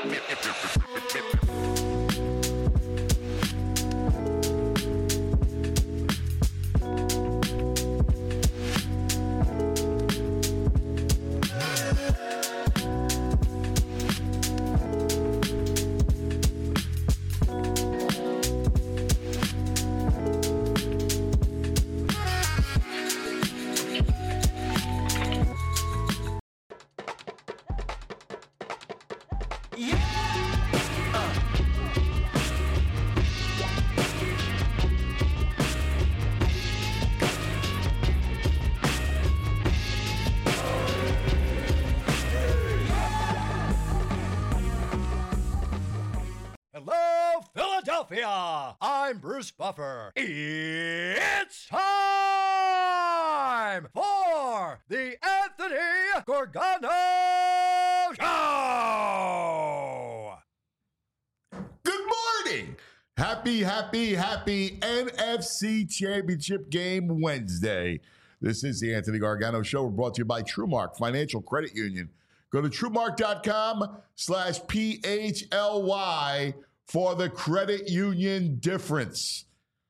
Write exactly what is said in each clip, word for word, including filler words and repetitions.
Hello, Philadelphia! I'm Bruce Buffer. It's time for the Anthony Gargano Show! Good morning! Happy, happy, happy N F C Championship Game Wednesday. This is the Anthony Gargano Show. We're brought to you by TrueMark Financial Credit Union. Go to TrueMark.com slash P H L Y for the credit union difference.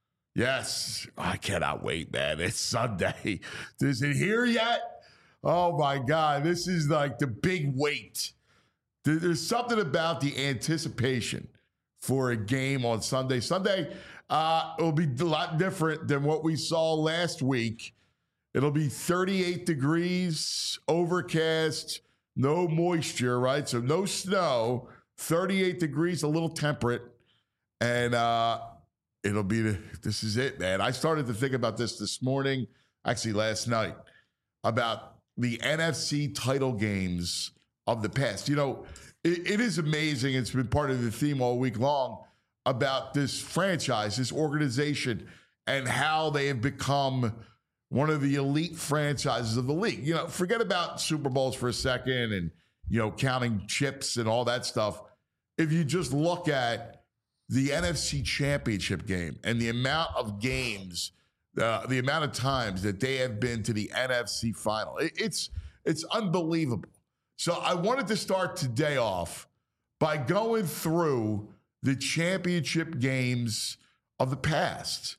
Yes, I cannot wait, man. It's Sunday. Is it here yet? Oh, my God. This is like the big wait. There's something about the anticipation for a game on Sunday. Sunday uh, will be a lot different than what we saw last week. It'll be thirty-eight degrees, overcast, no moisture, right? So no snow, thirty-eight degrees, a little temperate. And uh, it'll be, the, this is it, man. I started to think about this this morning, actually last night, about the N F C title games of the past. You know, it, it is amazing. It's been part of the theme all week long about this franchise, this organization, and how they have become one of the elite franchises of the league. You know, forget about Super Bowls for a second and, you know, counting chips and all that stuff. If you just look at the N F C Championship game and the amount of games, uh, the amount of times that they have been to the N F C final, it, it's it's unbelievable. So I wanted to start today off by going through the championship games of the past.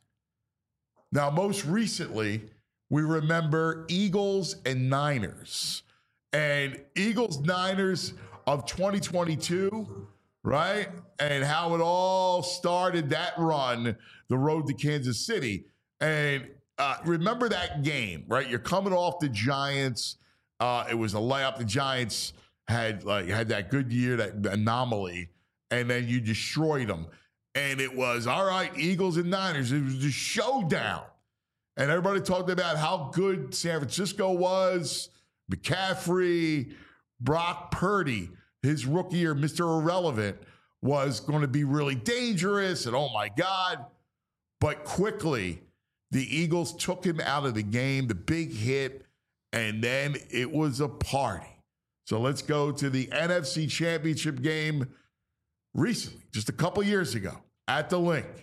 Now, most recently, we remember Eagles and Niners. And Eagles-Niners of twenty twenty-two, right? And how it all started, that run, the road to Kansas City. And uh, remember that game, right? You're coming off the Giants. Uh, it was a layup. The Giants had like had that good year, that anomaly, and then you destroyed them. And it was, all right, Eagles and Niners. It was the showdown. And everybody talked about how good San Francisco was, McCaffrey, Brock Purdy, his rookie year, Mister Irrelevant, was going to be really dangerous. And oh, my God. But quickly, the Eagles took him out of the game, the big hit, and then it was a party. So let's go to the N F C Championship game recently, just a couple years ago, at the Link.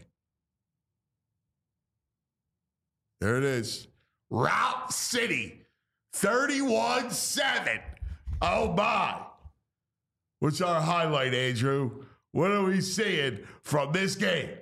There it is. Route City, thirty-one seven. Oh, my. What's our highlight, Andrew? What are we seeing from this game?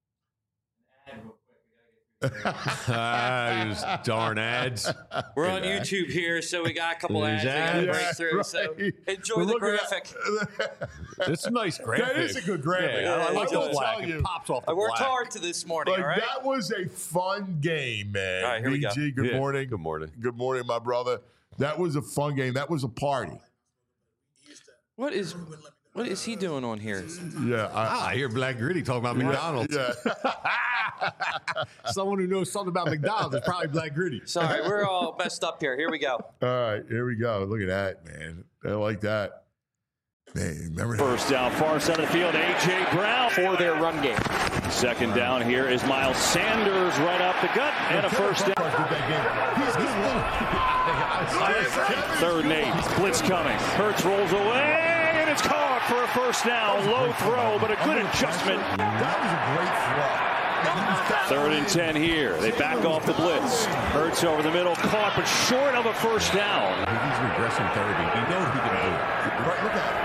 uh, those darn ads. We're on YouTube here, so we got a couple ads, ads we got to break through. Right. So enjoy We're the graphic. It's a nice graphic. That is a good graphic. Yeah, I like I the black. It pops off the I worked black. hard to this morning. Like, all right? That was a fun game, man. All right, here we go. B G, good yeah. morning. Good morning. Good morning, my brother. That was a fun game. That was a party. What is what is he doing on here? Yeah, I, Ah, I hear Black Gritty talking about McDonald's. Yeah. Someone who knows something about McDonald's is probably Black Gritty. Sorry, we're all messed up here. Here we go. All right, here we go. Look at that, man. I like that. Man, remember that? First down, far side of the field, A J. Brown for their run game. Second down here is Miles Sanders right off the gut, and a first down. Third and eight, blitz coming. Hurts rolls away, and it's caught for a first down. Low throw, but a good adjustment. That was a great throw. Third and ten here. They back off the blitz. Hurts over the middle, caught, but short of a first down. He's regressing thirty. He knows he can do it. Right, look at it.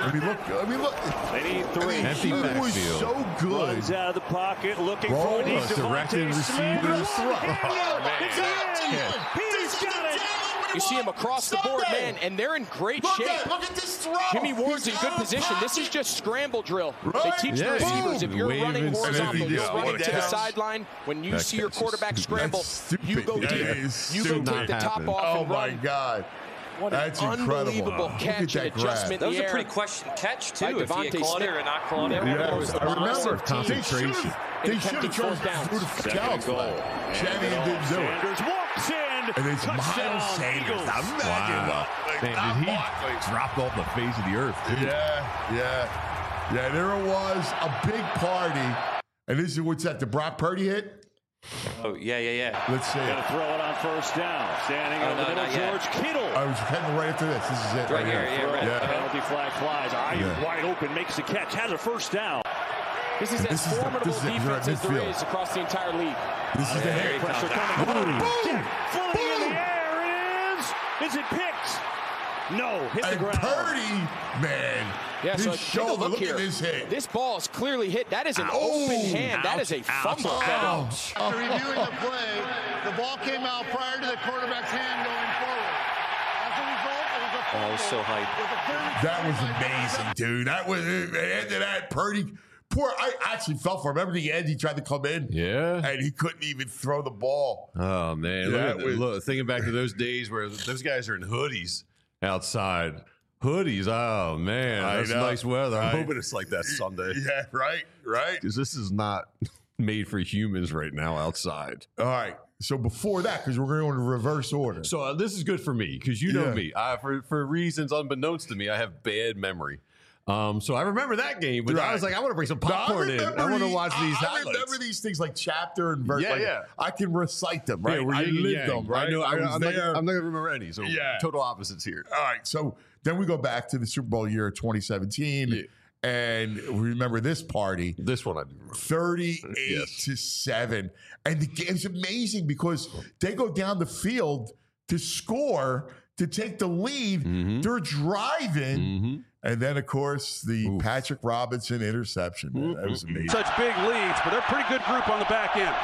I mean, look. I mean, look. They need three. I mean, Empty he was backfield. so good. Runs out of the pocket, looking Roll for a deep us, directed Devontae Smith. receivers. One Oh, hander. my It's God. in. Yeah. He's got it. You see him across the board, man, and they're in great Look shape. at, look at this throw. Jimmy Ward's in He's good out of position. This is pocket. just scramble drill. Right? They teach Yeah, the receivers, boom. if you're Waving, running and then horizontal, he you're just running went to the down. sideline. When you That see your catch is quarterback stupid. scramble, That's stupid. you go That deep. is You go stupid. take the top Happen. off Oh, and my run. God. What That's an incredible. unbelievable Look catch at that and grab. adjustment That in was the a air. pretty question catch, By too, if he had Devontae caught it Smith. or not caught it. Yeah, Yeah, That was I remember. aggressive team. They should Concentration. have. They should have attempted chosen fourth downs. to do the Second challenge and goal. flag. Shanahan didn't do it. Sanders walks in. And it's Touchdown, Miles Sanders. Eagles. Now imagine Wow. that. Man, Not did he Barkley. dropped off the face of the earth, too. Yeah, yeah. Yeah, there it was, a big party. And this is what's that, the Brock Purdy hit? Oh, yeah, yeah, yeah. Let's see Gonna it. throw it on first down. Standing Oh, over no, the not middle, yet. George Kittle. I was heading right after this. This is it. Right here, yeah, right. Yeah. Penalty flag flies. Ayuk Yeah. wide open, makes the catch, has a first down. This is This as is the- formidable this is it. You're at defense as there midfield. is across the entire league. This is the There he hit. comes. Pressure coming. Boom! Floating in Boom! the air, it is. Is it picked? No, hit the And ground. Purdy, man, Yeah, his so take a shoulder, look, look here. at this hit. This ball is clearly hit. That is an Oh, open hand. That is a ouch, fumble. Oh, After reviewing the play, the ball came out prior to the quarterback's hand going forward. As a result, it was a Oh, fumble so hype. with a thirty that was amazing, dude. That was it. End of that, Purdy. Poor, I actually felt for him. Remember the end? He tried to come in, Yeah. and he couldn't even throw the ball. Oh, man. Yeah, look, it at, was- look, thinking back to those days where those guys are in hoodies outside. Hoodies. Oh, man. I That's know. nice weather. I'm I- hoping it's like that Sunday. Yeah, right, right. Because this is not made for humans right now outside. All right. So before that, because we're going to reverse order. So uh, this is good for me because you know Yeah. me. I, for for reasons unbeknownst to me, I have bad memory. Um, so I remember that game, but I was Right. like, I want to bring some No, popcorn in. I want to the- watch these I highlights. remember these things like chapter and verse. Yeah, like, yeah. I can recite them, right? Yeah, we're I yin and lived yang. them, right? I know. I, was I'm, not, there. I'm not gonna remember any. So Yeah. total opposites here. All right. So then we go back to the Super Bowl year of twenty seventeen. Yeah. And we remember this party. This one I do remember. thirty-eight Yes. to seven. And the game's amazing because they go down the field to score, to take the lead. Mm-hmm. They're driving. And then, of course, the Patrick Robinson interception. Man, that was amazing. Such big leads, but they're a pretty good group on the back end.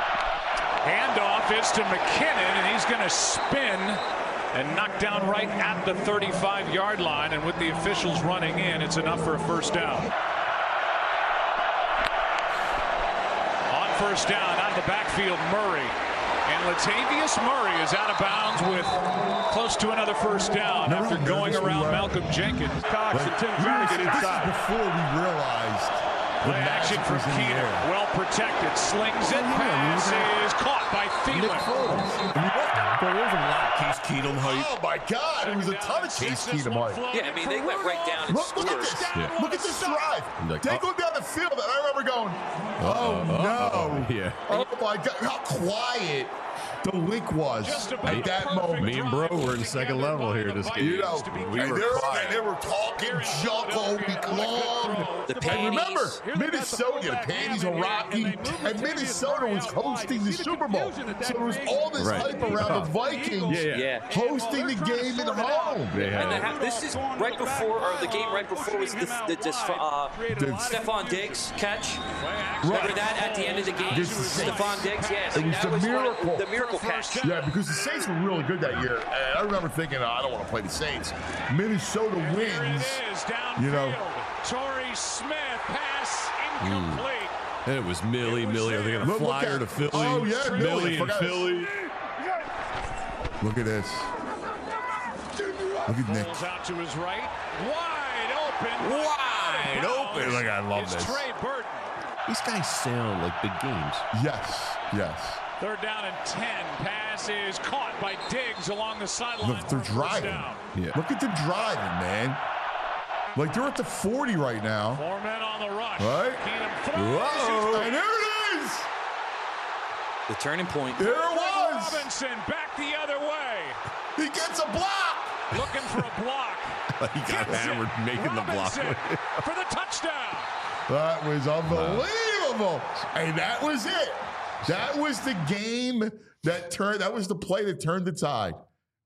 Handoff is to McKinnon, and he's going to spin and knock down right at the thirty-five yard line. And with the officials running in, it's enough for a first down. On first down, out of the backfield, Murray. And Latavius Murray is out of bounds with close to another first down Remember after how going nervous we around were? Malcolm Jenkins. Cox and Tim We trying were- to get this is inside. before we realized the Play action magic from was in the Keenum. air. Well protected. Slings it. yeah, Pass we were- is caught by Thielen. There was a lot of Case Keenum hype. Oh my God! It was a ton of Case Keenum hype. Yeah, I mean, they went right down and Look, look at scored. this! Yeah. Look at this drive. Like, they oh. go down the field, and I remember going, "Oh no!" Yeah. Oh my God! How quiet the link was Just about at that perfect moment. Me and Bro were in second level here this game. You know, We and were they were, quiet. and they were talking junk all week long. The And remember, panties. Minnesota, the panties are rocky, and Minnesota was hosting the Super Bowl. So there was all this Right. hype around the Vikings Yeah, yeah. Yeah. hosting the game at home. They had And the it. half, this is right before, or the game right before was the, the, the uh, Stephon Diggs catch. Remember that at the end of the game? Against the Saints. Stephon Diggs, yes. It was that the was one of- miracle. the miracle catch. Yeah, because the Saints were really good that year. And I remember thinking, oh, I don't want to play the Saints. Minnesota wins. You know. Torrey Smith pass incomplete. And it was Millie, Millie. Are they going to Look- look fly her at- to Philly? Oh, yeah, Millie, I Millie and forgot. Philly. Look at this. Look at Nick. Rolls out to his right. Wide open. Wide open. Look, I love It's this. Trey Burton. These guys sound like big games. Yes, yes. Third down and ten. Pass is caught by Diggs along the sideline. Look, they're for a first driving. down. Yeah. Look at the driving, man. Like they're at the forty right now. Four men on the rush. Right? Keenum throws. Whoa. And there it is. The turning point. There it was. Robinson back the other way. He gets a block. Looking for a block. He got Gets it. hammered making the block. Robinson for the touchdown. That was unbelievable. And that was it. That was the game that turned, that was the play that turned the tide.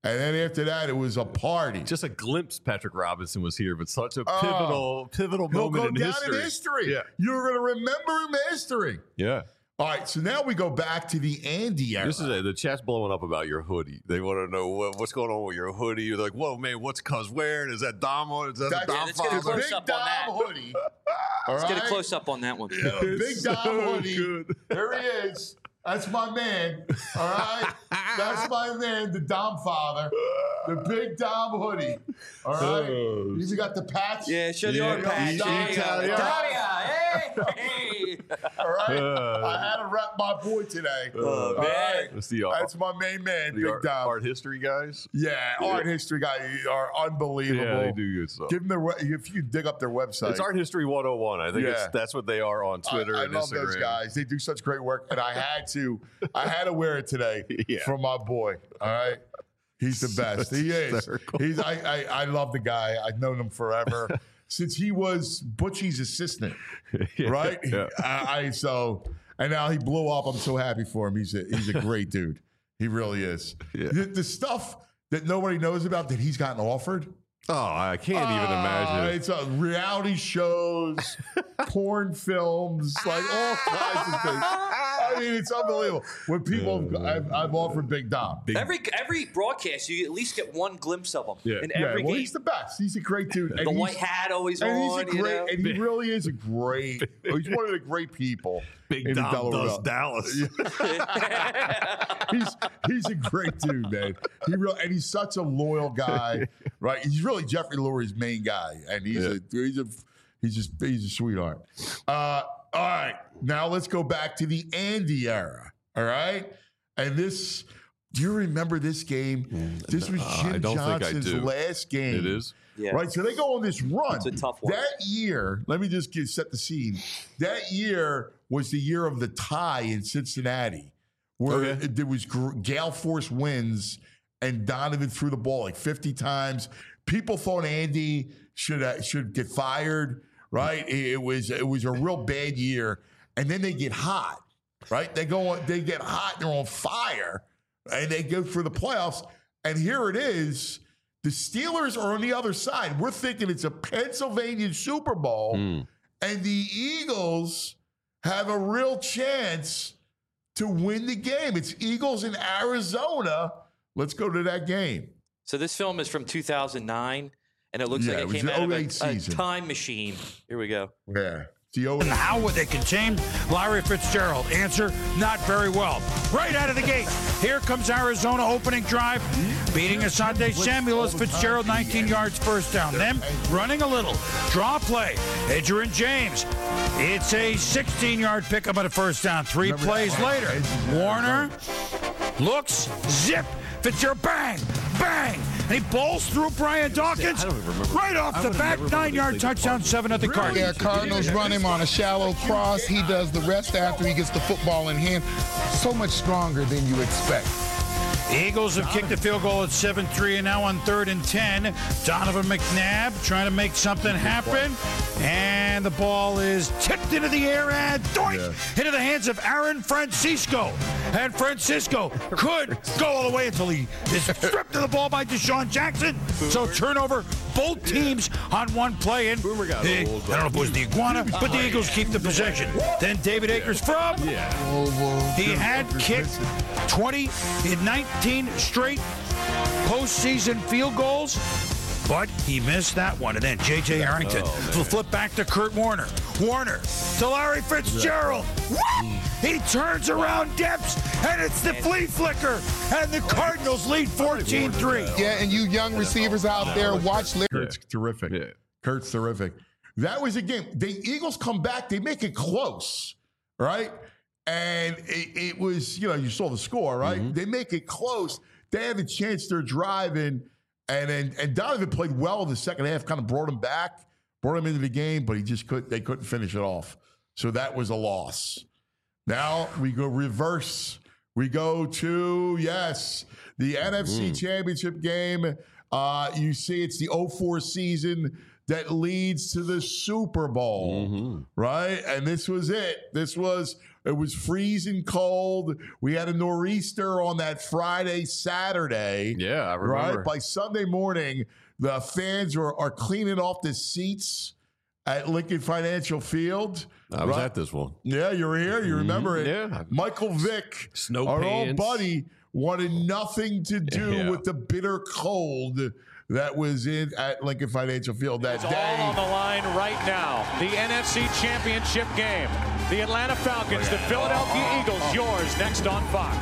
And then after that, it was a party. Just a glimpse Patrick Robinson was here, but such a Oh. pivotal, pivotal He'll moment go in down history. in history. Yeah. You're going to remember him in history. Yeah. All right, so now we go back to the Andy era. This is it. The chat's blowing up about your hoodie. They want to know what, what's going on with your hoodie. They're like, whoa, man, what's Cuz wearing? Is that Dom on? Is that That's- the Yeah, Dom let's get a father? close Big up Dom on that. hoodie. All Let's get a right? close up on that one. Yeah, Big It's Dom so hoodie. good. There he is. That's my man. All right. That's my man, the Dom father. The Big Dom hoodie. All right. Oh. You even got the patch. Yeah, show the Yeah, arm patch. Dom There you go. Italia. Italia, hey, hey. All right. Uh. I had to rep my boy today. Oh, All man. right? That's the art, That's my main man, the Big art, Dom. art history guys. Yeah, art history guys are unbelievable. Yeah, they do good stuff. Give them their we- if you dig up their website. It's Art History one oh one. I think Yeah. it's, that's what they are on Twitter I, I and love Instagram. those guys. They do such great work, and I had to, I had to wear it today Yeah. for my boy. All right, he's the best. He is. hysterical. He's. I, I. I love the guy. I've known him forever since he was Butchie's assistant. Yeah. Right. Yeah. I, I so, and now he blew up. I'm so happy for him. He's a. He's a great dude. He really is. Yeah. The, the stuff that nobody knows about that he's gotten offered. Oh, I can't even Uh, imagine. It's a reality shows, porn films, like all kinds of things. I mean, it's unbelievable. When people, I've, I've offered Big Dom. Big, Every every broadcast, you at least get one glimpse of him Yeah. in yeah, every well, game. he's the best. He's a great dude. And The he's- white hat always and on. he's a you great, know? and he really is a great. He's one of the great people. Big in the Dom Delaware does Valley. Dallas. he's he's a great dude, man. He real and he's such a loyal guy, right? He's really Jeffrey Lurie's main guy, and he's Yeah. a he's a he's just he's a sweetheart. Uh, all right, now let's go back to the Andy era. All right, and this. Do you remember this game? This was Uh, Jim I don't think I Johnson's do. last game. It is? Yeah. Right, so they go on this run. It's a tough one. That year, let me just get, set the scene. That year was the year of the tie in Cincinnati, where Okay. it- there was gr- gale force winds and Donovan threw the ball like fifty times. People thought Andy should uh, should get fired. Right, it, it was it was a real bad year, and then they get hot. Right, they go on, they get hot. They're on fire, and they go through the playoffs. And here it is. The Steelers are on the other side. We're thinking it's a Pennsylvania Super Bowl, Mm. and the Eagles have a real chance to win the game. It's Eagles in Arizona. Let's go to that game. So this film is from two thousand nine, and it looks Yeah, like it it was came the out of oh a, eight a season. time machine. Here we go. Yeah. The O- And how would they contain Larry Fitzgerald? Answer, not very well. Right out of the gate, here comes Arizona opening drive, beating Asante Samuel as Fitzgerald, nineteen yards, first down. Then running a little, draw play, Adrian James. It's a sixteen-yard pickup at a first down. Three Remember plays that? later, Edge- Warner looks, zip, Fitzgerald, bang, bang, and he bowls through Brian Dawkins I don't even remember. right off I the would've back, never remembered nine-yard they played touchdown, seven nothing Cardinals. Yeah, Cardinals run him on a shallow cross. He does the rest after he gets the football in hand. So much stronger than you expect. The Eagles have kicked the field goal at seven three and now on third and ten. Donovan McNabb trying to make something happen. And the ball is tipped into the air and doink Yeah. into the hands of Aaron Francisco. And Francisco could go all the way until he is stripped of the ball by Deshaun Jackson. So turnover, both teams on one play. And Boomer got the- old, I don't know if it was the Iguana, but the Eagles keep the possession. Then David Akers from he had kicked twenty in nineteen straight postseason field goals, but he missed that one. And then J J Arrington will flip back to Kurt Warner. Warner to Larry Fitzgerald. What? He turns around depths, and it's the flea flicker, and the Cardinals lead fourteen three. Yeah, and you young receivers out there, watch. Larry. Kurt's terrific. Yeah. Kurt's terrific. That was a game. The Eagles come back. They make it close, right? And it, it was, you know, you saw the score, right? Mm-hmm. They make it close. They have a chance. They're driving, and and, and Donovan played well in the second half. Kind of brought him back, brought him into the game, but he just couldn't. They couldn't finish it off. So that was a loss. Now we go reverse. We go to, yes, the N F C Mm. Championship game. Uh, you see it's the oh four season that leads to the Super Bowl, Mm-hmm. right? And this was it. This was It was freezing cold. We had a nor'easter on that Friday, Saturday. Yeah, I remember. Right? By Sunday morning, the fans are, are cleaning off the seats at Lincoln Financial Field. I was right? at this one. Yeah, you were here. You remember it. Yeah. Michael Vick, Snow our pants. old buddy, wanted nothing to do Yeah. with the bitter cold that was in at Lincoln Financial Field that It's day. all on the line right now. The N F C Championship game. The Atlanta Falcons, the Philadelphia Eagles. Yours next on Fox.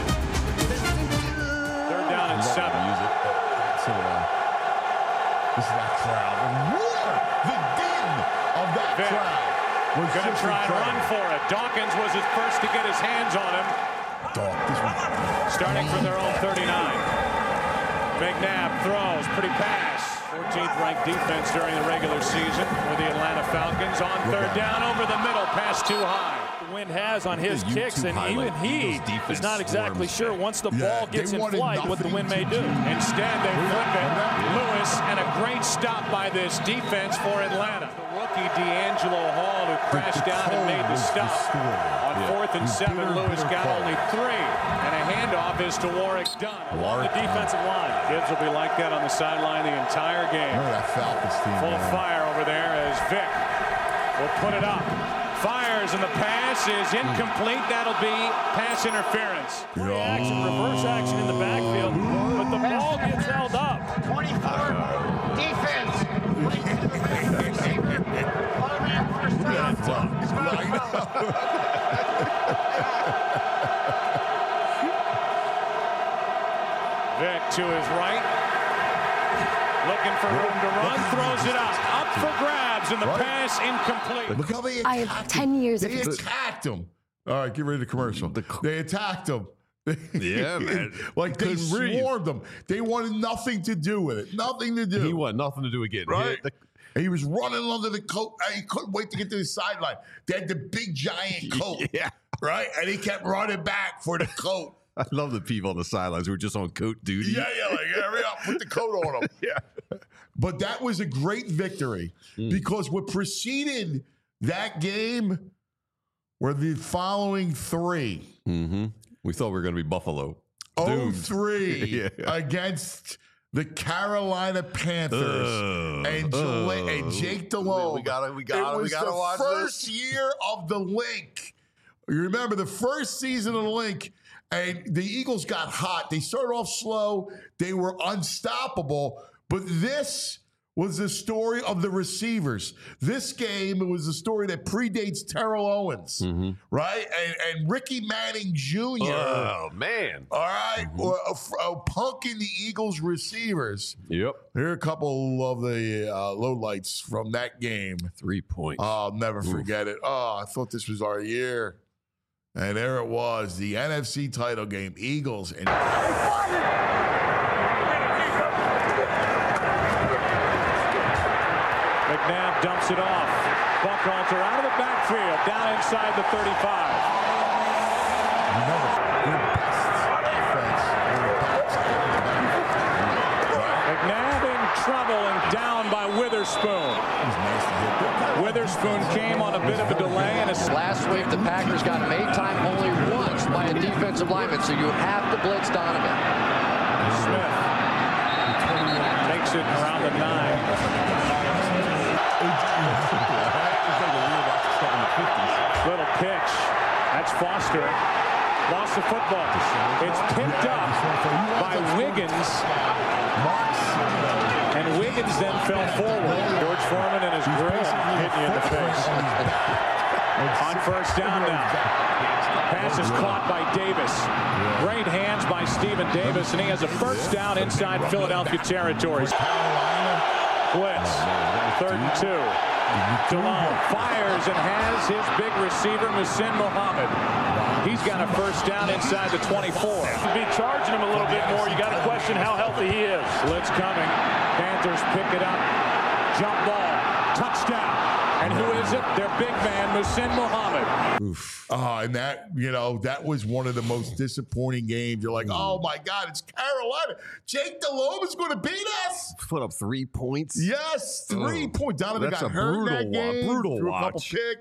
Third down and seven. Use it. So, uh, this is that crowd. The roar, the din of that Vic. crowd. Was Going to just try and run incredible. for it. Dawkins was his first to get his hands on him. Dog, this one. Starting from their own thirty-nine. McNabb throws, pretty pass. fourteenth ranked defense during the regular season with the Atlanta Falcons. On third down, over the middle, pass too high. The wind has on his The kicks, YouTube and even highlight, he Eagles defense is not exactly swarms. sure once the Yeah, ball gets they in wanted flight what the nothing wind may to do. Instead, they flip it. Lewis, and a great stop by this defense for Atlanta. The rookie D'Angelo Hall, who crashed down and made the stop. On fourth and seven, bitter, Lewis bitter got cold. only three. And a handoff is to Warwick Dunn. The defensive line. Kids will be like that on the sideline the entire game. Remember that Falcons team. Full of man. fire over there as Vic will put it up. Fires, and the pass is incomplete. That'll be pass interference. Free action, reverse action in the backfield, but the ball gets held up. twenty-four defense. First Vic to his right. Looking for room to run. Throws it up. Up for grabs, and the Right. pass incomplete. Look how they I attacked have him. ten years of They ex- attacked him. All right, get rid of the commercial. They attacked him. Yeah, man. Like they Couldn't breathe. swarmed him. They wanted nothing to do with it. Nothing to do. He wanted nothing to do with getting Right. hit. The- And he was running under the coat. and He couldn't wait to get to the sideline. They had the big giant coat. Yeah. Right? And he kept running back for the coat. I love the people on the sidelines who are just on coat duty. Yeah, yeah, like hurry up, put the coat on him. Yeah. But that was a great victory because what preceded that game were the following three. Mm-hmm. We thought we were going to be Buffalo. oh Doomed. three Yeah. against the Carolina Panthers Ugh, and, Jala- ugh. and Jake Delhomme. We gotta- we gotta- It we was gotta the watch first this. year of the Link. You remember the first season of the Link, and the Eagles got hot. They started off slow. They were unstoppable. But this was the story of the receivers. This game was the story that predates Terrell Owens, Mm-hmm. right? And, and Ricky Manning Junior Oh, man. All right, well, uh, f- uh, punking the Eagles receivers. Yep. Here are a couple of the uh, lowlights from that game. Three points. I'll never forget it. Oh, I thought this was our year. And there it was, the N F C title game, Eagles and McNabb dumps it off. Buchalter out of the backfield, down inside the thirty-five. remember, their best defense. their best McNabb in trouble and down by Witherspoon. Witherspoon came on a bit of a delay and a last week the Packers got made time only once by a defensive lineman, so you have to blitz Donovan. Smith takes it around the nine. Little pitch. That's Foster. Lost the football. It's picked up by Wiggins. And Wiggins then fell forward. George Foreman and his grill hitting you in the face. On first down now. Pass is caught by Davis. Great hands by Stephen Davis, and he has a first down inside Philadelphia territory. Blitz. Third and two. Delhomme fires and has his big receiver, Muhsin Muhammad. He's got a first down inside the twenty-four. To be charging him a little bit more, you got to question how healthy he is. Blitz coming. Panthers pick it up. Jump ball. Touchdown. And who is it? Their big man, Muhsin Muhammad. Oof. Oh, and that, you know, that was one of the most disappointing games. You're like, oh my God, it's Carolina. Jake Delhomme is going to beat us. Put up three points. Yes, three Oh, points. Donovan that's got a hurt in brutal that wa- game. brutal threw a couple watch. picks.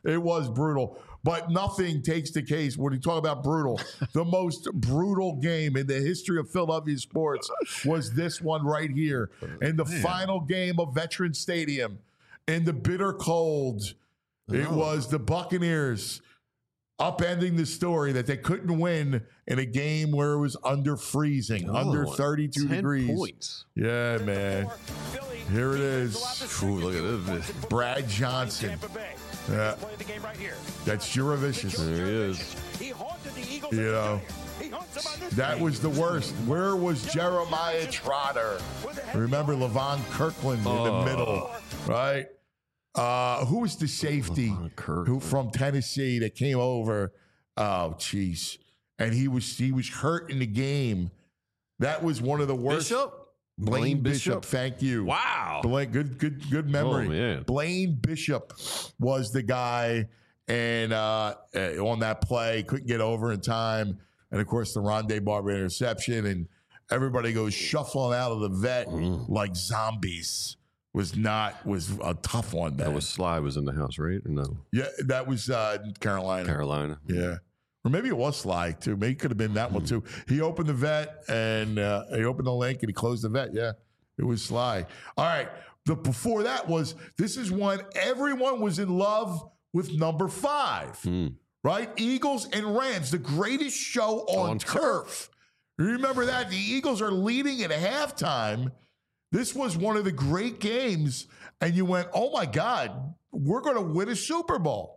It was brutal. But nothing takes the case when you talk about brutal. The most brutal game in the history of Philadelphia sports was this one right here. In the Man. final game of Veterans Stadium, in the bitter cold, oh. it was the Buccaneers upending the story that they couldn't win in a game where it was under freezing, oh, under thirty-two degrees. Points. Yeah, man. Here it is. Ooh, look at this. Brad Johnson. Yeah. That's Juravicious. There he is. You know, that was the worst. Where was Jeremiah Trotter? Remember Levon Kirkland oh. in the middle, right? Uh, who was the safety who from Tennessee that came over? Oh, jeez. And he was he was hurt in the game. That was one of the worst. Bishop? Blaine, Blaine Bishop. Bishop. Thank you. Wow. Blaine, good, good, good memory. Oh, man. Blaine Bishop was the guy, and uh, on that play, couldn't get over in time. And of course, the Rondé Barber interception, and everybody goes shuffling out of the vet mm. like zombies. Was not was a tough one. Man. That was Sly was in the house, right? Or no? Yeah, that was uh, Carolina. Carolina. Yeah. Or maybe it was Sly, too. Maybe it could have been that one, too. He opened the vet, and uh, he opened the link, and he closed the vet. Yeah, it was Sly. All right. The before that was, this is when everyone was in love with number five, mm. right? Eagles and Rams, the greatest show on, on turf. turf. Remember that? The Eagles are leading at halftime. This was one of the great games, and you went, oh, my God, we're going to win a Super Bowl.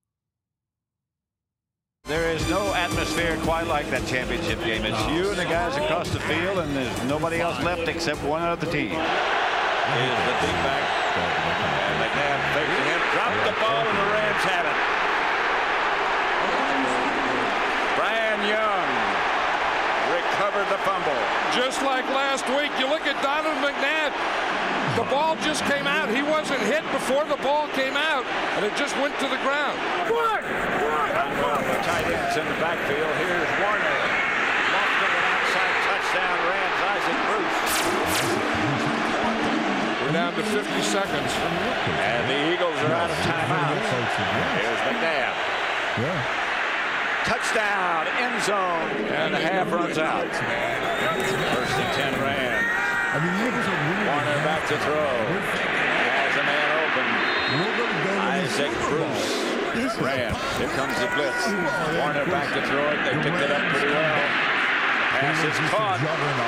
There is no atmosphere quite like that championship game. It's you and the guys across the field, and there's nobody else left except one other team. Here's the big back. And McNabb facing him. Dropped the ball, and the Rams have it. Brian Young recovered the fumble. Just like last week, you look at Donovan McNabb. The ball just came out. He wasn't hit before the ball came out, and it just went to the ground. What? Well, the tight ends in the backfield. Here's Warner. Lofted an outside touchdown. Rams, Isaac Bruce. We're down to fifty seconds. And the Eagles are out of timeout. Here's McNabb. Yeah. Touchdown, end zone, and the half runs out. First and ten Rams. I mean, the Eagles are really Warner back to throw. Has a man open. Isaac Bruce. Rams. Here comes the blitz. Warner back to throw it. They picked it up pretty well. Pass is caught.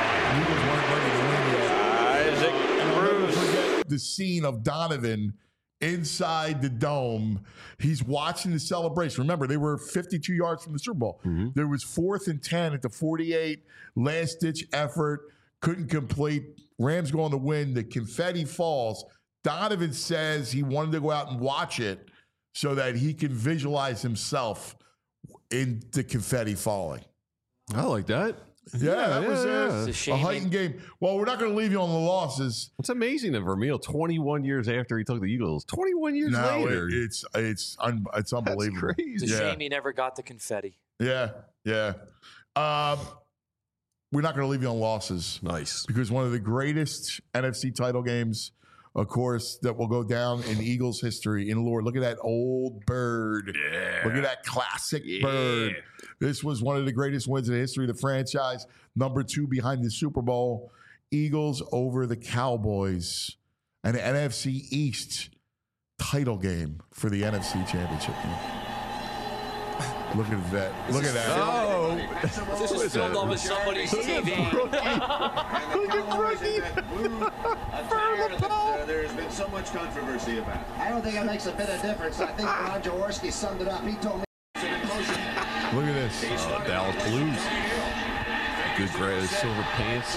Isaac Bruce. The scene of Donovan inside the dome. He's watching the celebration. Remember, they were fifty-two yards from the Super Bowl. Mm-hmm. There was fourth and ten at the forty-eight. Last-ditch effort. Couldn't complete. Rams go on to win. The confetti falls. Donovan says he wanted to go out and watch it so that he can visualize himself in the confetti falling. I like that. Yeah, yeah that yeah, was yeah. a, It's a, a heightened game. Well, we're not going to leave you on the losses. It's amazing that Vermeil, twenty-one years after he took the Eagles, twenty-one years no, later. It, it's it's un, it's unbelievable. That's crazy. It's a yeah. shame he never got the confetti. Yeah, yeah. Um, we're not going to leave you on losses. Nice. Because one of the greatest N F C title games, of course, that will go down in Eagles history in lore. Look at that old bird. Yeah. Look at that classic yeah. bird. This was one of the greatest wins in the history of the franchise. Number two behind the Super Bowl. Eagles over the Cowboys. An N F C East title game for the N F C Championship game. Look at that. Look at that. Oh. This is filmed over somebody's T V. Look at Brookie. There's been so much controversy about it. I don't think it makes a bit of difference. I think Ron Jaworski summed it up. He told me. Look at this. Uh, Dallas Blues. Good gray silver pants.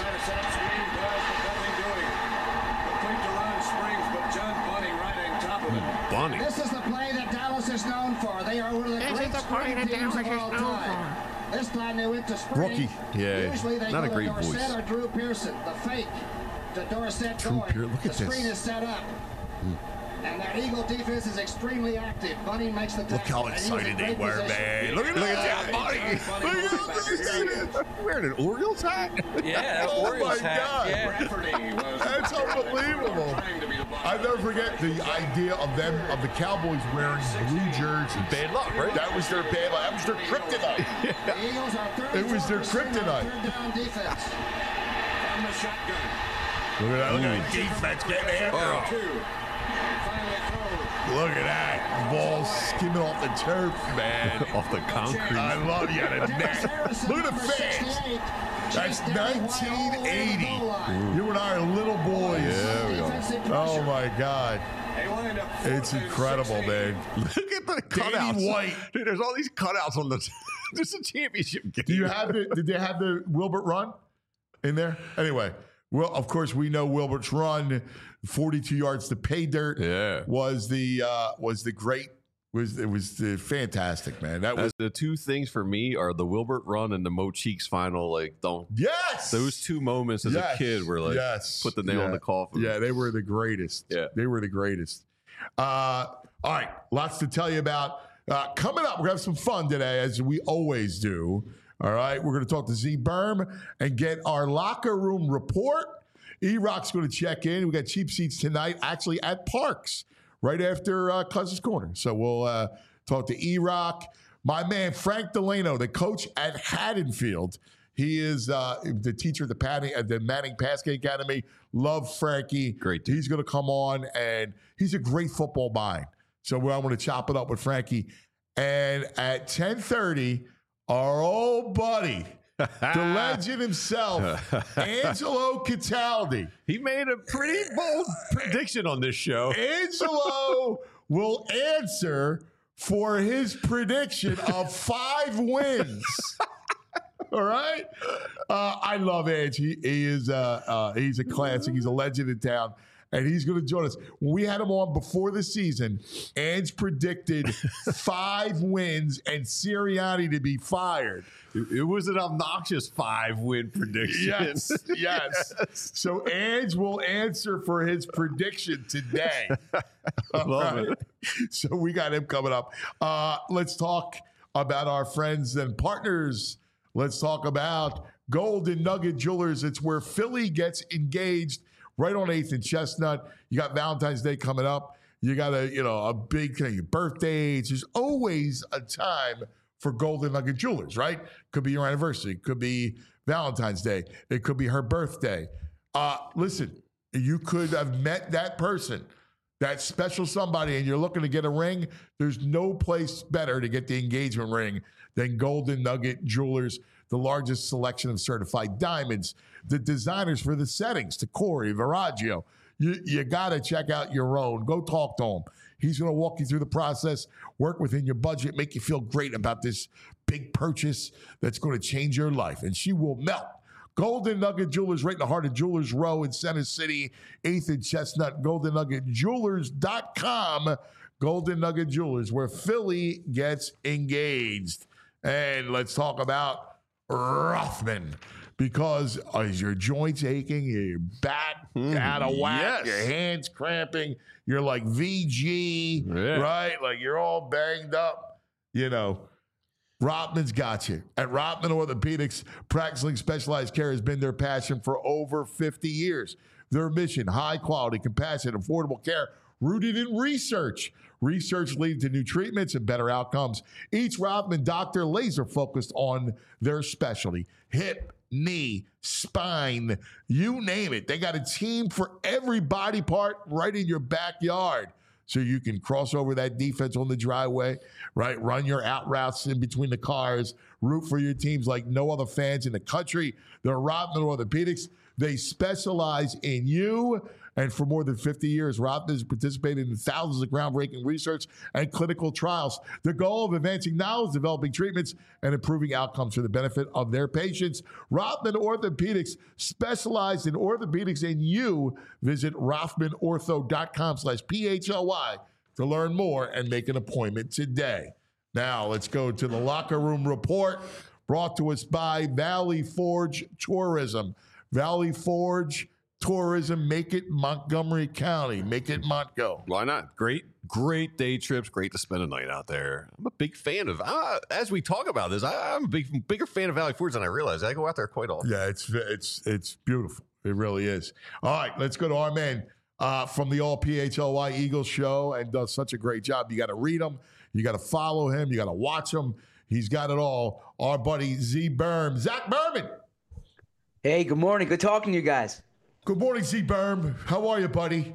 Bunny. This is the play that Dallas is known for. They are one of the this great is the play that teams Dallas of all is known time. for. This time they went to spring. Rookie. Yeah, Usually they not go a great to Dorsett voice. or Drew Pearson. The fake to Dorsett Drew going. Pearson. Look the at screen this. is set up. Mm. And their Eagle defense is extremely active. Bunny makes the tackle. Look how excited they were, man. Look at, look at that, Bunny. Look at how excited he is. Wearing an Orioles hat? Yeah, oh Orioles my hat. God. Yeah. That's unbelievable. I never forget the idea of them, of the Cowboys wearing blue jerseys. Bad luck, right? That was their bad luck. That was their kryptonite. The Eagles are It was their kryptonite. third down defense. From the shotgun. Look at that. Look at that defense getting after him. Look at that. Ball skimming off the turf, man. Off the concrete. I love you. The net. Look at the fans. That's nineteen eighty. You and I are little boys. Yeah, we are. Oh, my God. It's incredible, man. Look at the cutouts. Danny White. Dude, there's all these cutouts on the this is a championship game. Do you have the, did they have the Wilbert run in there? Anyway, well, of course, we know Wilbert's run, forty-two yards to pay dirt. Yeah. Was the uh, was the great was it was the fantastic, man. That was Uh, the two things for me are the Wilbert run and the Mo Cheeks final. Like, don't yes, those two moments as yes. a kid were like yes. put the nail yeah. in the coffin. Yeah, they were the greatest. Yeah, they were the greatest. Uh, all right, lots to tell you about. Uh, coming up, we're gonna have some fun today, as we always do. All right, we're gonna talk to Z Berm and get our locker room report. E-Rock's gonna check in. We got cheap seats tonight, actually at Parks, right after uh, Cousins Corner. So we'll uh, talk to E-Rock. My man Frank Delano, the coach at Haddonfield. He is uh, the teacher at the, Patty, at the Manning Pasquet Academy. Love Frankie. Great dude. He's going to come on, and he's a great football mind. So I'm going to chop it up with Frankie. And at ten thirty, our old buddy, the legend himself, Angelo Cataldi. He made a pretty bold prediction on this show. Angelo will answer for his prediction of five wins. All right. Uh, I love Ange. He, he is uh, uh, he's a classic. He's a legend in town. And he's going to join us. When we had him on before the season, Ange predicted five wins and Sirianni to be fired. It, it was an obnoxious five-win prediction. Yes, yes. So Ange will answer for his prediction today. Love right? it. So we got him coming up. Uh, let's talk about our friends and partners. Let's talk about Golden Nugget Jewelers. It's where Philly gets engaged. Right on eighth and Chestnut. You got Valentine's Day coming up. You got a, you know, a big thing, birthdays. There's always a time for Golden Nugget Jewelers, right? Could be your anniversary. Could be Valentine's Day. It could be her birthday. Uh, listen, you could have met that person, that special somebody, and you're looking to get a ring. There's no place better to get the engagement ring than Golden Nugget Jewelers. The largest selection of certified diamonds, the designers for the settings, to Corey Viraggio. You, you got to check out your own. Go talk to him. He's going to walk you through the process, work within your budget, make you feel great about this big purchase that's going to change your life. And she will melt. Golden Nugget Jewelers, right in the heart of Jewelers Row in Center City, eighth and Chestnut, golden nugget jewelers dot com. Golden Nugget Jewelers, where Philly gets engaged. And let's talk about Rothman, because uh, is your joints aching, your back Mm, out of whack, yes. your hands cramping, you're like V G, Yeah. right? Like you're all banged up, you know. Rothman's got you. At Rothman Orthopedics, practicing specialized care has been their passion for over fifty years. Their mission, high quality, compassionate, affordable care rooted in research. Research leading to new treatments and better outcomes. Each Rothman doctor laser focused on their specialty. Hip, knee, spine, you name it. They got a team for every body part right in your backyard. So you can cross over that defense on the driveway, right? Run your out routes in between the cars. Root for your teams like no other fans in the country. They're Rothman Orthopedics. They specialize in you. And for more than fifty years, Rothman has participated in thousands of groundbreaking research and clinical trials. The goal of advancing knowledge, developing treatments, and improving outcomes for the benefit of their patients. Rothman Orthopedics, specialized in orthopedics and you. Visit rothman ortho dot com slash P H L Y to learn more and make an appointment today. Now, let's go to the locker room report brought to us by Valley Forge Tourism. Valley Forge tourism. Make it Montgomery County. Make it Montgo. Why not? Great, great day trips. Great to spend a night out there. I'm a big fan of, uh, as we talk about this, I, I'm a big, bigger fan of Valley Forge than I realize. I go out there quite often. Yeah, it's it's it's beautiful. It really is. All right, let's go to our man uh, from the All P H L Y Eagles show and does such a great job. You got to read him. You got to follow him. You got to watch him. He's got it all. Our buddy Z Berm. Zach Berman. Hey, good morning. Good talking to you guys. Good morning, Z Berm. How are you, buddy?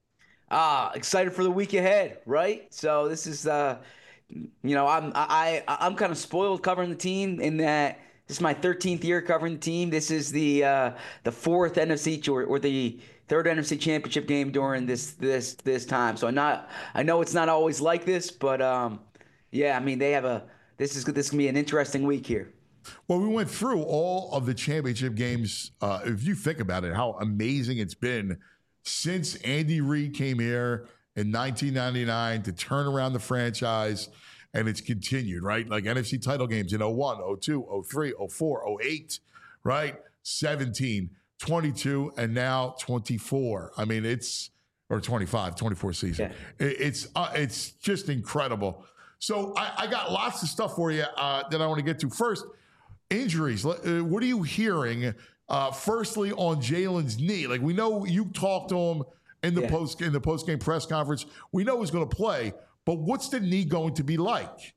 Ah, excited for the week ahead, right? So this is, uh, you know, I'm I, I I'm kind of spoiled covering the team in that this is my thirteenth year covering the team. This is the uh, the fourth N F C or, or the third N F C Championship game during this this this time. So I'm not I know it's not always like this, but um, yeah, I mean they have a this is this is gonna be an interesting week here. Well, we went through all of the championship games. Uh, if you think about it, how amazing it's been since Andy Reid came here in nineteen ninety-nine to turn around the franchise, and it's continued, right? Like N F C title games in oh one, oh two, oh three, oh four, oh eight, right? seventeen, twenty-two, and now twenty-four. I mean, it's, or twenty-five, twenty-four season. Yeah. It, it's uh, it's just incredible. So I, I got lots of stuff for you uh, that I want to get to. First, injuries. Uh, what are you hearing? Uh, firstly, on Jalen's knee, like we know you talked to him in the yeah. post in the post game press conference. We know he's going to play, but what's the knee going to be like?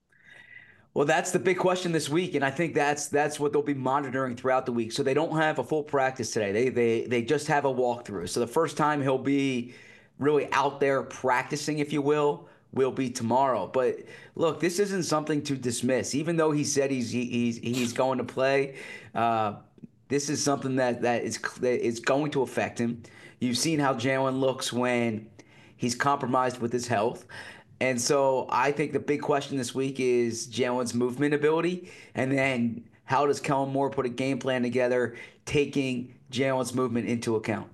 Well, that's the big question this week, and I think that's that's what they'll be monitoring throughout the week. So they don't have a full practice today. They they they just have a walkthrough. So the first time he'll be really out there practicing, if you will, will be tomorrow. But look, this isn't something to dismiss. Even though he said he's he's he's going to play, uh, this is something that that is that is going to affect him. You've seen how Jalen looks when he's compromised with his health. And so I think the big question this week is Jalen's movement ability, and then how does Kellen Moore put a game plan together, taking Jalen's movement into account?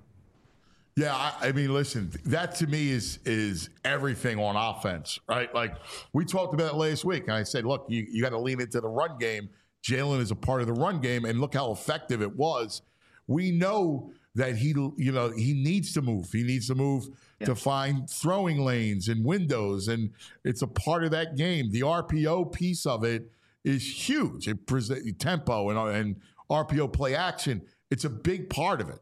Yeah, I, I mean, listen, that to me is is everything on offense, right? Like we talked about it last week, and I said, look, you, you got to lean into the run game. Jalen is a part of the run game, and look how effective it was. We know that he, you know, he needs to move. He needs to move yeah. to find throwing lanes and windows, and it's a part of that game. The R P O piece of it is huge. It presents tempo and, and R P O play action. It's a big part of it.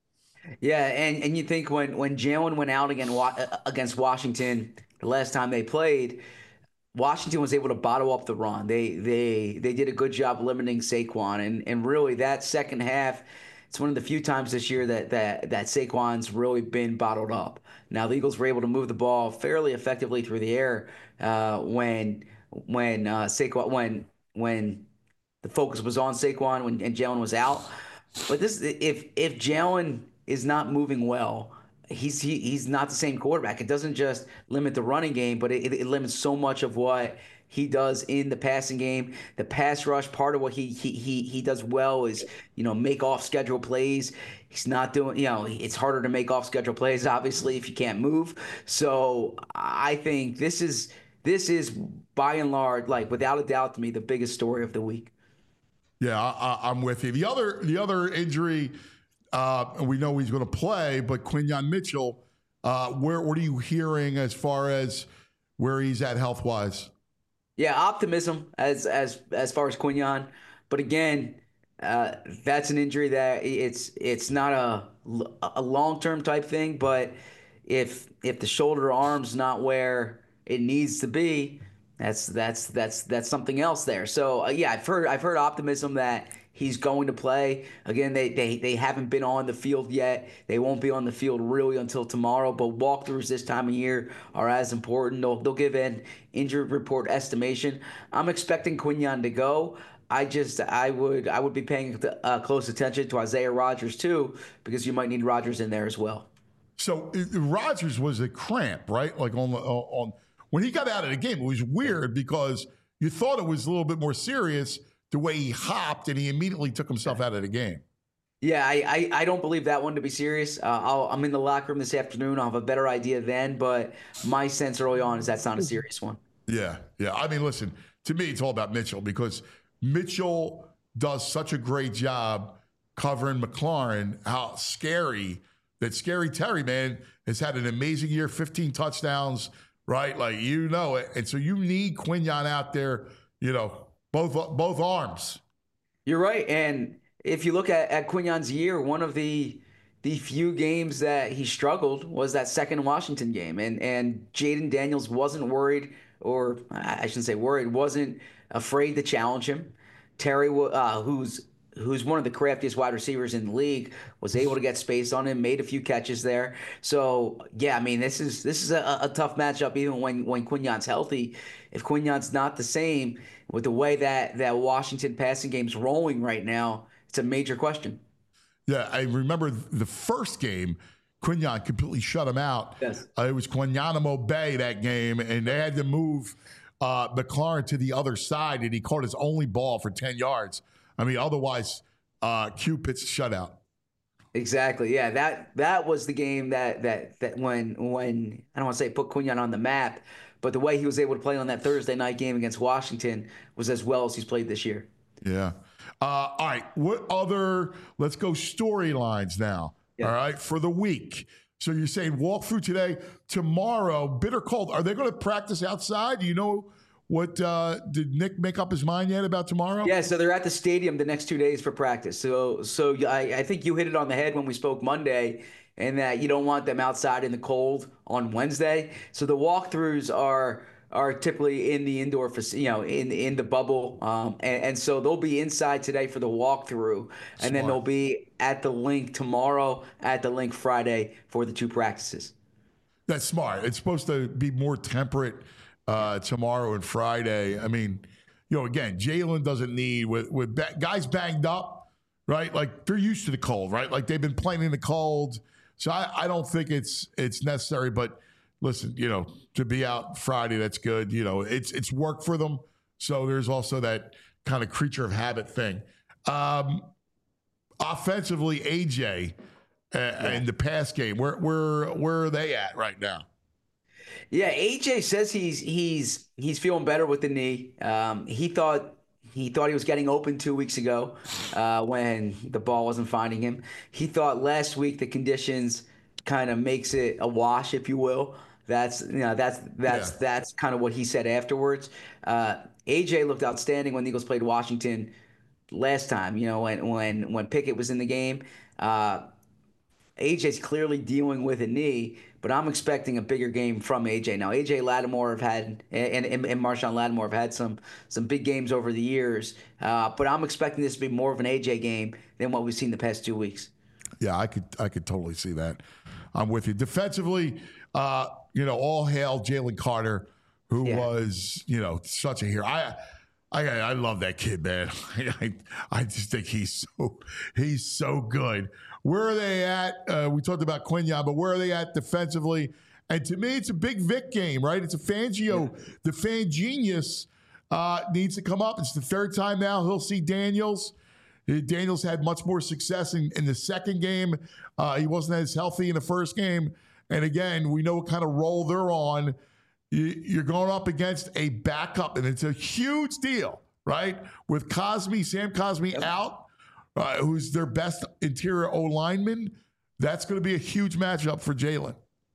Yeah, and, and you think when, when Jalen went out again against Washington the last time they played, Washington was able to bottle up the run. They they they did a good job limiting Saquon, and and really that second half, it's one of the few times this year that that that Saquon's really been bottled up. Now the Eagles were able to move the ball fairly effectively through the air uh, when when uh, Saquon when when the focus was on Saquon when and Jalen was out. But this if if Jalen is not moving well, he's he, he's not the same quarterback. It doesn't just limit the running game, but it, it limits so much of what he does in the passing game. The pass rush, part of what he he he he does well is, you know, make off schedule plays. He's not doing, you know, it's harder to make off schedule plays, obviously, if you can't move. So I think this is this is by and large, like without a doubt to me, the biggest story of the week. Yeah, I, I'm with you. The other the other injury. Uh, we know he's going to play, but Quinyon Mitchell, uh, where what are you hearing as far as where he's at health wise? Yeah, optimism as as as far as Quinyon, but again, uh, that's an injury that it's it's not a a long term type thing. But if if the shoulder arm's not where it needs to be, that's that's that's that's something else there. So uh, yeah, I've heard I've heard optimism that he's going to play. Again, they, they they haven't been on the field yet. They won't be on the field really until tomorrow, but walkthroughs this time of year are as important. They'll, they'll give an injury report estimation. I'm expecting Quinyon to go. I just I would I would be paying uh, close attention to Isaiah Rodgers too, because you might need Rodgers in there as well. So Rodgers was a cramp, right? Like on the on when he got out of the game, it was weird because you thought it was a little bit more serious the way he hopped, and he immediately took himself out of the game. Yeah, I, I, I don't believe that one to be serious. Uh, I'll, I'm in the locker room this afternoon. I'll have a better idea then, but my sense early on is that's not a serious one. Yeah, yeah. I mean, listen, to me, it's all about Mitchell because Mitchell does such a great job covering McLaurin, how scary that Scary Terry, man, has had an amazing year, fifteen touchdowns, right? Like, you know it. And so you need Quinyon out there, you know, both both arms. You're right. And if you look at, at Quinyon's year, one of the the few games that he struggled was that second Washington game. And and Jayden Daniels wasn't worried, or I shouldn't say worried, wasn't afraid to challenge him. Terry, uh, who's who's one of the craftiest wide receivers in the league, was able to get space on him, made a few catches there. So, yeah, I mean, this is this is a, a tough matchup even when, when Quinyon's healthy. If Quinyon's not the same, with the way that, that Washington passing game's rolling right now, it's a major question. Yeah, I remember the first game, Quinyon completely shut him out. Yes. Uh, it was Quinyon Bay that game, and they had to move uh, McLaurin to the other side, and he caught his only ball for ten yards. I mean, otherwise, uh, Q pitched a shutout. Exactly. Yeah, that that was the game that that that when when I don't want to say put Quinyon on the map, but the way he was able to play on that Thursday night game against Washington was as well as he's played this year. Yeah. Uh, all right. What other? Let's go storylines now. Yeah. All right, for the week. So you're saying walk through today, tomorrow, bitter cold. Are they going to practice outside? Do you know? What uh, did Nick make up his mind yet about tomorrow? Yeah, so they're at the stadium the next two days for practice. So, so I, I think you hit it on the head when we spoke Monday, and that you don't want them outside in the cold on Wednesday. So the walkthroughs are are typically in the indoor, you know, in in the bubble, um, and, and so they'll be inside today for the walkthrough, and Smart. then they'll be at the link tomorrow, at the link Friday for the two practices. That's smart. It's supposed to be more temperate. Uh, tomorrow and Friday. I mean, you know, again, Jalen doesn't need with with ba- guys banged up, right? Like they're used to the cold, right? Like they've been playing in the cold, so I, I don't think it's it's necessary. But listen, you know, to be out Friday, that's good. You know, it's it's work for them. So there's also that kind of creature of habit thing. Um, offensively, A J uh, yeah. in the pass game, where where where are they at right now? Yeah, A J says he's he's he's feeling better with the knee. Um, he thought he thought he was getting open two weeks ago uh, when the ball wasn't finding him. He thought last week the conditions kind of makes it a wash, if you will. That's you know that's that's yeah. that's kind of what he said afterwards. Uh, A J looked outstanding when the Eagles played Washington last time. You know when when when Pickett was in the game. Uh, A J's clearly dealing with a knee, but I'm expecting a bigger game from A J. Now, A J Lattimore have had, and, and, and Marshawn Lattimore have had some some big games over the years, uh, but I'm expecting this to be more of an A J game than what we've seen the past two weeks. Yeah, I could I could totally see that. I'm with you. Defensively, uh, you know, all hail Jalen Carter, who yeah. was, you know, such a hero. I I I love that kid, man. I I just think he's so he's so good. Where are they at? Uh, we talked about Quinyon, but where are they at defensively? And to me, it's a big Vic game, right? It's a Fangio. Yeah. The fan genius uh, needs to come up. It's the third time now he'll see Daniels. Daniels had much more success in, in the second game. Uh, he wasn't as healthy in the first game. And again, we know what kind of role they're on. You, you're going up against a backup, and it's a huge deal, right? With Cosme, Sam Cosme yep. out. Uh, who's their best interior O-lineman, that's going to be a huge matchup for Jalen.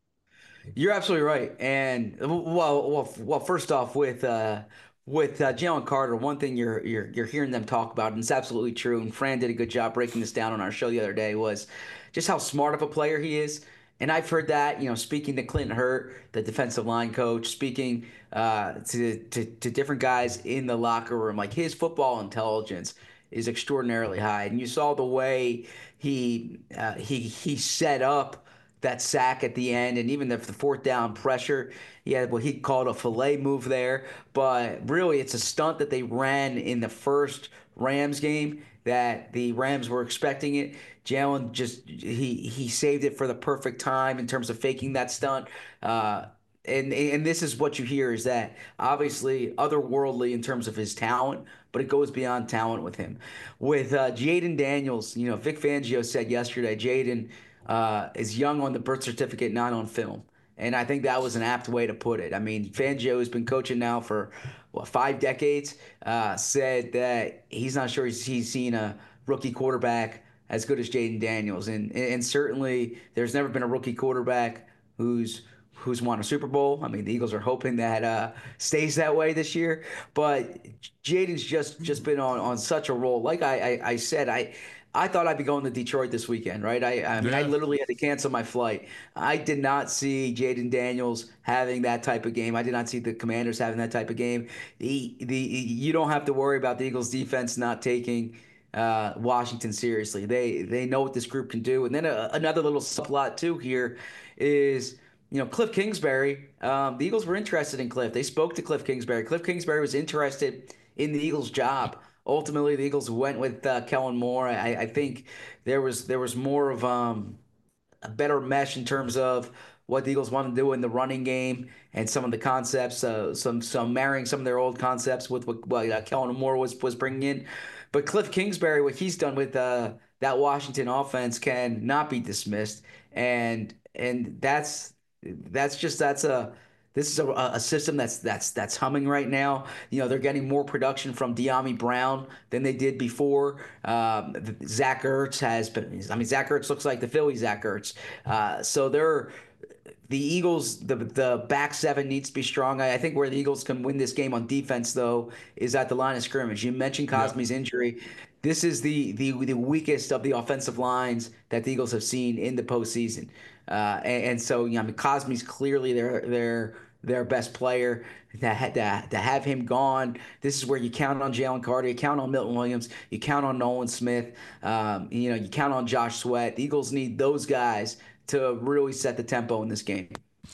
You're absolutely right. And, well, well, well first off, with uh, with uh, Jalen Carter, one thing you're, you're you're hearing them talk about, and it's absolutely true, and Fran did a good job breaking this down on our show the other day, was just how smart of a player he is. And I've heard that, you know, speaking to Clinton Hurt, the defensive line coach, speaking uh, to, to to different guys in the locker room, like his football intelligence is extraordinarily high. And you saw the way he uh, he he set up that sack at the end, and even the, the fourth down pressure. He had what he called a fillet move there. But really, it's a stunt that they ran in the first Rams game that the Rams were expecting it. Jalen just he he saved it for the perfect time in terms of faking that stunt. Uh, And and this is what you hear is that obviously otherworldly in terms of his talent, but it goes beyond talent with him. With uh, Jayden Daniels, you know, Vic Fangio said yesterday, Jayden uh, is young on the birth certificate, not on film. And I think that was an apt way to put it. I mean, Fangio has been coaching now for, what, five decades, uh, said that he's not sure he's, he's seen a rookie quarterback as good as Jaden Daniels. And and certainly there's never been a rookie quarterback who's who's won a Super Bowl. I mean, the Eagles are hoping that uh, stays that way this year. But Jaden's just just been on, on such a roll. Like I, I, I said, I I thought I'd be going to Detroit this weekend, right? I, I mean, yeah. I literally had to cancel my flight. I did not see Jaden Daniels having that type of game. I did not see the Commanders having that type of game. The, the you don't have to worry about the Eagles defense not taking uh, Washington seriously. They they know what this group can do. And then a, another little subplot too here is, you know, Cliff Kingsbury. Um, the Eagles were interested in Cliff. They spoke to Cliff Kingsbury. Cliff Kingsbury was interested in the Eagles' job. Ultimately, the Eagles went with uh, Kellen Moore. I, I think there was there was more of um, a better mesh in terms of what the Eagles wanted to do in the running game and some of the concepts, uh, some some marrying some of their old concepts with what, what uh, Kellen Moore was was bringing in. But Cliff Kingsbury, what he's done with uh, that Washington offense can not be dismissed, and and that's that's just that's a. This is a, a system that's that's that's humming right now. You know, they're getting more production from De'Ami Brown than they did before. Um, Zach Ertz has been. I mean, Zach Ertz looks like the Philly Zach Ertz. Uh, so they're the Eagles. The the back seven needs to be strong. I, I think where the Eagles can win this game on defense, though, is at the line of scrimmage. You mentioned Cosmi's yeah. injury. This is the the the weakest of the offensive lines that the Eagles have seen in the postseason. Uh, and, and so, you know, I mean, Cosmi's clearly their their their best player. To, to, to have him gone, this is where you count on Jalen Carter, you count on Milton Williams, you count on Nolan Smith, um, you know, you count on Josh Sweat. The Eagles need those guys to really set the tempo in this game.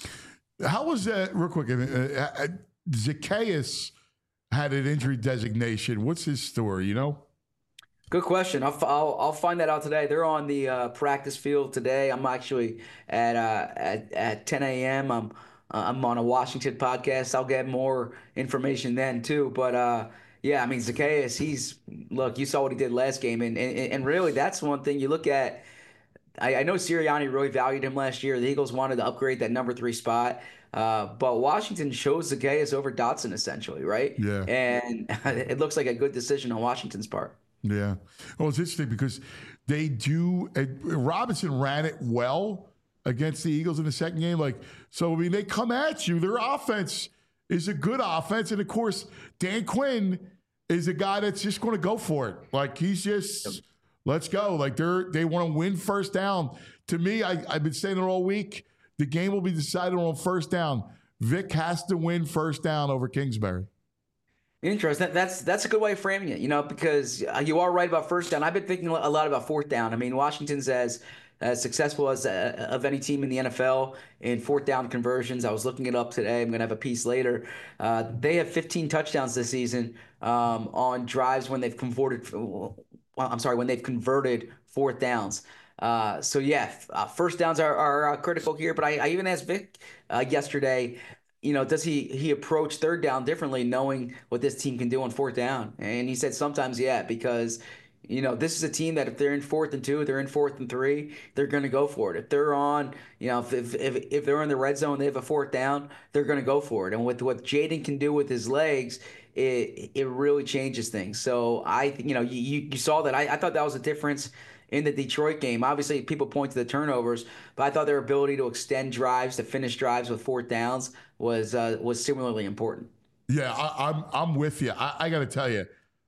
How was that, real quick, uh, Zacchaeus had an injury designation. What's his story, you know? Good question. I'll, I'll I'll find that out today. They're on the uh, practice field today. I'm actually at uh, at at ten a.m. I'm uh, I'm on a Washington podcast. I'll get more information then too. But uh, yeah, I mean Zacchaeus, he's look. You saw what he did last game, and and, and really that's one thing you look at. I, I know Sirianni really valued him last year. The Eagles wanted to upgrade that number three spot. Uh, but Washington chose Zacchaeus over Dotson essentially, right? Yeah. And it looks like a good decision on Washington's part. Yeah. Well, it's interesting because they do uh, – Robinson ran it well against the Eagles in the second game. Like, so, I mean, they come at you. Their offense is a good offense. And, of course, Dan Quinn is a guy that's just going to go for it. Like, he's just – let's go. Like, they're they want to win first down. To me, I, I've been saying it all week. The game will be decided on first down. Vic has to win first down over Kingsbury. Interesting. That's that's a good way of framing it, you know, because you are right about first down. I've been thinking a lot about fourth down. I mean, Washington's as as successful as uh, of any team in the N F L in fourth down conversions. I was looking it up today. I'm going to have a piece later. Uh, they have fifteen touchdowns this season um, on drives when they've converted. Well, I'm sorry, when they've converted fourth downs. Uh, so yeah, uh, first downs are, are uh, critical here. But I, I even asked Vic uh, yesterday. You know, does he he approach third down differently, knowing what this team can do on fourth down? And he said sometimes, yeah, because, you know, this is a team that if they're in fourth and two, they're in fourth and three, they're going to go for it. If they're on, you know, if, if if if they're in the red zone, they have a fourth down, they're going to go for it. And with what Jaden can do with his legs, it it really changes things. So I, you know, you you saw that. I, I thought that was a difference in the Detroit game. Obviously, people point to the turnovers, but I thought their ability to extend drives, to finish drives with fourth downs was uh, was similarly important. Yeah, I, I'm I'm with you. I, I got to tell you,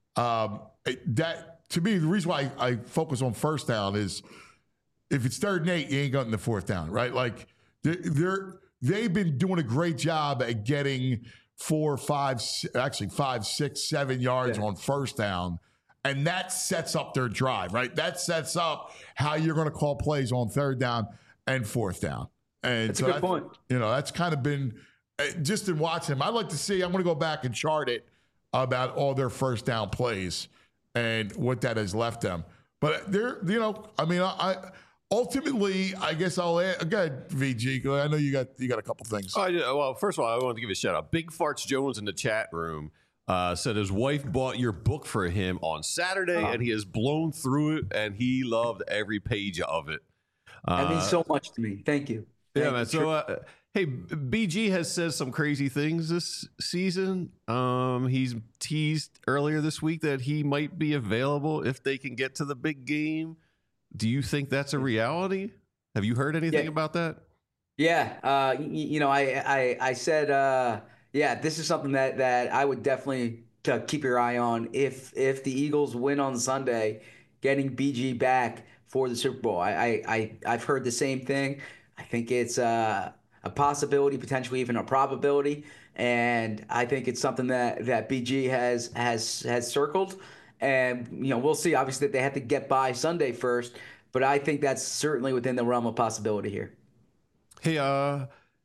um, that to me, the reason why I, I focus on first down is if it's third and eight, you ain't getting the fourth down, right? Like they're, they're they've been doing a great job at getting four, five, actually five, six, seven yards yeah. on first down. And that sets up their drive, right? That sets up how you're going to call plays on third down and fourth down. And that's so a good that, point. You know, that's kind of been just in watching him. I'd like to see. I'm going to go back and chart it about all their first down plays and what that has left them. But they're, you know, I mean, I, I ultimately, I guess I'll add, go ahead, V G. I know you got you got a couple things. Oh, yeah, well, first of all, I wanted to give you a shout out. Big Farts Jones in the chat room. Uh, said his wife bought your book for him on Saturday, oh. and he has blown through it, and he loved every page of it. Uh, that means so much to me. Thank you. Yeah, Thank man. You. So, uh, hey, B G has said some crazy things this season. Um, he's teased earlier this week that he might be available if they can get to the big game Do you think that's a reality? Have you heard anything Yeah. about that? Yeah, uh, y- you know, I I, I said, uh, yeah, this is something that, that I would definitely to keep your eye on if if the Eagles win on Sunday, getting B G back for the Super Bowl. I I, I I've heard the same thing. I think it's uh, a possibility, potentially even a probability, and I think it's something that, that B G has has has circled. And you know, we'll see. Obviously, that they have to get by Sunday first, but I think that's certainly within the realm of possibility here. Hey, uh,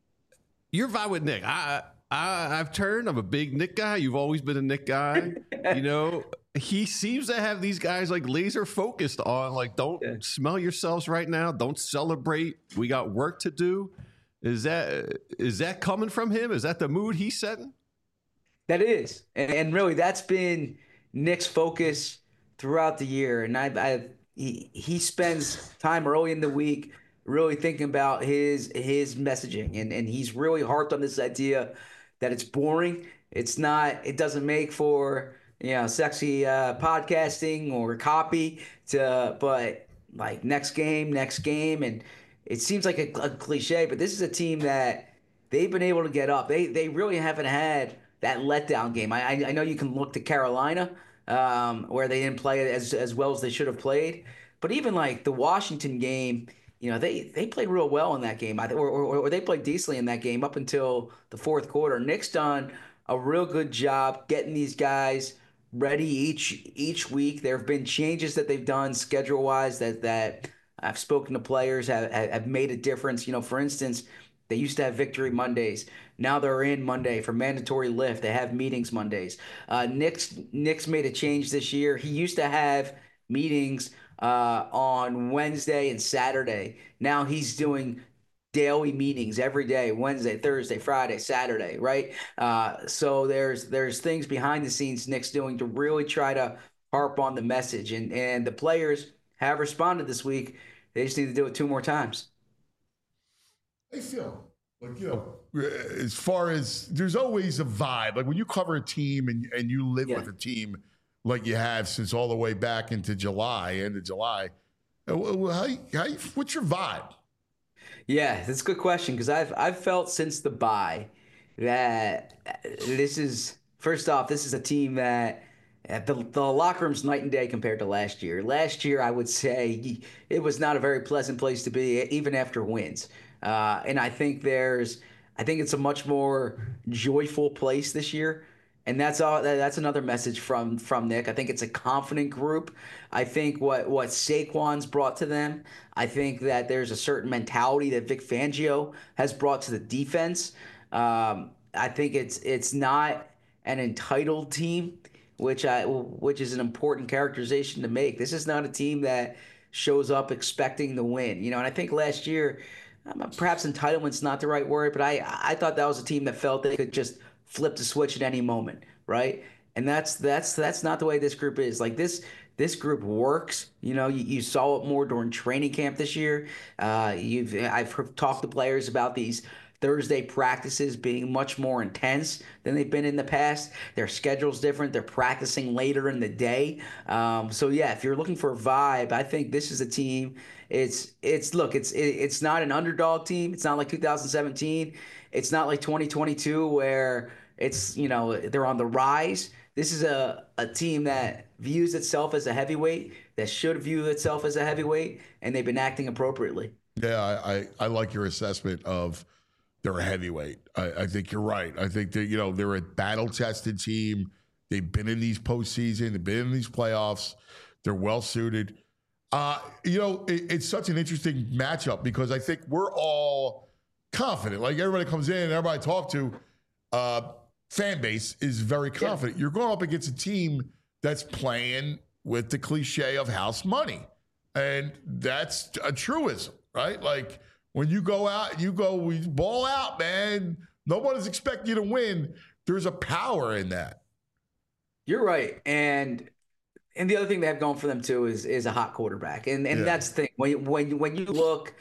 your vibe with Nick. I, I, I've turned. I'm a big Nick guy. You've always been a Nick guy. You know, he seems to have these guys like laser focused on like, don't yeah. smell yourselves right now. Don't celebrate. We got work to do. Is that is that coming from him? Is that the mood he's setting? That is, and, and really, that's been Nick's focus throughout the year. And I, I he he spends time early in the week really thinking about his his messaging, and and he's really harped on this idea that it's boring. It's not. It doesn't make for you know sexy uh, podcasting or copy. To but like next game, next game, and it seems like a, a cliche, but this is a team that they've been able to get up. They they really haven't had that letdown game. I I know you can look to Carolina, um, where they didn't play as as well as they should have played, but even like the Washington game. You know, they, they played real well in that game, I or, or, or they played decently in that game up until the fourth quarter. Nick's done a real good job getting these guys ready each each week. There have been changes that they've done schedule-wise that, that I've spoken to players have, have made a difference. You know, for instance, they used to have Victory Mondays. Now they're in Monday for mandatory lift. They have meetings Mondays. Uh, Nick's, Nick's made a change this year. He used to have meetings Uh, on Wednesday and Saturday. Now he's doing daily meetings every day, Wednesday, Thursday, Friday, Saturday, right? Uh, so there's there's things behind the scenes Nick's doing to really try to harp on the message. And, and the players have responded this week. They just need to do it two more times. I feel like, you know, as far as there's always a vibe. Like when you cover a team and, and you live yeah. with a team like you have since all the way back into July, end of July. How, how, what's your vibe? Yeah, that's a good question because I've I've felt since the bye that this is first off, this is a team that the the locker room's night and day compared to last year. Last year, I would say it was not a very pleasant place to be, even after wins. Uh, and I think there's, I think it's a much more joyful place this year. And that's all. That's another message from from Nick. I think it's a confident group. I think what what Saquon's brought to them. I think that there's a certain mentality that Vic Fangio has brought to the defense. Um, I think it's it's not an entitled team, which I which is an important characterization to make. This is not a team that shows up expecting to win. You know, and I think last year, um, perhaps entitlement's not the right word, but I I thought that was a team that felt they could just flip the switch at any moment, right? And that's that's that's not the way this group is. Like this this group works. You know, you, you saw it more during training camp this year. Uh, you've I've heard, talked to players about these Thursday practices being much more intense than they've been in the past. Their schedule's different. They're practicing later in the day. Um, so yeah, if you're looking for a vibe, I think this is a team. It's it's look, it's it, it's not an underdog team. It's not like two thousand seventeen. It's not like twenty twenty-two where it's, you know, they're on the rise. This is a, a team that views itself as a heavyweight, that should view itself as a heavyweight, and they've been acting appropriately. Yeah, I, I, I like your assessment of they're a heavyweight. I, I think you're right. I think that, you know, they're a battle-tested team. They've been in these postseason. They've been in these playoffs. They're well-suited. Uh, you know, it, it's such an interesting matchup because I think we're all confident. Like everybody comes in and everybody I talk to, uh, fan base is very confident. Yeah. You're going up against a team that's playing with the cliche of house money. And that's a truism, right? Like when you go out, you go, we ball out, man. Nobody's expecting you to win. There's a power in that. You're right. And and the other thing they have going for them too is is a hot quarterback. And and yeah. that's the thing. When when when you look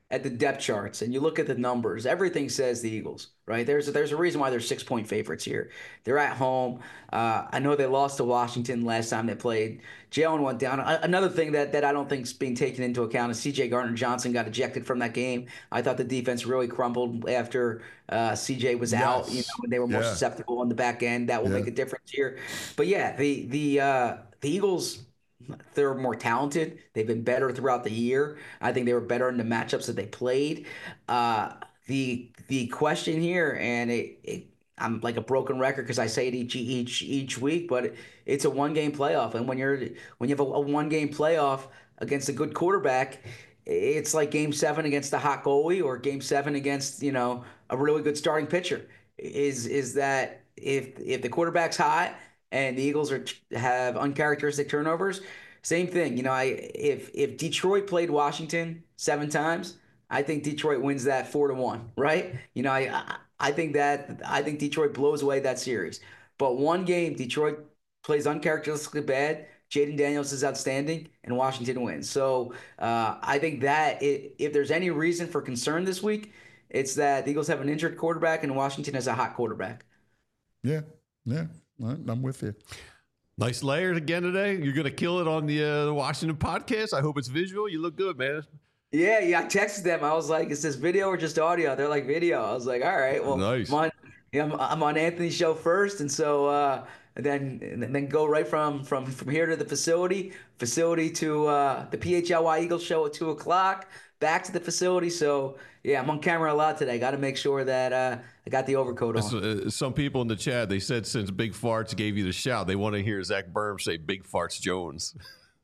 at the depth charts and you look at the numbers, everything says the Eagles, right? There's a, there's a reason why they're six point favorites here. They're at home. Uh, I know they lost to Washington last time they played. Jalen went down. A- another thing that, that I don't think is being taken into account is C J Gardner-Johnson got ejected from that game. I thought the defense really crumbled after uh, C J was Yes. out. You know, when they were more Yeah. susceptible on the back end. That will Yeah. make a difference here. But yeah, the the uh, the Eagles, they're more talented. They've been better throughout the year. I think they were better in the matchups that they played. Uh, the the question here, and it, it I'm like a broken record because I say it each each each week, but it's a one game playoff, and when you're when you have a, a one game playoff against a good quarterback, it's like Game Seven against a hot goalie or Game Seven against you know a really good starting pitcher. Is is that if if the quarterback's hot and the Eagles are have uncharacteristic turnovers, same thing. You know, I if if Detroit played Washington seven times, I think Detroit wins that four to one, right? You know, I I think that I think Detroit blows away that series. But one game, Detroit plays uncharacteristically bad. Jaden Daniels is outstanding, and Washington wins. So uh, I think that it, if there's any reason for concern this week, it's that the Eagles have an injured quarterback and Washington has a hot quarterback. Yeah, yeah, I'm with you. Nice layers again today. You're going to kill it on the, uh, the Washington podcast. I hope it's visual. You look good, man. Yeah, yeah. I texted them. I was like, "Is this video or just audio?" They're like, "Video." I was like, "All right, well, nice. I'm on, yeah, I'm, I'm on Anthony's show first, and so uh, then and then go right from from from here to the facility, facility to uh, the P H L Y Eagles show at two o'clock, back to the facility. So yeah, I'm on camera a lot today. Got to make sure that uh, I got the overcoat on. Uh, some people in the chat, they said since Big Farts gave you the shout, they want to hear Zach Berm say Big Farts Jones.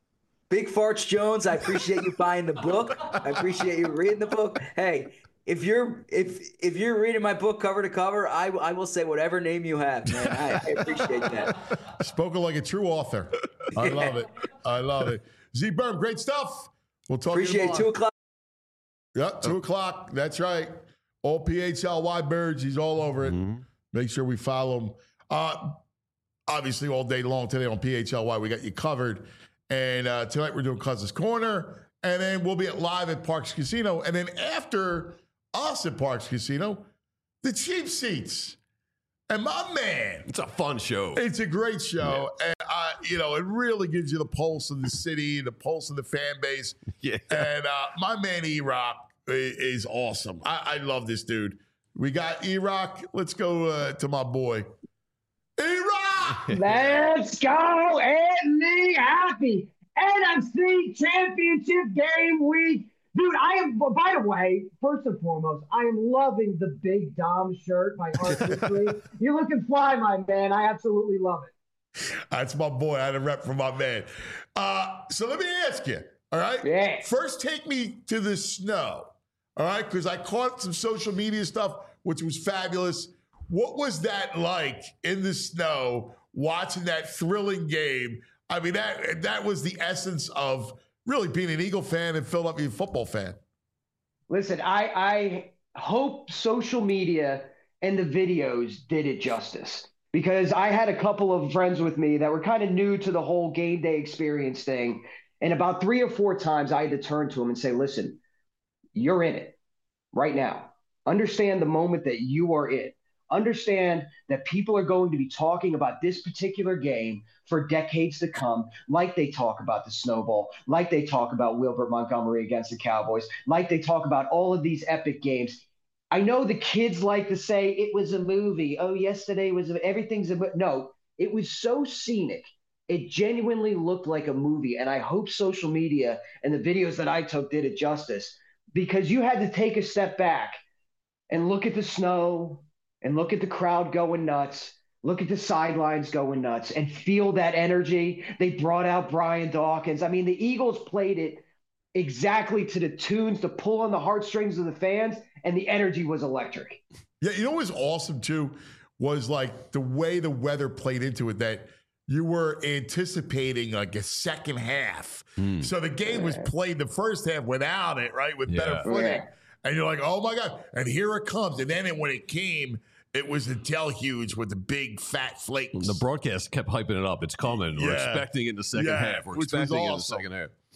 Big Farts Jones, I appreciate you buying the book. I appreciate you reading the book. Hey, if you're if if you're reading my book cover to cover, I I will say whatever name you have, man. I, I appreciate that. Spoken like a true author. I love it. I love it. Z Berm, great stuff. We'll talk Appreciate to you it. tomorrow. Two o'clock. Yep, two o'clock. That's right. All P H L Y birds. He's all over it. Mm-hmm. Make sure we follow him. Uh, obviously, all day long today on P H L Y, we got you covered. And uh, tonight we're doing Cousins Corner. And then we'll be at live at Parks Casino. And then after us at Parks Casino, the cheap seats. And my man. It's a fun show. It's a great show. Yeah. And, uh, you know, it really gives you the pulse of the city, the pulse of the fan base. Yeah. And uh, my man, E-Rock, is awesome. I, I love this dude. We got E-Rock. Let's go uh, to my boy. E-Rock! Let's go, Anthony. Happy N F C Championship game week. Dude, I am, by the way, first and foremost, I am loving the Big Dom shirt by Art History. You're looking fly, my man. I absolutely love it. That's my boy. I had a rep for my man. Uh, so let me ask you, all right? Yeah. First, take me to the snow, all right? Because I caught some social media stuff, which was fabulous. What was that like in the snow, watching that thrilling game? I mean, that that was the essence of really being an Eagle fan and Philadelphia football fan. Listen, I, I hope social media and the videos did it justice, because I had a couple of friends with me that were kind of new to the whole game day experience thing. And about three or four times I had to turn to them and say, listen, you're in it right now. Understand the moment that you are in. Understand that people are going to be talking about this particular game for decades to come, like they talk about the snowball, like they talk about Wilbert Montgomery against the Cowboys, like they talk about all of these epic games. I know the kids like to say it was a movie. Oh, yesterday was a, everything's a no. It was so scenic. It genuinely looked like a movie, and I hope social media and the videos that I took did it justice, because you had to take a step back and look at the snow and look at the crowd going nuts, look at the sidelines going nuts, and feel that energy. They brought out Brian Dawkins. I mean, the Eagles played it exactly to the tunes to pull on the heartstrings of the fans, and the energy was electric. Yeah, you know what was awesome, too, was like the way the weather played into it, that you were anticipating like a second half. Mm. So the game was played the first half without it, right, with yeah. better footing. Yeah. And you're like, oh, my God. And here it comes. And then it, when it came, it was the deluge with the big fat flakes. The broadcast kept hyping it up. It's coming. We're yeah. expecting it in the second yeah, half. We're expecting it in the second half.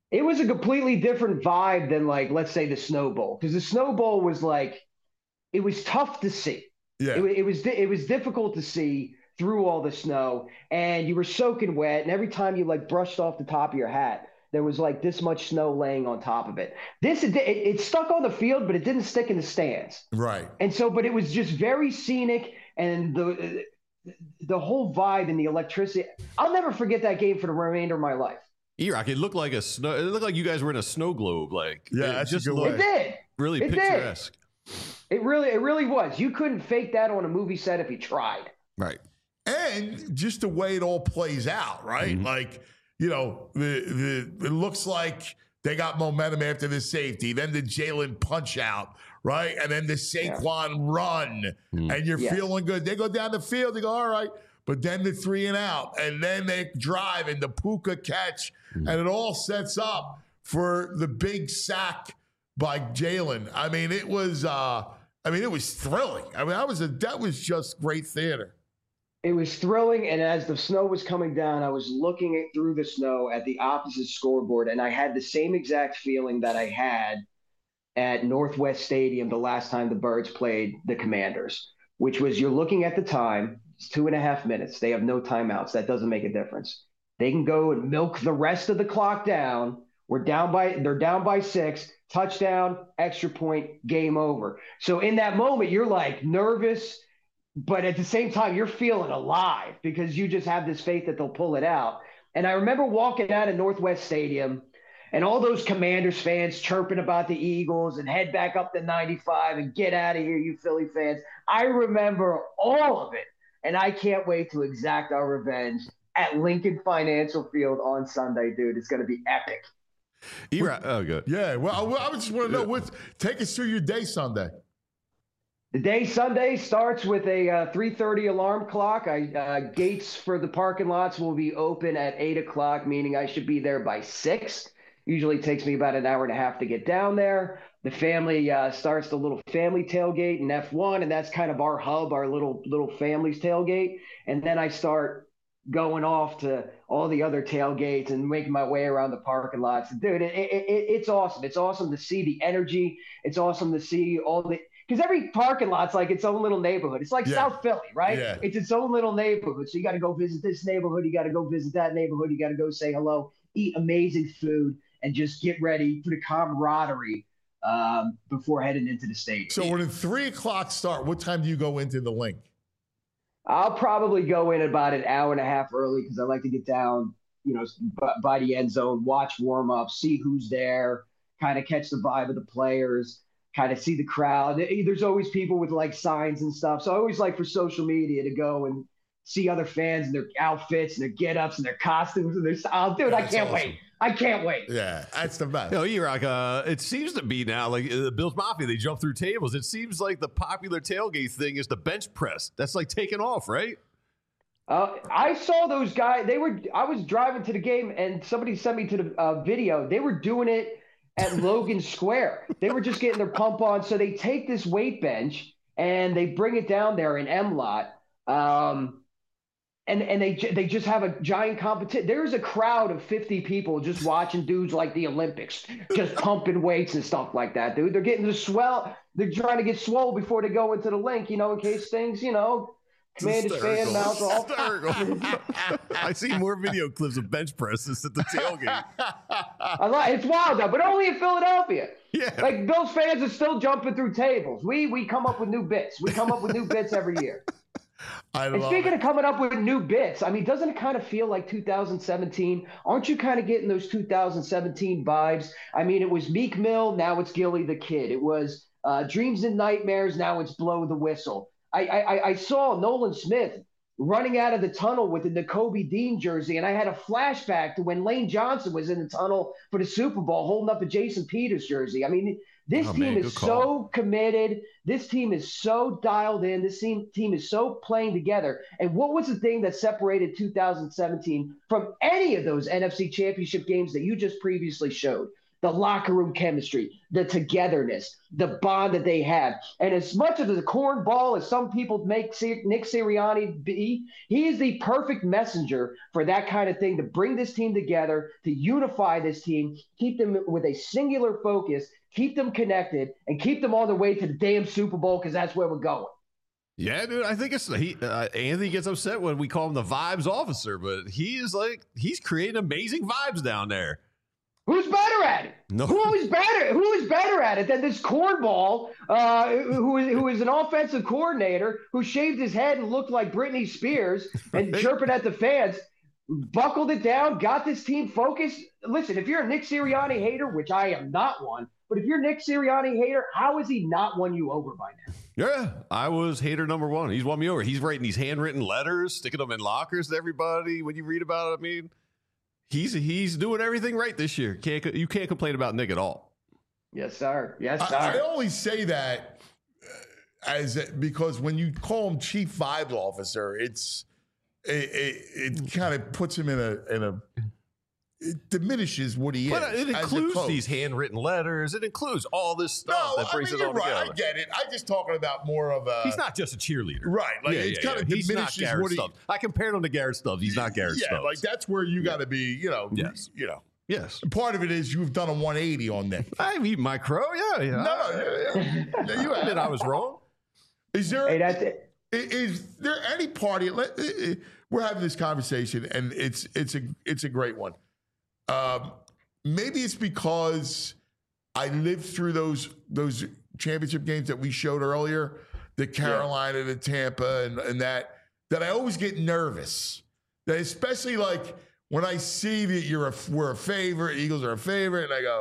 It was a completely different vibe than, like, let's say the Snow Bowl, because the Snow Bowl was like, it was tough to see. Yeah. It, it was it was difficult to see through all the snow, and you were soaking wet, and every time you like brushed off the top of your hat, there was like this much snow laying on top of it. This it, it, it stuck on the field, but it didn't stick in the stands. Right. And so, but it was just very scenic, and the the whole vibe and the electricity. I'll never forget that game for the remainder of my life. E-Rock, it looked like a snow. It looked like you guys were in a snow globe. Like, yeah, it that's just a good looked way. It did. Really it picturesque. Did. It really, it really was. You couldn't fake that on a movie set if you tried. Right. And just the way it all plays out, right? Mm-hmm. Like, you know, the, the it looks like they got momentum after the safety, then the Jalen punch out, right? And then the Saquon yeah. run, mm-hmm. and you're yes. feeling good. They go down the field, they go, all right. But then the three and out, and then they drive and the Puka catch, mm-hmm. and it all sets up for the big sack by Jalen. I mean, it was, uh, I mean, it was thrilling. I mean, that was a, that was just great theater. It was thrilling, and as the snow was coming down, I was looking at, through the snow at the opposite scoreboard, and I had the same exact feeling that I had at Northwest Stadium the last time the Birds played the Commanders, which was you're looking at the time. It's two and a half minutes. They have no timeouts. That doesn't make a difference. They can go and milk the rest of the clock down. We're down by, they're down by six, touchdown, extra point, game over. So in that moment, you're like nervous, but at the same time, you're feeling alive because you just have this faith that they'll pull it out. And I remember walking out of Northwest Stadium and all those Commanders fans chirping about the Eagles and head back up to ninety-five and get out of here, you Philly fans. I remember all of it. And I can't wait to exact our revenge at Lincoln Financial Field on Sunday, dude. It's going to be epic. E-Rock, oh, good. Yeah, well, I, I just want to know, what, take us through your day Sunday. The day Sunday starts with a uh, three thirty alarm clock. I uh, gates for the parking lots will be open at eight o'clock, meaning I should be there by six. Usually takes me about an hour and a half to get down there. The family uh, starts the little family tailgate in F one, and that's kind of our hub, our little little family's tailgate. And then I start going off to all the other tailgates and making my way around the parking lots. Dude, it, it, it, it's awesome. It's awesome to see the energy. It's awesome to see all the – because every parking lot's like its own little neighborhood. It's like yeah. South Philly, right? Yeah. It's its own little neighborhood. So you got to go visit this neighborhood. You got to go visit that neighborhood. You got to go say hello, eat amazing food, and just get ready for the camaraderie um, before heading into the stadium. So when the three o'clock start, what time do you go into the link? I'll probably go in about an hour and a half early because I like to get down, you know, by the end zone, watch warm up, see who's there, kind of catch the vibe of the players, kind of see the crowd. There's always people with like signs and stuff. So I always like for social media to go and see other fans and their outfits and their get-ups and their costumes and their style. Dude, I can't awesome. wait. I can't wait. Yeah, that's the best. You know, E-Rock, uh, it seems to be now, like the uh, Bills Mafia, they jump through tables. It seems like the popular tailgate thing is the bench press. That's like taking off, right? Uh, I saw those guys. They were. I was driving to the game, and somebody sent me to the uh, video. They were doing it at Logan Square. They were just getting their pump on. So they take this weight bench, and they bring it down there in M-Lot. Um And and they they just have a giant competition. There's a crowd of fifty people just watching dudes like the Olympics, just pumping weights and stuff like that, dude. They're getting the swell. They're trying to get swole before they go into the link, you know, in case things, you know, Commanders fan mouth off. I see more video clips of bench presses at the tailgate. I like it's wild though, but only in Philadelphia. Yeah. Like Bills fans are still jumping through tables. We we come up with new bits. We come up with new bits every year. I and speaking it. of coming up with new bits, I mean, doesn't it kind of feel like two thousand seventeen? Aren't you kind of getting those two thousand seventeen vibes? I mean, it was Meek Mill, now it's Gilly the Kid. It was uh, Dreams and Nightmares, now it's Blow the Whistle. I, I I saw Nolan Smith running out of the tunnel with the Nakobe Dean jersey, and I had a flashback to when Lane Johnson was in the tunnel for the Super Bowl holding up a Jason Peters jersey. I mean, this oh, team man, is so committed. This team is so dialed in. This team, team is so playing together. And what was the thing that separated two thousand seventeen from any of those N F C championship games that you just previously showed? the locker room chemistry, the togetherness, the bond that they have. And as much of the cornball as some people make Nick Sirianni be, he is the perfect messenger for that kind of thing, to bring this team together, to unify this team, keep them with a singular focus, keep them connected, and keep them on their way to the damn Super Bowl, because that's where we're going. Yeah, dude, I think it's he. Uh, Anthony gets upset when we call him the vibes officer, but he is like he's creating amazing vibes down there. Who's better at it? No. Who is better? Who is better at it than this cornball, uh, who is who is an offensive coordinator who shaved his head and looked like Britney Spears and chirping at the fans, buckled it down, got this team focused. Listen, if you're a Nick Sirianni hater, which I am not one, but if you're a Nick Sirianni hater, how has he not won you over by now? Yeah, I was hater number one. He's won me over. He's writing these handwritten letters, sticking them in lockers to everybody. When you read about it, I mean, he's he's doing everything right this year. Can't you can't complain about Nick at all. Yes, sir. Yes, sir. I, I always say that as because when you call him chief vibes officer, it's it, it, it kind of puts him in a in a. It diminishes what he but is. It includes these handwritten letters. It includes all this stuff no, that brings I mean, it all you're right. together. I get it. I'm just talking about more of a. He's not just a cheerleader, right? Like yeah, it's yeah, kind yeah. of He's diminishes not Garrett what he. Stubbs. I compared him to Garrett Stubbs. He's not Garrett yeah, Stubbs. like that's where you yeah. got to be. You know. Yes. You know. Yes. Part of it is you've done a one eighty on Nick. I've eaten my crow. Yeah. Yeah. No, no, yeah, yeah. yeah you admit I was wrong. Is there? Hey, that's it. Is there any party? Let, we're having this conversation, and it's it's a it's a great one. Um, maybe it's because I lived through those those championship games that we showed earlier, the Carolina, yeah. the Tampa, and, and that that I always get nervous. That especially like when I see that you're a we're a favorite, Eagles are a favorite, and I go,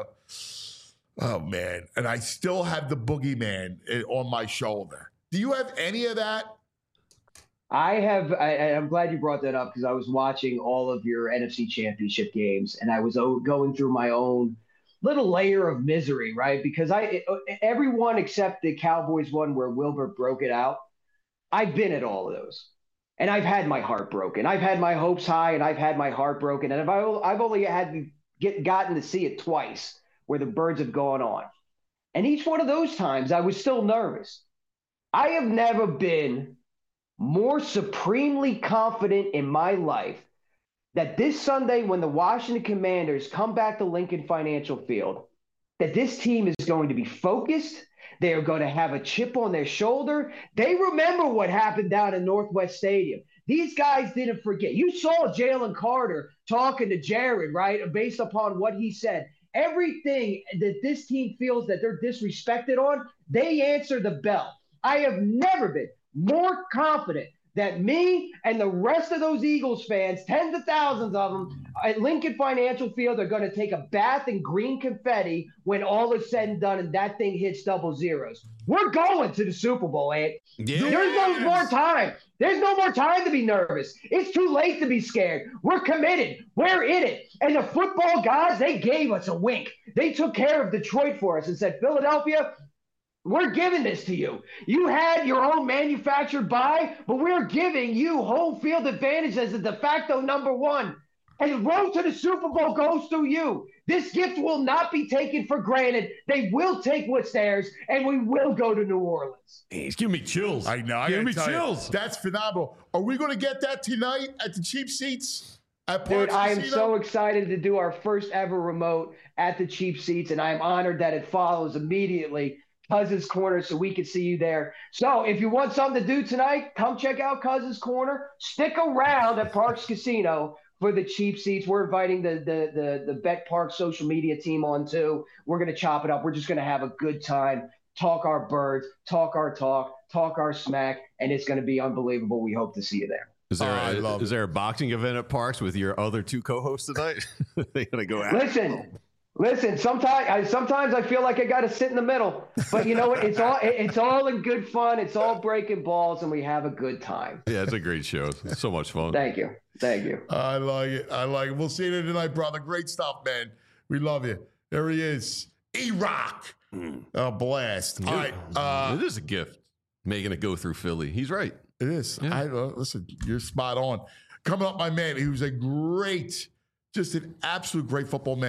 oh man, and I still have the boogeyman on my shoulder. Do you have any of that? I have, I, I'm glad you brought that up because I was watching all of your N F C Championship games and I was going through my own little layer of misery, right? Because I, everyone except the Cowboys one where Wilbur broke it out, I've been at all of those. And I've had my heart broken. I've had my hopes high and I've had my heart broken. And I've, I've only had to get gotten to see it twice where the birds have gone on. And each one of those times I was still nervous. I have never been more supremely confident in my life that this Sunday when the Washington Commanders come back to Lincoln Financial Field, that this team is going to be focused. They are going to have a chip on their shoulder. They remember what happened down in Northwest Stadium. These guys didn't forget. You saw Jalen Carter talking to Jared, right, based upon what he said. Everything that this team feels that they're disrespected on, they answer the bell. I have never been more confident that me and the rest of those Eagles fans, tens of thousands of them, at Lincoln Financial Field are going to take a bath in green confetti when all is said and done and that thing hits double zeros. We're going to the Super Bowl, Ant. Yes. There's no more time. There's no more time to be nervous. It's too late to be scared. We're committed. We're in it. And the football gods, they gave us a wink. They took care of Detroit for us and said, Philadelphia, we're giving this to you. You had your own manufactured buy, but we're giving you home field advantage as the de facto number one. And the road to the Super Bowl goes through you. This gift will not be taken for granted. They will take what's theirs, and we will go to New Orleans. Hey, it's giving me chills. I know. I giving me tell chills. You, that's phenomenal. Are we going to get that tonight at the cheap seats? At Parks Dude, I am Casino? so excited to do our first ever remote at the cheap seats, and I'm honored that it follows immediately Cousins Corner, so we can see you there. So if you want something to do tonight, come check out Cousins Corner. Stick around at Parks Casino for the cheap seats. We're inviting the the the, the Bet Park social media team on too. We're going to chop it up. We're just going to have a good time, talk our birds, talk our talk, talk our smack, and it's going to be unbelievable. We hope to see you there. Is there, oh, a, is there a boxing event at Parks with your other two co-hosts tonight? They going to go out? Listen. Listen, sometimes I sometimes I feel like I got to sit in the middle, but you know what? It's all it's all in good fun. It's all breaking balls, and we have a good time. Yeah, it's a great show. It's so much fun. Thank you, thank you. I like it. I like it. We'll see you tonight, brother. Great stuff, man. We love you. There he is, E-Rock. Mm. A blast. All right, uh, it is a gift making it go through Philly. He's right. It is. Yeah. I uh, listen. You're spot on. Coming up, my man. He was a great, just an absolute great football man.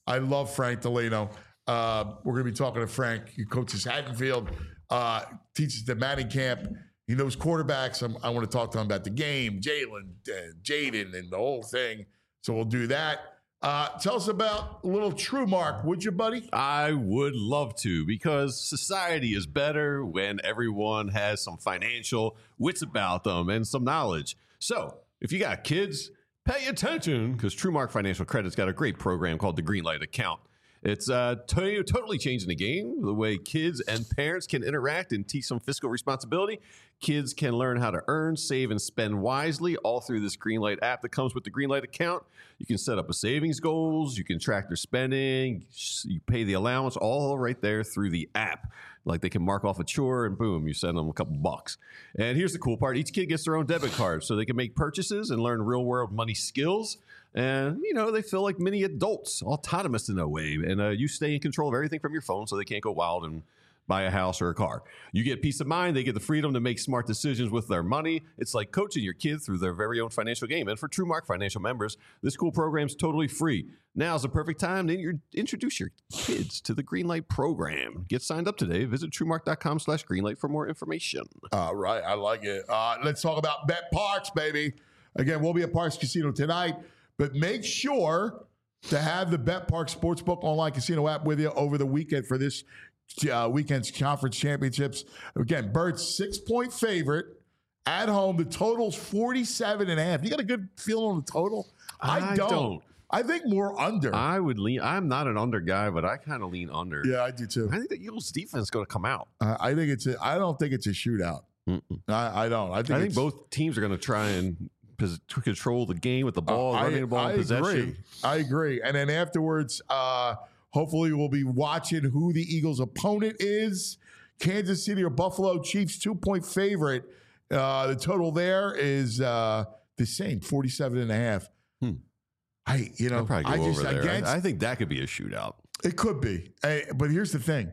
I love Frank Delano. Uh, we're going to be talking to Frank. He coaches Haddonfield, uh, teaches the Manning camp. He knows quarterbacks. I'm, I want to talk to him about the game, Jalen, uh, Jaden, and the whole thing. So we'll do that. Uh, tell us about a little TrueMark, would you, buddy? I would love to, because society is better when everyone has some financial wits about them and some knowledge. So if you got kids, pay attention, because TrueMark Financial Credit's got a great program called the Greenlight Account. It's uh, to- totally changing the game, the way kids and parents can interact and teach some fiscal responsibility. Kids can learn how to earn, save, and spend wisely all through this Greenlight app that comes with the Greenlight account. You can set up a savings goals. You can track their spending. You pay the allowance all right there through the app. Like they can mark off a chore and boom, you send them a couple bucks. And here's the cool part. Each kid gets their own debit card so they can make purchases and learn real world money skills. And, you know, they feel like mini adults, autonomous in a way. And uh, you stay in control of everything from your phone so they can't go wild and buy a house or a car. You get peace of mind. They get the freedom to make smart decisions with their money. It's like coaching your kids through their very own financial game. And for TrueMark Financial members, this cool program is totally free. Now's the perfect time to introduce your kids to the Greenlight program. Get signed up today. Visit TrueMark.com slash Greenlight for more information. All right. I like it. Uh, let's talk about Bet Parks, baby. Again, we'll be at Parks Casino tonight, but make sure to have the Bet Parks Sportsbook online casino app with you over the weekend for this Uh, weekend's conference championships. Again, Birds six-point favorite at home. The total's forty-seven and a half. You got a good feeling on the total? I, I don't. don't. I think more under. I would lean. I'm not an under guy, but I kind of lean under. Yeah, I do too. I think the Eagles' defense is going to come out. Uh, I think it's. A, I don't think it's a shootout. I, I don't. I think, I think it's, both teams are going to try and pos- to control the game with the ball, uh, running I, the ball I in possession. Agree. I agree. And then afterwards, uh, hopefully we'll be watching who the Eagles' opponent is. Kansas City or Buffalo. Chiefs two-point favorite. Uh, the total there is uh, the same, forty-seven and a half. Hmm. I, you know, I'll probably go I just over there. against, I, I think that could be a shootout. It could be. Hey, but here's the thing.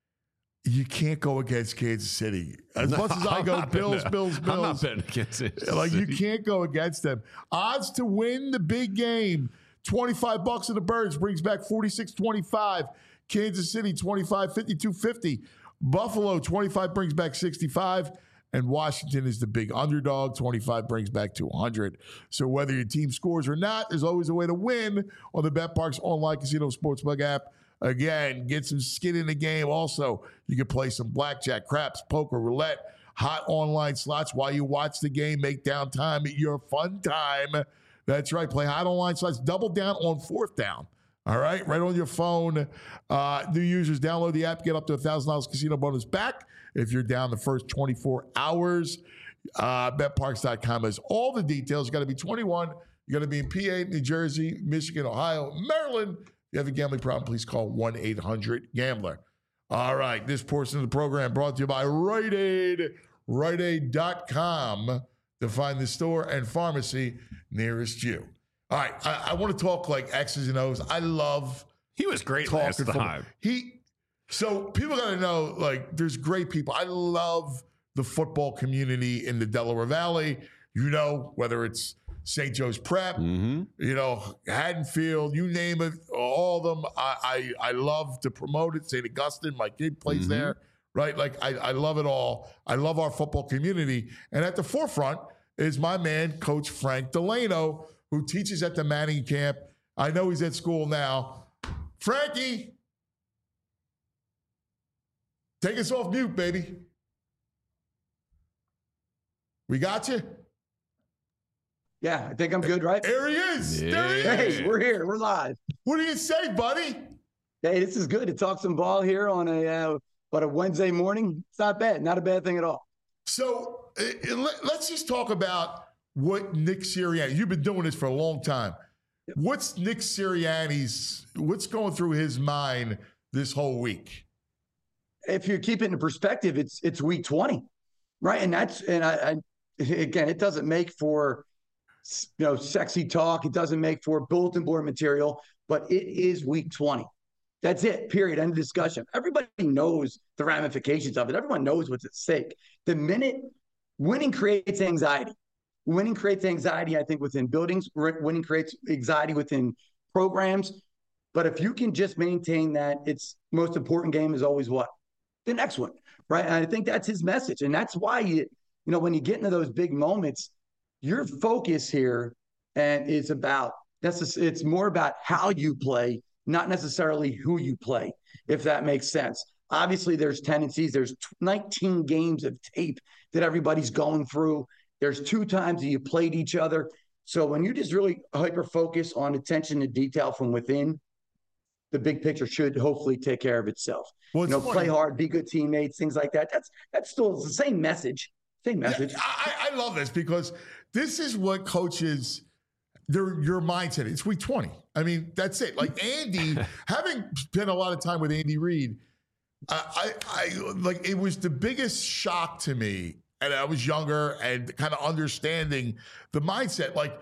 You can't go against Kansas City. As No, much as I I'm go not Bills, betting- Bills, Bills. I'm not betting against it. Like, you can't go against them. Odds to win the big game. twenty-five bucks of the Birds brings back forty-six twenty-five. Kansas City, twenty-five, fifty-two fifty. Buffalo, twenty-five brings back sixty-five. And Washington is the big underdog. twenty-five brings back two hundred. So whether your team scores or not, there's always a way to win on the BetParks online casino sportsbook app. Again, get some skin in the game. Also, you can play some blackjack, craps, poker, roulette, hot online slots while you watch the game. Make downtime your fun time. That's right. Play hot online slots. Double down on fourth down. All right, right on your phone. Uh, new users, download the app, get up to one thousand dollars casino bonus back if you're down the first twenty-four hours. Uh, bet parks dot com has all the details. You got to be twenty-one. You got to be in P A, New Jersey, Michigan, Ohio, Maryland. If you have a gambling problem, please call one eight hundred gambler. All right, this portion of the program brought to you by Rite Aid, Rite Aid dot com to find the store and pharmacy nearest you. All right, I, I want to talk like X's and O's. I love He was great talking last football. time. He so people got to know, like, there's great people. I love the football community in the Delaware Valley. You know, whether it's Saint Joe's Prep, Mm-hmm. you know, Haddonfield, you name it, all of them. I I, I love to promote it. Saint Augustine, my kid plays Mhm. there, right? Like, I, I love it all. I love our football community. And at the forefront is my man, Coach Frank Delano, who teaches at the Manning camp. I know he's at school now. Frankie, take us off mute, baby. We got you? Yeah, I think I'm good, right? There he is. Yeah. There he is. Hey, we're here. We're live. What do you say, buddy? Hey, this is good to talk some ball here on a uh, but a Wednesday morning. It's not bad. Not a bad thing at all. So uh, let, let's just talk about what Nick Sirianni, you've been doing this for a long time. What's Nick Sirianni's, what's going through his mind this whole week? If you keep it in perspective, it's it's week twenty, right? And that's and I, I again, it doesn't make for you know sexy talk. It doesn't make for bulletin board material, but it is week twenty. That's it. Period. End of discussion. Everybody knows the ramifications of it. Everyone knows what's at stake. The minute winning creates anxiety. Winning creates anxiety, I think, within buildings. Winning creates anxiety within programs. But if you can just maintain that, its most important game is always what? The next one, right? And I think that's his message. And that's why, you, you know, when you get into those big moments, your focus here and is about, that's a, it's more about how you play, not necessarily who you play, if that makes sense. Obviously, there's tendencies. There's nineteen games of tape that everybody's going through. There's two times that you played each other. So when you just really hyper-focus on attention to detail from within, the big picture should hopefully take care of itself. Well, you know, funny. Play hard, be good teammates, things like that. That's that's still the same message. Same message. Yeah, I, I love this because this is what coaches, their your mindset. It's week twenty. I mean, that's it. Like Andy, having spent a lot of time with Andy Reid, I, I, I like it was the biggest shock to me. And I was younger and kind of understanding the mindset. Like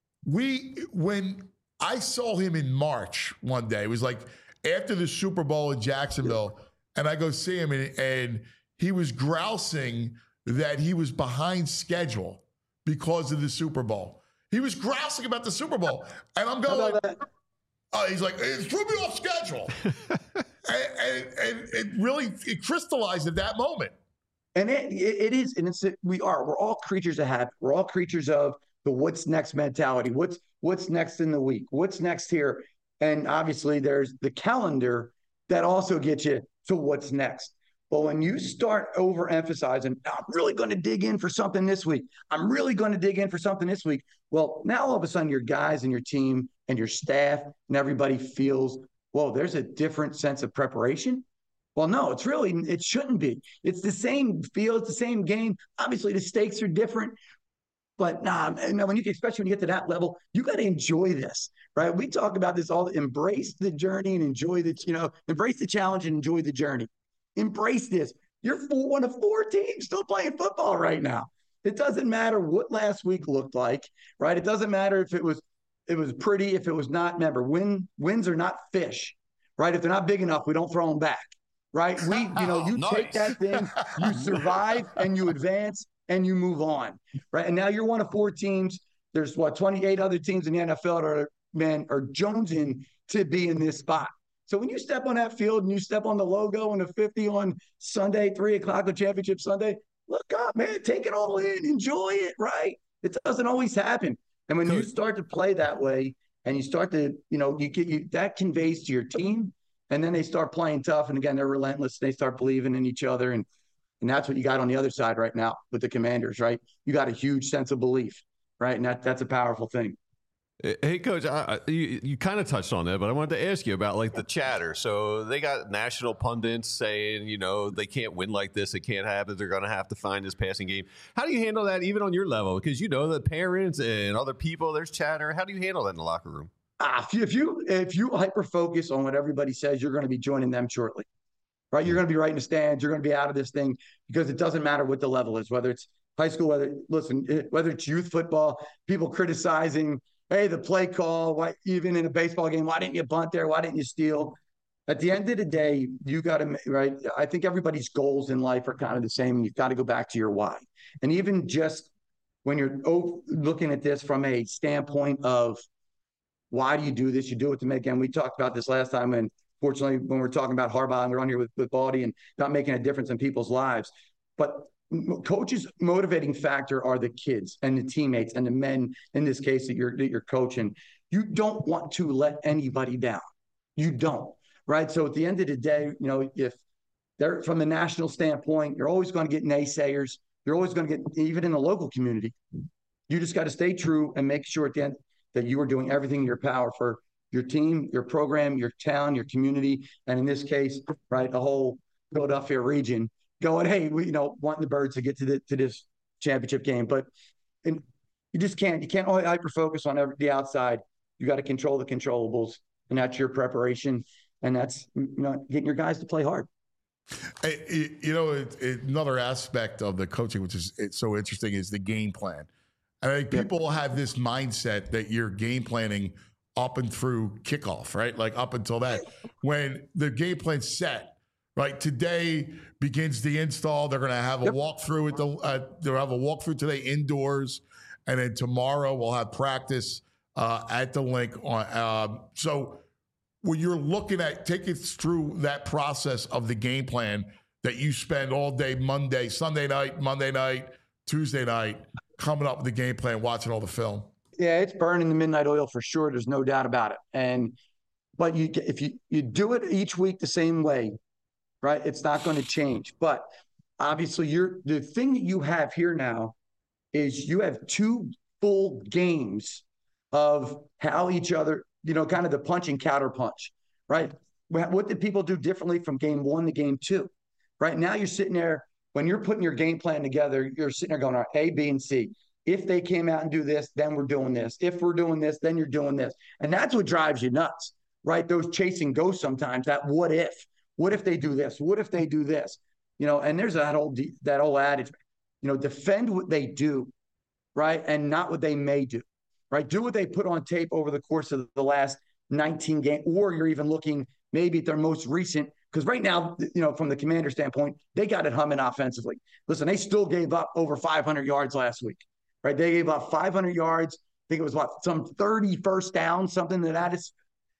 we, when I saw him in March one day, it was like after the Super Bowl in Jacksonville, and I go see him, and, and he was grousing that he was behind schedule because of the Super Bowl. He was grousing about the Super Bowl, and I'm going, like, uh, he's like, it threw me off schedule. and, and, and it really it crystallized at that moment. And it, it is, and it's we are. We're all creatures of habit. We're all creatures of the what's next mentality. What's what's next in the week? What's next here? And obviously, there's the calendar that also gets you to what's next. But when you start overemphasizing, I'm really going to dig in for something this week. I'm really going to dig in for something this week. Well, now all of a sudden, your guys and your team and your staff and everybody feels, whoa, there's a different sense of preparation. Well, no, it's really, it shouldn't be. It's the same feel, it's the same game. Obviously, the stakes are different, but nah, when you, especially when you get to that level, you got to enjoy this, right? We talk about this all, embrace the journey and enjoy the, you know, embrace the challenge and enjoy the journey. Embrace this. You're four, one of four teams still playing football right now. It doesn't matter what last week looked like, right? It doesn't matter if it was, it was pretty, if it was not. Remember, win, wins are not fish, right? If they're not big enough, we don't throw them back. Right? We, you know, you nice. Take that thing, you survive and you advance and you move on. Right. And now you're one of four teams. There's what, twenty-eight other teams in the N F L that are, man, are jonesing to be in this spot. So when you step on that field and you step on the logo and the fifty on Sunday, three o'clock on Championship Sunday, look up, man, take it all in, enjoy it. Right. It doesn't always happen. And when Good. You start to play that way and you start to, you know, you get you that conveys to your team. And then they start playing tough. And again, they're relentless. They start believing in each other. And and that's what you got on the other side right now with the Commanders, right? You got a huge sense of belief, right? And that that's a powerful thing. Hey, Coach, I, you, you kind of touched on that, but I wanted to ask you about, like, the chatter. So they got national pundits saying, you know, they can't win like this. It can't happen. They're going to have to find this passing game. How do you handle that even on your level? Because, you know, the parents and other people, there's chatter. How do you handle that in the locker room? Ah, if you if you hyper focus on what everybody says, you're going to be joining them shortly, right? You're going to be right in the stands. You're going to be out of this thing because it doesn't matter what the level is, whether it's high school, whether listen, whether it's youth football, people criticizing, hey, the play call, why even in a baseball game, why didn't you bunt there? Why didn't you steal? At the end of the day, you got to right. I think everybody's goals in life are kind of the same. You've got to go back to your why, and even just when you're looking at this from a standpoint of why do you do this? You do it to make, and we talked about this last time, and fortunately, when we're talking about Harbaugh, and we're on here with, with Baldy and not making a difference in people's lives. But coach's motivating factor are the kids and the teammates and the men, in this case, that you're, that you're coaching. You don't want to let anybody down. You don't, right? So at the end of the day, you know, if they're from the national standpoint, you're always going to get naysayers. You're always going to get, even in the local community, you just got to stay true and make sure at the end that you are doing everything in your power for your team, your program, your town, your community, and in this case, right, the whole Philadelphia region going, hey, we, you know, wanting the Birds to get to the, to this championship game. But and you just can't, you can't only hyper-focus on every, the outside. You got to control the controllables, and that's your preparation, and that's, you know, getting your guys to play hard. Hey, you know, it, it, another aspect of the coaching, which is it's so interesting, is the game plan. I think people have this mindset that you're game planning up and through kickoff, right? Like up until that. When the game plan's set, right? Today begins the install. They're going to have a yep. walkthrough at the. Uh, they'll have a walkthrough today indoors, and then tomorrow we'll have practice uh, at the link. On um, so when you're looking at, take us through that process of the game plan that you spend all day Monday, Sunday night, Monday night, Tuesday night, coming up with the game plan, watching all the film. Yeah, it's burning the midnight oil for sure. There's no doubt about it. And but you if you you do it each week the same way, right? It's not going to change. But obviously, you're the thing that you have here now is you have two full games of how each other, you know, kind of the punch and counter punch, right? What did people do differently from game one to game two? Right now, you're sitting there when you're putting your game plan together. You're sitting there going, all right, A, B, and C. If they came out and do this, then we're doing this. If we're doing this, then you're doing this. And that's what drives you nuts, right? Those chasing ghosts sometimes, that what if. What if they do this? What if they do this? You know, and there's that old that old adage, you know, defend what they do, right? And not what they may do, right? Do what they put on tape over the course of the last nineteen games, or you're even looking maybe at their most recent, because right now, you know, from the Commander standpoint, they got it humming offensively. Listen, they still gave up over five hundred yards last week. Right, they gave up five hundred yards. I think it was what, some thirty first down, something to that is.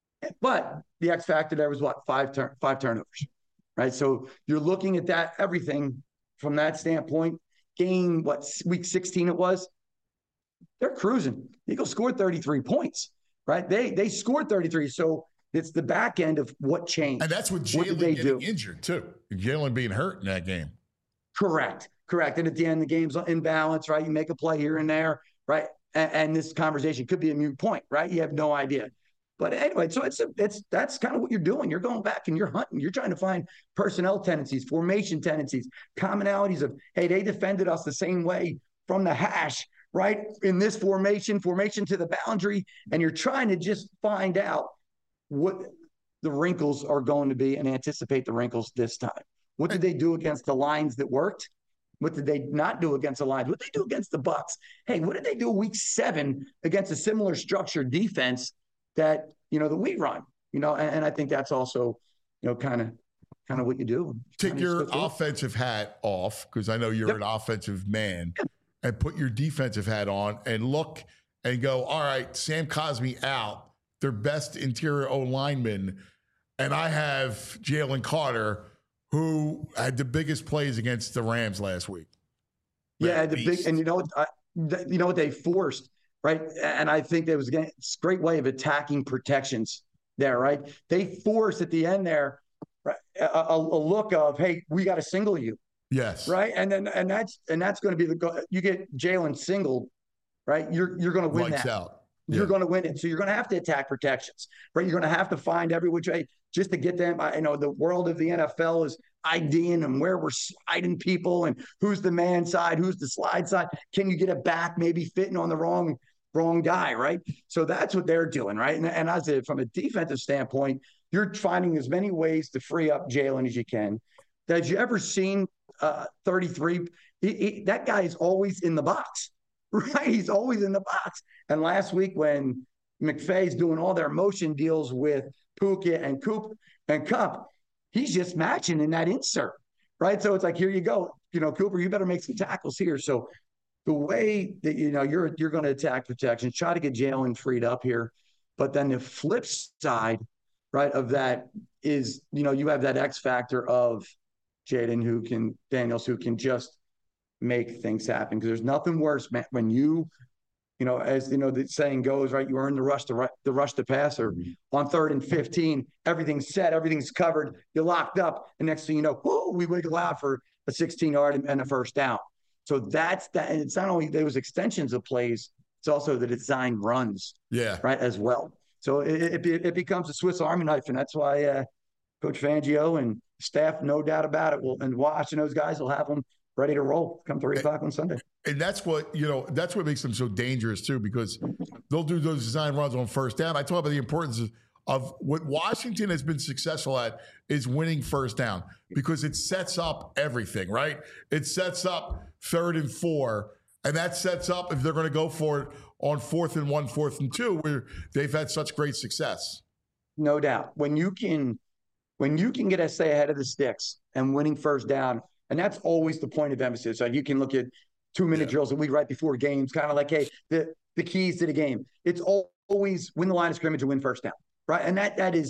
But the X factor there was what, five turn, five turnovers, right? So you're looking at that everything from that standpoint. Game what, week sixteen it was. They're cruising. The Eagles scored thirty-three points, right? They they scored thirty-three. So it's the back end of what changed. And that's with Jalen getting do? injured too. Jalen being hurt in that game. Correct. Correct. And at the end, the game's in balance, right? You make a play here and there, right? And, and this conversation could be a moot point, right? You have no idea. But anyway, so it's a, it's that's kind of what you're doing. You're going back and you're hunting. You're trying to find personnel tendencies, formation tendencies, commonalities of, hey, they defended us the same way from the hash, right? In this formation, formation to the boundary, and you're trying to just find out what the wrinkles are going to be and anticipate the wrinkles this time. What did they do against the lines that worked? What did they not do against the Lions? What did they do against the Bucs? Hey, what did they do week seven against a similar structured defense that, you know, that we run? You know, and, and I think that's also, you know, kind of kind of what you do. Take your offensive hat off, because I know you're yep. an offensive man, yep. and put your defensive hat on and look and go, all right, Sam Cosmi out, their best interior O-lineman, and I have Jalen Carter, who had the biggest plays against the Rams last week. Yeah, the big, and you know, I, you know what they forced, right? And I think that was a great way of attacking protections there, right? They forced at the end there, right, a, a, a look of, hey, we got to single you. Yes. Right, and then and that's and that's going to be the you get Jalen singled, right? You're you're going to win Lights that. out. You're yeah. going to win it. So you're going to have to attack protections, right? You're going to have to find every which way just to get them. I you know the world of the N F L is IDing and where we're sliding people and who's the man side, who's the slide side. Can you get it back? Maybe fitting on the wrong wrong guy, right? So that's what they're doing, right? And, and as a, from a defensive standpoint, you're finding as many ways to free up Jalen as you can. Have you ever seen uh, thirty-three? He, he, that guy is always in the box. Right, he's always in the box. And last week when McVay's doing all their motion deals with Puka and Coop and Kupp, he's just matching in that insert, right? So it's like, here you go, you know, Cooper, you better make some tackles here. So the way that you know you're you're going to attack protection, try to get Jalen freed up here, but then the flip side, right, of that is you know you have that X factor of Jaden who can Daniels who can just make things happen, because there's nothing worse, man, when you, you know, as you know, the saying goes, right, you earn the rush to the rush to passer on third and fifteen, everything's set, everything's covered, you're locked up, and next thing you know, whoo, we wiggle out for a sixteen yard and a first down. So that's that, and it's not only those extensions of plays, it's also the design runs, yeah, right, as well. So it it, it becomes a Swiss Army knife, and that's why uh, Coach Fangio and staff, no doubt about it, will and watching those guys will have them ready to roll come three o'clock on Sunday. And that's what, you know, that's what makes them so dangerous too, because they'll do those design runs on first down. I talk about the importance of, of what Washington has been successful at is winning first down, because it sets up everything, right? It sets up third and four, and that sets up if they're going to go for it on fourth and one, fourth and two, where they've had such great success. No doubt. When you can, when you can get us stay ahead of the sticks and winning first down, and that's always the point of emphasis. So you can look at two-minute yeah. drills that we write before games, kind of like, hey, the, the keys to the game. It's always win the line of scrimmage and win first down, right? And that that is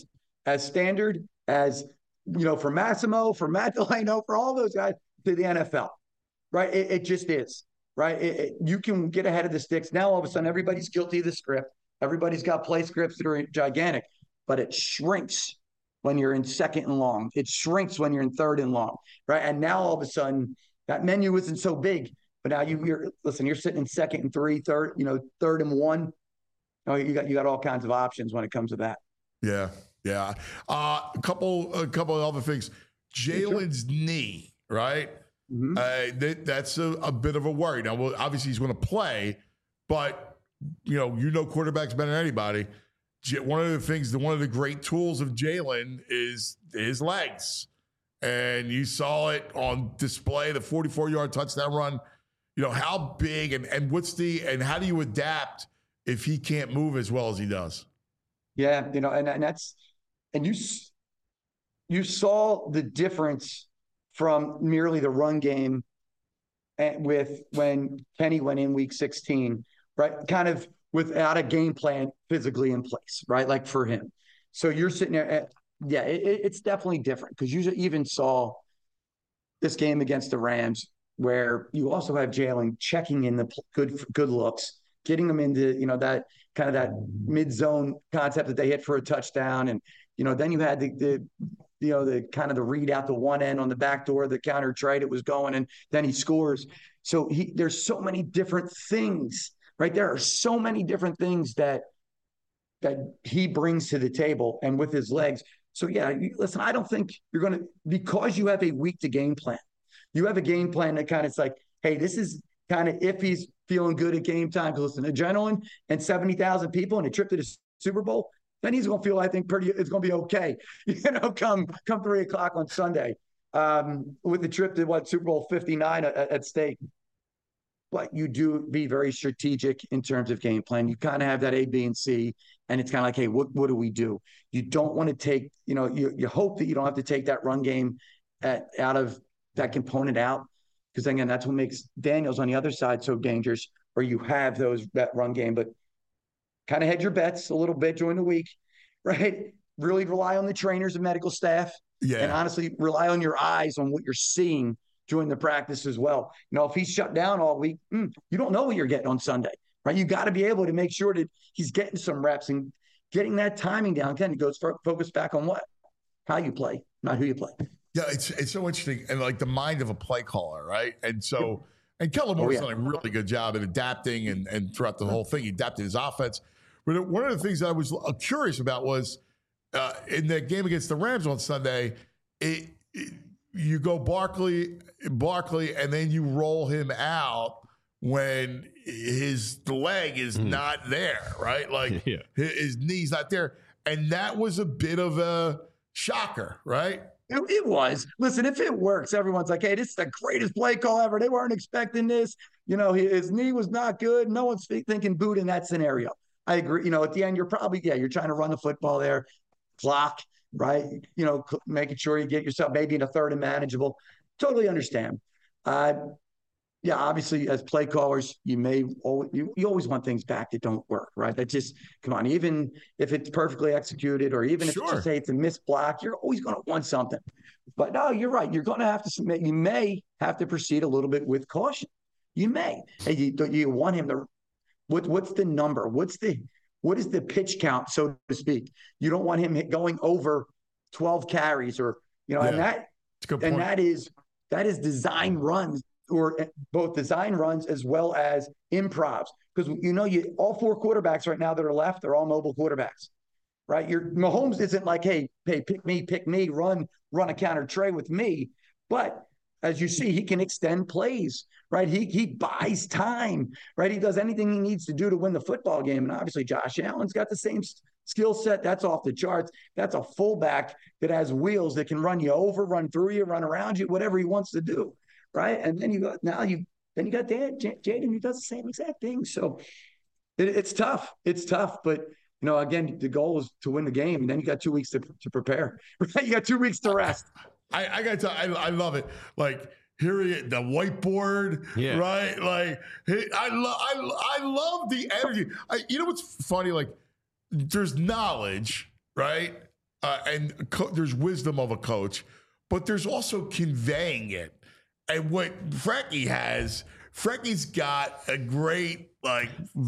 as standard as, you know, for Massimo, for Matt Delano, for all those guys to the N F L, right? It, it just is, right? It, it, you can get ahead of the sticks. Now, all of a sudden, everybody's guilty of the script. Everybody's got play scripts that are gigantic, but it shrinks when you're in second and long. It shrinks when you're in third and long, right? And now, all of a sudden, that menu isn't so big, but now you, you're, listen, you're sitting in second and three, third, you know, third and one. Oh, you got you got all kinds of options when it comes to that. Yeah, yeah. Uh, a couple, a couple of other things. Jalen's knee, right? Mm-hmm. Uh, that, that's a, a bit of a worry. Now, well, obviously he's going to play, but you know, you know, quarterbacks better than anybody. One of the things, one of the great tools of Jalen is his legs, and you saw it on display. The forty-four yard touchdown run. You know, how big and and what's the and how do you adapt if he can't move as well as he does? Yeah, you know, and, and that's and you you saw the difference from merely the run game and with when Kenny went in week sixteen, right? Kind of without a game plan physically in place, right? Like for him. So you're sitting there at, yeah, it, it's definitely different because you even saw this game against the Rams where you also have Jalen checking in the good good looks, getting them into, you know, that kind of that mid-zone concept that they hit for a touchdown. And, you know, then you had the, the you know, the kind of the read out the one end on the back door, the counter trade it was going, and then he scores. So he there's so many different things, right? There are so many different things that that he brings to the table and with his legs. So, yeah, you, listen, I don't think you're going to – because you have a week to game plan, you have a game plan that kind of is like, hey, this is kind of if he's feeling good at game time, because listen, adrenaline and seventy thousand people and a trip to the Super Bowl, then he's going to feel, I think, pretty – it's going to be okay, you know, come come three o'clock on Sunday um, with the trip to, what, Super Bowl fifty-nine at, at stake. But you do be very strategic in terms of game plan. You kind of have that A, B, and C, and it's kind of like, hey, what what do we do? You don't want to take, you know, you you hope that you don't have to take that run game at, out of that component out, because again, that's what makes Daniels on the other side so dangerous, where you have those that run game, but kind of hedge your bets a little bit during the week, right? Really rely on the trainers and medical staff, yeah, and honestly rely on your eyes on what you're seeing during the practice as well. You know, if he's shut down all week, mm, you don't know what you're getting on Sunday, right? You got to be able to make sure that he's getting some reps and getting that timing down. Again, it goes for, focus back on what? How you play, not who you play. Yeah, it's it's so interesting. And like the mind of a play caller, right? And so, and Kellen Moore's oh, yeah. done a really good job at adapting and, and throughout the whole thing, he adapted his offense. But one of the things I was curious about was uh, in that game against the Rams on Sunday, it, it you go Barkley, Barkley, and then you roll him out when his leg is mm. not there, right? Like yeah. his knee's not there. And that was a bit of a shocker, right? It, it was. Listen, if it works, everyone's like, hey, this is the greatest play call ever. They weren't expecting this. You know, his knee was not good. No one's thinking boot in that scenario. I agree. You know, at the end, you're probably, yeah, you're trying to run the football there, clock, right? You know, making sure you get yourself maybe in a third and manageable. Totally understand. Uh, yeah, obviously, as play callers, you may always, you, you always want things back that don't work, right? That just, come on, even if it's perfectly executed or even if sure. it's just, say it's a missed block, you're always going to want something. But no, you're right. You're going to have to submit. You may have to proceed a little bit with caution. You may. Hey, you, you want him to, what, what's the number? What's the, What is the pitch count, so to speak? You don't want him going over twelve carries or, you know, yeah, and that and that is that is design runs, or both design runs as well as improvs. Because, you know, you all four quarterbacks right now that are left, they're all mobile quarterbacks, right? Your Mahomes isn't like, hey, hey, pick me, pick me, run, run a counter tray with me. But as you see, he can extend plays, right? He he buys time, right? He does anything he needs to do to win the football game. And obviously, Josh Allen's got the same skill set. That's off the charts. That's a fullback that has wheels that can run you over, run through you, run around you, whatever he wants to do, right? And then you got now you then you got Dan, J- Jaden who does the same exact thing. So it, it's tough. It's tough, but you know, again, the goal is to win the game, and then you got two weeks to to prepare. Right? You got two weeks to rest. I, I got to tell you, I, I love it. Like, here he is, the whiteboard, yeah. right? Like, he, I, lo- I, I love the energy. I, you know what's funny? Like, there's knowledge, right? uh, and co- there's wisdom of a coach, but there's also conveying it. And what Frankie has, Frankie's got a great like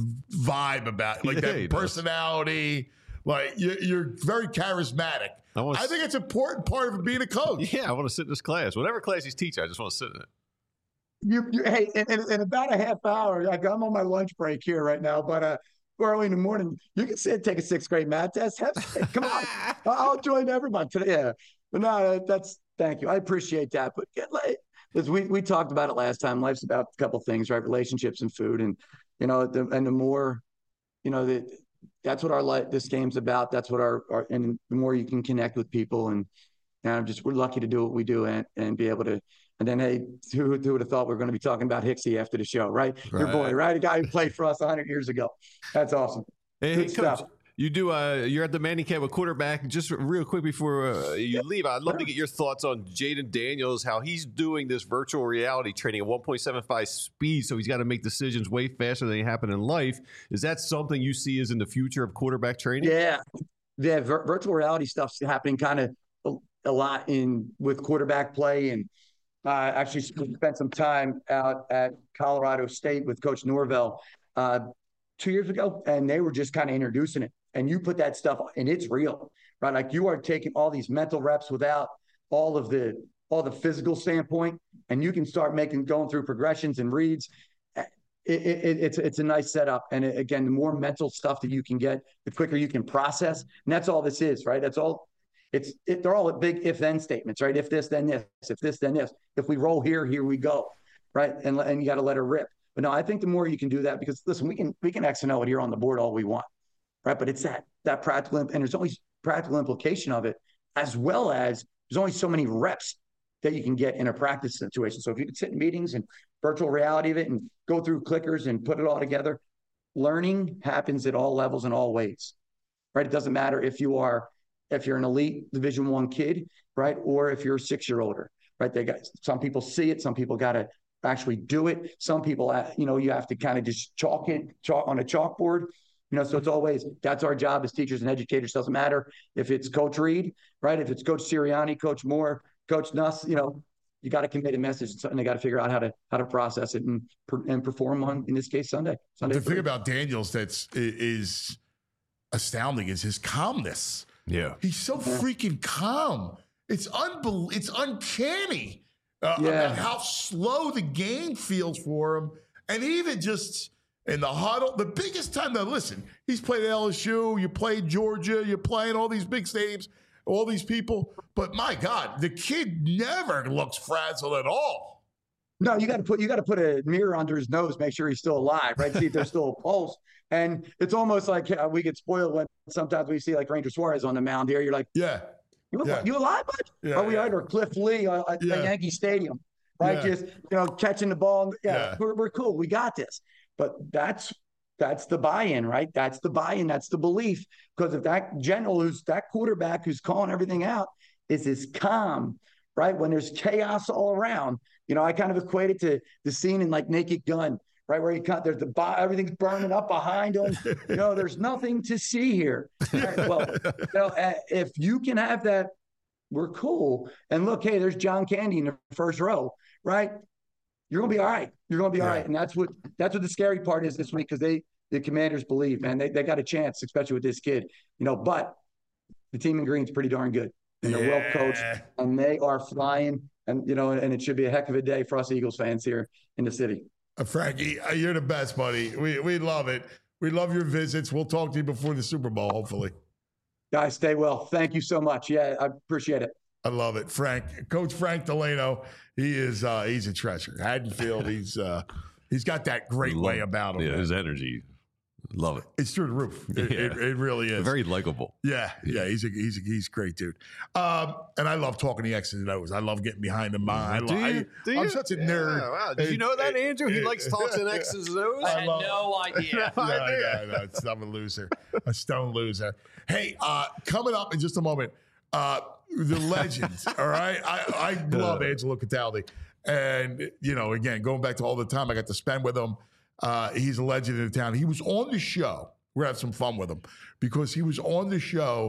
vibe about it, like Yeah, that he does. personality. Like you're, you're very charismatic. I, wanna I think it's an important part of being a coach. Yeah, I want to sit in this class. Whatever class he's teaching, I just want to sit in it. You, you hey, in, in, in about a half hour, like I'm on my lunch break here right now, but uh, early in the morning, you can sit, take a sixth grade math test. Have, come on, I'll join everyone today. Yeah, but no, that's thank you. I appreciate that. But get like, as we we talked about it last time. Life's about a couple things, right? Relationships and food, and you know, the, and the more, you know, the, that's what our life, this game's about. That's what our, our and the more you can connect with people, and and I'm just we're lucky to do what we do and and be able to. And then, hey, who, who would have thought we were going to be talking about Hicksy after the show, right? right? Your boy, right? A guy who played for us one hundred years ago. That's awesome. Hey, Good hey stuff. Coach, you do. Uh, you're at the Manning Camp with quarterback. Just real quick before uh, you leave, I'd love to get your thoughts on Jaden Daniels, how he's doing this virtual reality training at one point seven five speed, so he's got to make decisions way faster than they happen in life. Is that something you see as in the future of quarterback training? Yeah, yeah. Vir- virtual reality stuff's happening kind of a, a lot in with quarterback play, and uh, actually spent some time out at Colorado State with Coach Norvell uh, two years ago, and they were just kind of introducing it. And you put that stuff, and it's real, right? Like you are taking all these mental reps without all of the all the physical standpoint, and you can start making going through progressions and reads. It, it, it's it's a nice setup, and it, again, the more mental stuff that you can get, the quicker you can process, and that's all this is, right? That's all. It's it, they're all big if-then statements, right? If this, then this. If this, then this. If we roll here, here we go, right? And and you got to let her rip. But no, I think the more you can do that, because listen, we can we can X and O it here on the board all we want, right? But it's that that practical, and there's always practical implication of it, as well as there's only so many reps that you can get in a practice situation. So if you could sit in meetings and virtual reality of it and go through clickers and put it all together, learning happens at all levels and all ways, right? It doesn't matter if you are if you're an elite Division One kid, right, or if you're a six-year-older, right? They got some people see it, some people got to actually do it. Some people, you know, you have to kind of just chalk it chalk on a chalkboard, you know. So it's always that's our job as teachers and educators. Doesn't matter if it's Coach Reed, right? If it's Coach Sirianni, Coach Moore, Coach Nuss, you know, you got to convey a message, and they got to figure out how to how to process it and and perform on, in this case, Sunday. Sunday. The thing about Daniels that's is astounding is his calmness. Yeah, he's so freaking calm. It's unbel- It's uncanny uh, Yeah. about how slow the game feels for him, and even just in the huddle. The biggest time that listen, he's played at L S U. You played Georgia. You're playing all these big stadiums, all these people. But my God, the kid never looks frazzled at all. No, you got to put you got to put a mirror under his nose, make sure he's still alive, right? See if there's still a pulse. And it's almost like uh, we get spoiled when sometimes we see like Ranger Suarez on the mound here. You're like, yeah, you, yeah. you alive, bud? Yeah, Are we yeah. right? Or Cliff Lee uh, at, Yeah. at Yankee Stadium, right? Yeah. Just you know, catching the ball. Yeah, Yeah. We're, we're cool. We got this. But that's that's the buy-in, right? That's the buy-in. That's the belief. Because if that general who's that quarterback who's calling everything out is as calm, right? When there's chaos all around, you know, I kind of equate it to the scene in like Naked Gun, right? Where you cut, there's the bo- everything's burning up behind him. You know, there's nothing to see here. Right? Well, you know, uh, if you can have that, we're cool. And look, hey, there's John Candy in the first row, right? You're gonna be all right. You're gonna be all Yeah. right. And that's what that's what the scary part is this week, because they the Commanders believe, man, they they got a chance, especially with this kid, you know. But the team in green's pretty darn good, and they're well coached, and they are flying. And you know, and it should be a heck of a day for us Eagles fans here in the city. Uh, Frankie, uh, you're the best, buddy. We we love it. We love your visits. We'll talk to you before the Super Bowl, hopefully. Guys, stay well. Thank you so much. Yeah, I appreciate it. I love it. Frank, Coach Frank Delano, he is uh, he's a treasure. Haddonfield, he's uh, he's got that great Love- way about him. Yeah, man. his energy. Love it. It's through the roof. It, Yeah. it, it really is. Very likable. Yeah, yeah, he's a he's a, he's a great dude. Um, and I love talking the X's and O's. I love getting behind the mind. Do I, you? I, Do I'm you? such a Yeah, nerd. wow. Did you know that, Andrew? He likes talks in X's and O's. I had love- no idea. Yeah, I know, I know. It's, I'm a loser, a stone loser. Hey, uh, coming up in just a moment, uh, the legends. All right, I, I love Angelo Cataldi, and you know, again, going back to all the time I got to spend with him. Uh, he's a legend in the town. He was on the show. We're gonna have some fun with him because he was on the show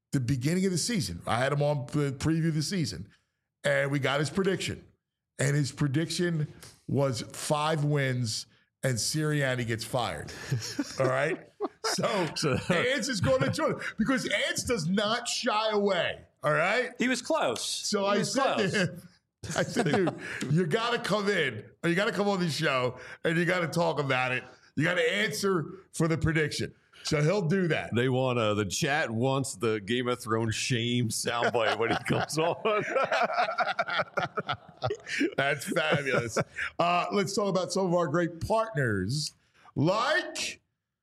the beginning of the season. I had him on the preview of the season, and we got his prediction. And his prediction was five wins and Sirianni gets fired. All right? So, so Ants is going to join because Ants does not shy away. All right? He was close. So he I was said close. to him, I said, dude, you got to come in, or you got to come on the show, and you got to talk about it. You got to answer for the prediction. So he'll do that. They want uh, the chat wants the Game of Thrones shame soundbite when he comes on. That's fabulous. Uh, let's talk about some of our great partners, like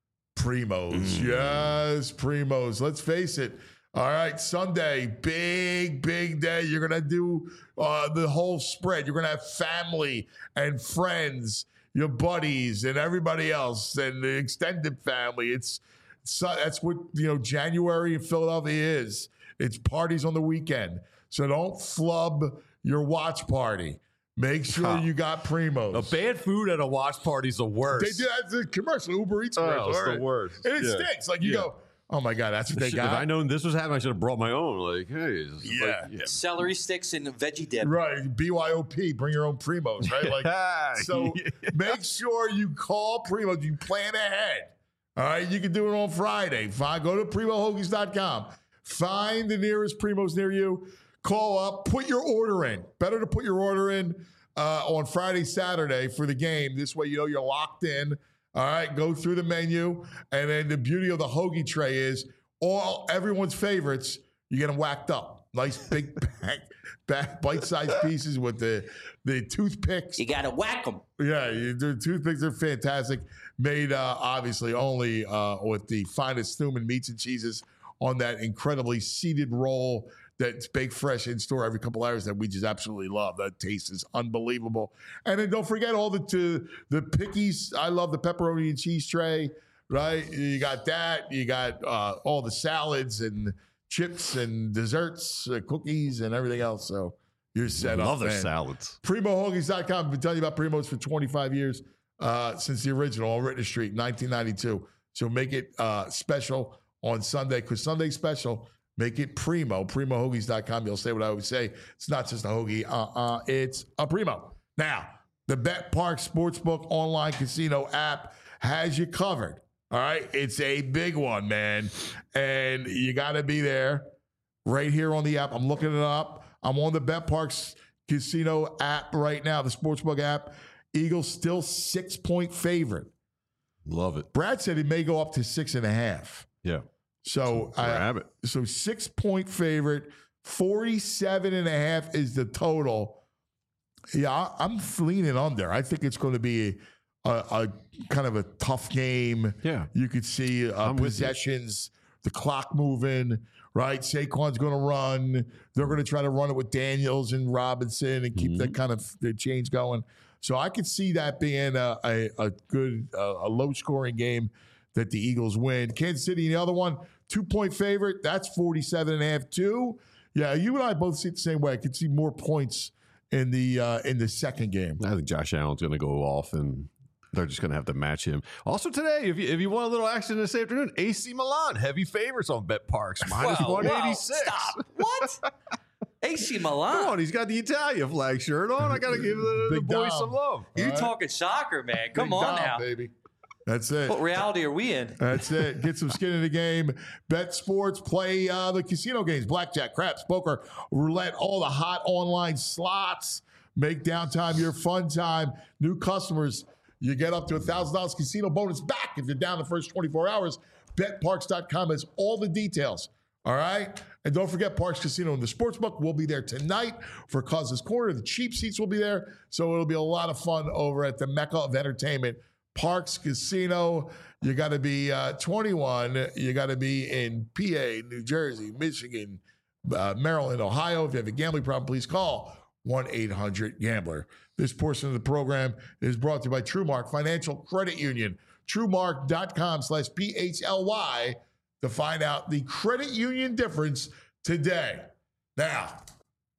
Primos. Mm. Yes, Primos. Let's face it. All right, Sunday, big, big day. You're going to do uh, the whole spread. You're going to have family and friends, your buddies and everybody else and the extended family. It's, it's that's what, you know, January in Philadelphia is. It's parties on the weekend. So don't flub your watch party. Make sure you got Primos. A bad food at a watch party is the worst. They do that's the commercial, Uber Eats oh, commercial. It's right? the worst. And it yeah. stinks. Like you yeah. go, oh my God, that's what they got. If I known this was happening, I should have brought my own. Like, hey, yeah. Like, yeah. Celery sticks and veggie dip. Right. B Y O P, bring your own Primos, right? Like, so yeah. make sure you call Primos. You plan ahead. All right. You can do it on Friday. Fine. Go to primo hoagies dot com. Find the nearest Primos near you. Call up. Put your order in. Better to put your order in uh, on Friday, Saturday for the game. This way you know you're locked in. All right. Go through the menu. And then the beauty of the hoagie tray is all everyone's favorites, you get them whacked up. Nice big bag, bag, bite-sized pieces with the, the toothpicks. You got to whack them. Yeah, you, the toothpicks are fantastic. Made, uh, obviously, only uh, with the finest Thuman meats and cheeses on that incredibly seeded roll that's baked fresh in store every couple hours that we just absolutely love. That taste is unbelievable. And then don't forget all the to, the pickies. I love the pepperoni and cheese tray, right? You got that. You got uh, all the salads and chips and desserts, uh, cookies and everything else. So you're set up. Love their man. salads. primo hoagies dot com. I've been telling you about Primos for twenty-five years uh, since the original on Rittner Street, nineteen ninety-two. So make it uh, special on Sunday because Sunday's special. Make it Primo, primo hoagies dot com. You'll say what I always say. It's not just a hoagie. Uh-uh. It's a Primo. Now, the Bet Park Sportsbook online casino app has you covered. All right? It's a big one, man. And you got to be there right here on the app. I'm looking it up. I'm on the Bet Parks Casino app right now, the Sportsbook app. Eagles still six-point favorite. Love it. Brad said it may go up to six and a half. Yeah. So, grab uh, it. So six point favorite, forty-seven and a half is the total. Yeah, I, I'm leaning under. I think it's going to be a, a kind of a tough game. Yeah. You could see uh, possessions, the clock moving, right? Saquon's going to run. They're going to try to run it with Daniels and Robinson and keep mm-hmm. that kind of the change going. So I could see that being a, a, a good, uh, a low scoring game that the Eagles win. Kansas City, the other one, two-point favorite. That's forty-seven and a half, too. Yeah, you and I both see it the same way. I could see more points in the uh, in the second game. I think Josh Allen's going to go off, and they're just going to have to match him. Also today, if you, if you want a little action this afternoon, A C Milan, heavy favorites on Bet Parks, minus whoa, one eighty-six. Whoa, stop. What? A C Milan? Come on, he's got the Italia flag shirt on. I got to give the, the boys some love. You're right. talking soccer, man. Come Big on Dom, now. baby. That's it. What reality are we in? That's it. Get some skin in the game. Bet sports. Play uh, the casino games. Blackjack, craps, poker, roulette, all the hot online slots. Make downtime your fun time. New customers, you get up to one thousand dollars casino bonus back if you're down the first twenty-four hours. Bet parks dot com has all the details. All right? And don't forget Parks Casino and the Sportsbook will be there tonight for Causes Corner. The cheap seats will be there. So it'll be a lot of fun over at the Mecca of Entertainment, Parks Casino. You got to be uh, twenty-one. You got to be in P A, New Jersey, Michigan, uh, Maryland, Ohio. If you have a gambling problem, please call one eight hundred gambler. This portion of the program is brought to you by TrueMark Financial Credit Union. TrueMark.com slash P H L Y to find out the credit union difference today. Now,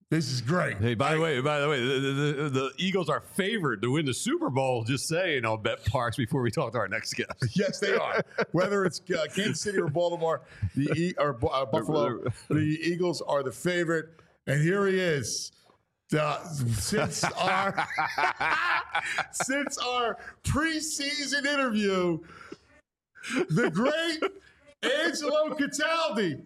This is great. Hey, by the way, by the way, the, the, the Eagles are favored to win the Super Bowl. Just saying on Bet Parks before we talk to our next guest. Yes, they are. Whether it's uh, Kansas City or Baltimore, the e- or uh, Buffalo, the Eagles are the favorite. And here he is. Uh, since our since our preseason interview, the great Angelo Cataldi.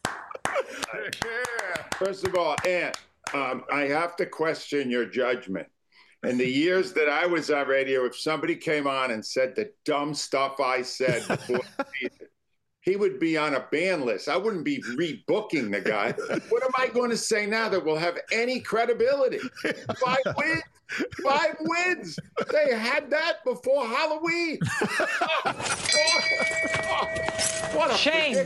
First of all, Ant, um, I have to question your judgment. In the years that I was on radio, if somebody came on and said the dumb stuff I said before the season, he would be on a ban list. I wouldn't be rebooking the guy. What am I going to say now that will have any credibility? Five wins. Five wins. They had that before Halloween. What a shame.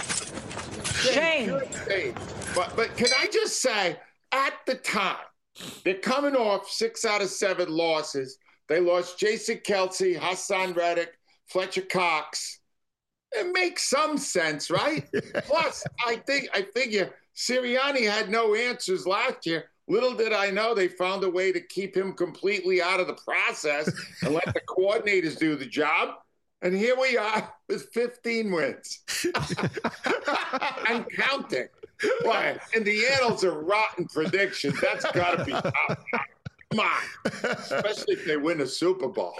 Shame. Shame. But, but can I just say, at the time, they're coming off six out of seven losses. They lost Jason Kelsey, Hassan Reddick, Fletcher Cox. It makes some sense, right? Plus, I think I figure Sirianni had no answers last year. Little did I know they found a way to keep him completely out of the process and let the coordinators do the job. And here we are with fifteen wins and counting. Why? In the annals of rotten predictions, that's got to be top. Come on, especially if they win a Super Bowl.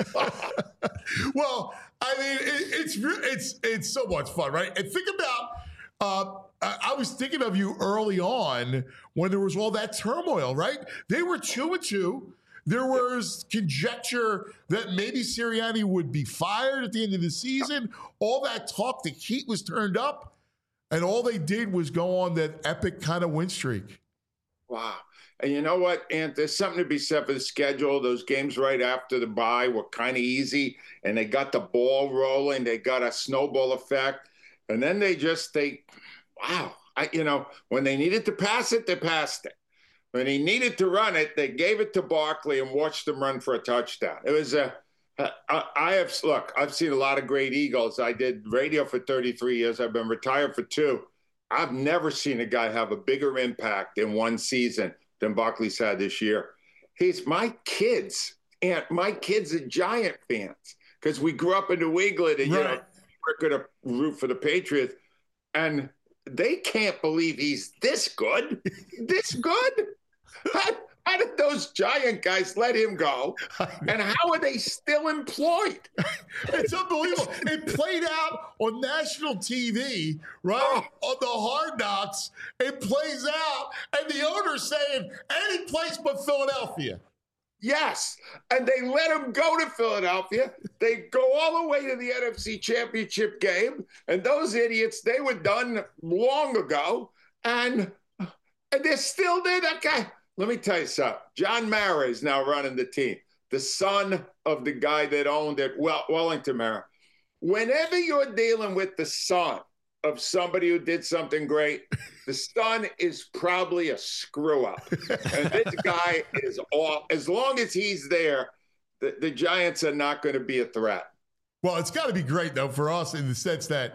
Well, I mean, it, it's it's it's so much fun, right? And think about, uh, I, I was thinking of you early on when there was all that turmoil, right? They were two and two. There was conjecture that maybe Sirianni would be fired at the end of the season. All that talk, the heat was turned up, and all they did was go on that epic kind of win streak. Wow. And you know what, Ant? There's something to be said for the schedule. Those games right after the bye were kind of easy, and they got the ball rolling. They got a snowball effect. And then they just, they, wow. I, you know, when they needed to pass it, they passed it. When he needed to run it, they gave it to Barkley and watched him run for a touchdown. It was a, I, I have, look, I've seen a lot of great Eagles. I did radio for thirty-three years. I've been retired for two. I've never seen a guy have a bigger impact in one season than Barkley's had this year. He's my kids, and my kids are Giant fans because we grew up in New England and, right. you know, we're going to root for the Patriots. And they can't believe he's this good, this good. How, how did those Giant guys let him go? And how are they still employed? It's unbelievable. It played out on national T V, right? Oh. On the Hard Knocks. It plays out, and the owner's saying, any place but Philadelphia. Yes, and they let him go to Philadelphia. They go all the way to the N F C Championship game, and those idiots, they were done long ago, and, and they're still there. That guy, let me tell you something. John Mara is now running the team, the son of the guy that owned it, well, Wellington Mara. Whenever you're dealing with the son of somebody who did something great, the son is probably a screw up. And this guy is all, as long as he's there, the, the Giants are not going to be a threat. Well, it's got to be great, though, for us in the sense that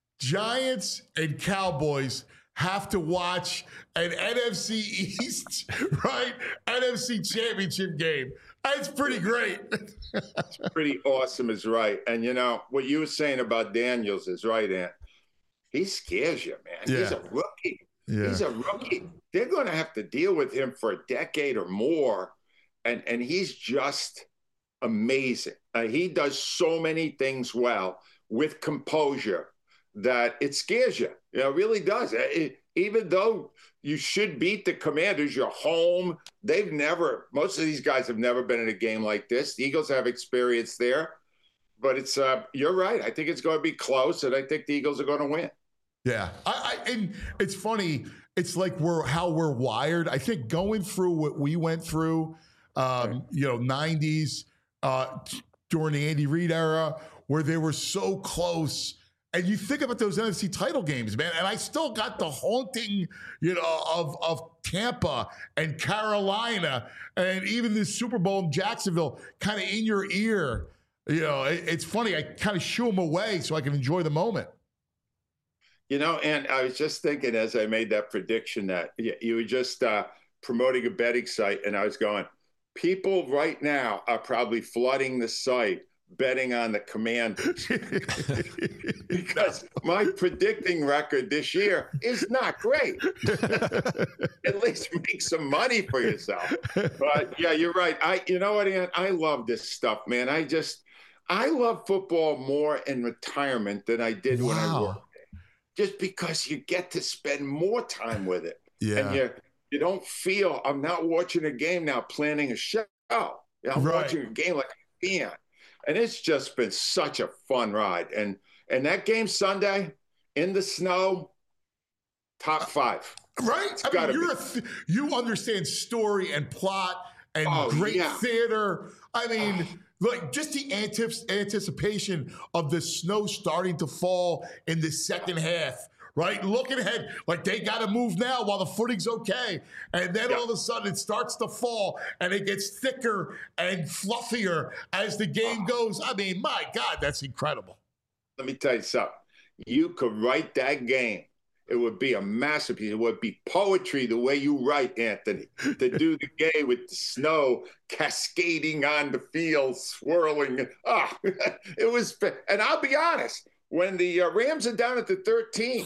Giants and Cowboys have to watch an N F C East, right? N F C Championship game. That's pretty great. It's pretty awesome is right. And, you know, what you were saying about Daniels is right, Ant. He scares you, man. Yeah. He's a rookie. Yeah. He's a rookie. They're going to have to deal with him for a decade or more. And, and he's just amazing. Uh, he does so many things well with composure that it scares you. You know, it really does. It, even though you should beat the Commanders, you're home. They've never, most of these guys have never been in a game like this. The Eagles have experience there. But it's, uh, you're right. I think it's going to be close, and I think the Eagles are going to win. Yeah, I, I, and it's funny. It's like we're how we're wired. I think going through what we went through, um, you know, nineties uh, during the Andy Reid era, where they were so close. And you think about those N F C title games, man. And I still got the haunting, you know, of of Tampa and Carolina, and even the Super Bowl in Jacksonville, kind of in your ear. You know, it, it's funny. I kind of shoo them away so I can enjoy the moment. You know, and I was just thinking as I made that prediction that you were just uh, promoting a betting site, and I was going, people right now are probably flooding the site betting on the Commanders because my predicting record this year is not great. At least make some money for yourself. But yeah, you're right. I, you know what, Ant? I love this stuff, man. I just, I love football more in retirement than I did wow. when I worked. Just because you get to spend more time with it. Yeah. And you, you don't feel, I'm not watching a game now, planning a show. I'm right. watching a game like a fan. And it's just been such a fun ride. And and that game Sunday in the snow, top five. Right? It's I mean, you're be. a th- you understand story and plot and oh, great yeah. theater. I mean, oh. like just the antif- anticipation of the snow starting to fall in the second half. Right? Looking ahead, like they got to move now while the footing's okay. And then yeah. all of a sudden it starts to fall and it gets thicker and fluffier as the game goes. I mean, my God, that's incredible. Let me tell you something. You could write that game. It would be a masterpiece. It would be poetry the way you write, Anthony, to do the game with the snow cascading on the field, swirling. Ah, oh, it was, and I'll be honest, when the uh, Rams are down at the thirteen,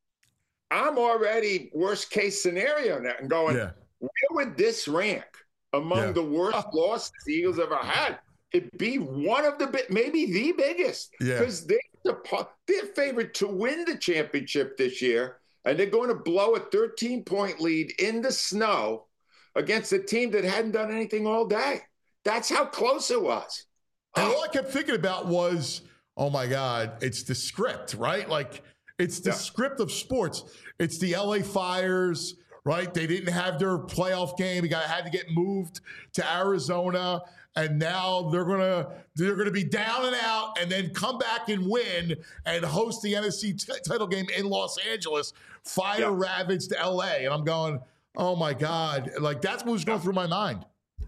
I'm already worst case scenario now and going, yeah. where would this rank among yeah. the worst oh. losses the Eagles ever had? It'd be one of the, maybe the biggest, because yeah. they're, the, they're favored to win the championship this year, and they're going to blow a thirteen-point lead in the snow against a team that hadn't done anything all day. That's how close it was. And all I kept thinking about was, oh, my God, it's the script, right? Like, it's the yeah. script of sports. It's the L A Fires, right? They didn't have their playoff game. They got had to get moved to Arizona, and now they're gonna they're gonna be down and out, and then come back and win and host the N F C t- title game in Los Angeles. Fire yeah. ravaged L A, and I'm going, oh my God! Like that's what was going through my mind.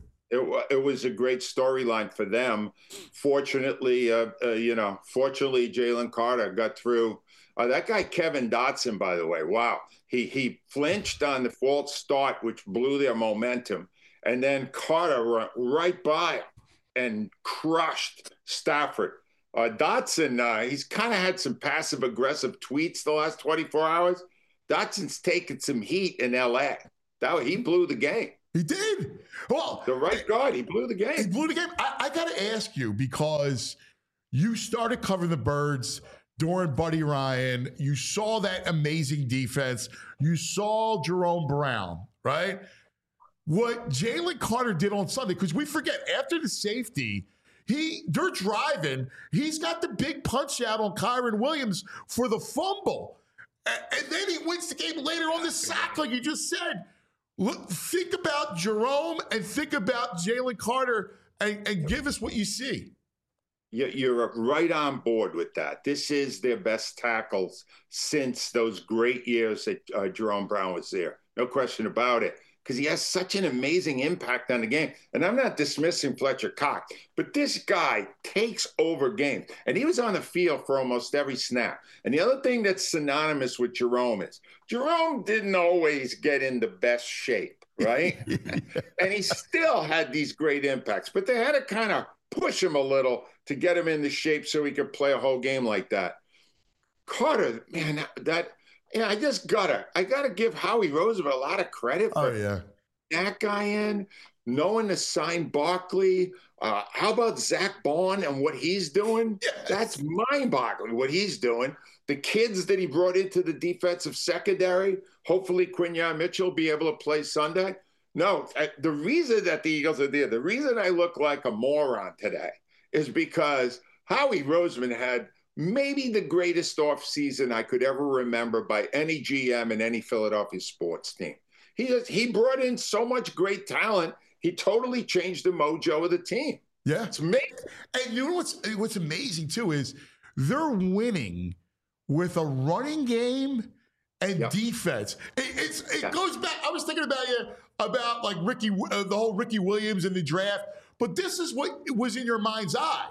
It, it was a great storyline for them. Fortunately, uh, uh, you know, fortunately, Jalen Carter got through. Uh, that guy, Kevin Dotson, by the way, wow. He he flinched on the false start, which blew their momentum. And then Carter went right by him and crushed Stafford. Uh, Dotson, uh, he's kind of had some passive-aggressive tweets the last twenty-four hours. Dotson's taken some heat in L A. That, he blew the game. He did. Well, the right guard, he blew the game. He blew the game. I, I got to ask you, because you started covering the Birds during Buddy Ryan. You saw that amazing defense. You saw Jerome Brown, right? What Jalen Carter did on Sunday, because we forget, after the safety, he they're driving. He's got the big punch out on Kyren Williams for the fumble. And, and then he wins the game later on the sack, like you just said. Look, think about Jerome and think about Jalen Carter and, and give us what you see. You're right on board with that. This is their best tackles since those great years that uh, Jerome Brown was there. No question about it, because he has such an amazing impact on the game. And I'm not dismissing Fletcher Cox, but this guy takes over games. And he was on the field for almost every snap. And the other thing that's synonymous with Jerome is Jerome didn't always get in the best shape, right? And he still had these great impacts, but they had to kind of push him a little to get him into shape so he could play a whole game like that. Carter, man, that, that yeah, I just gotta, I gotta give Howie Roseman a lot of credit for oh, yeah. that guy in, knowing to sign Barkley. Uh, how about Zach Bond and what he's doing? Yes. That's mind-boggling what he's doing. The kids that he brought into the defensive secondary, hopefully Quinyon Mitchell will be able to play Sunday. No, the reason that the Eagles are there, the reason I look like a moron today is because Howie Roseman had maybe the greatest offseason I could ever remember by any G M in any Philadelphia sports team. He has, he brought in so much great talent. He totally changed the mojo of the team. Yeah. It's amazing. And you know what's, what's amazing, too, is they're winning with a running game and yep. defense. It, it's, it yeah. goes back. I was thinking about you about like Ricky, uh, the whole Ricky Williams in the draft. But this is what was in your mind's eye.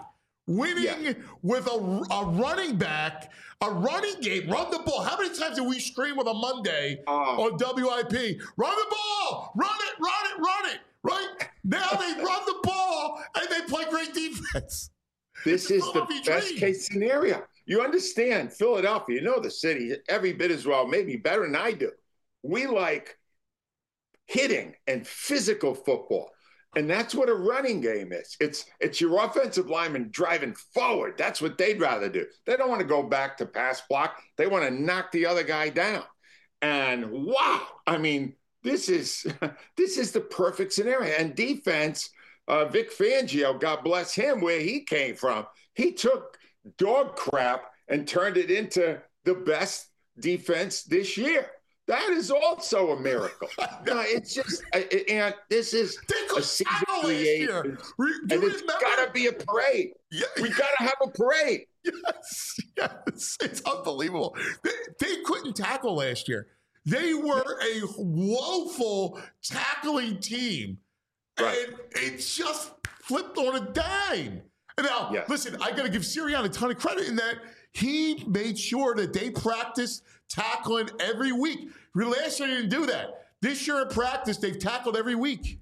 winning Yeah. with a, a running back, a running game, run the ball. How many times did we stream with a Monday Oh. on W I P? Run the ball, run it, run it, run it, right? Now they run the ball and they play great defense. This is the Philadelphia best dream. case scenario. You understand, Philadelphia, you know the city every bit as well, maybe better than I do. We like hitting and physical football. And that's what a running game is. It's it's your offensive lineman driving forward. That's what they'd rather do. They don't want to go back to pass block. They want to knock the other guy down. And wow, I mean, this is this is the perfect scenario. And defense, uh, Vic Fangio, God bless him, where he came from, he took dog crap and turned it into the best defense this year. That is also a miracle. No, it's just, and this is a season created, and it's got to be a parade. Yeah. We got to have a parade. Yes, yes, it's unbelievable. They, they couldn't tackle last year. They were a woeful tackling team, right. and it just flipped on a dime. And now, yes. listen, I got to give Sirianni a ton of credit in that he made sure that they practiced tackling every week. Last year, they didn't do that. This year in practice, they've tackled every week.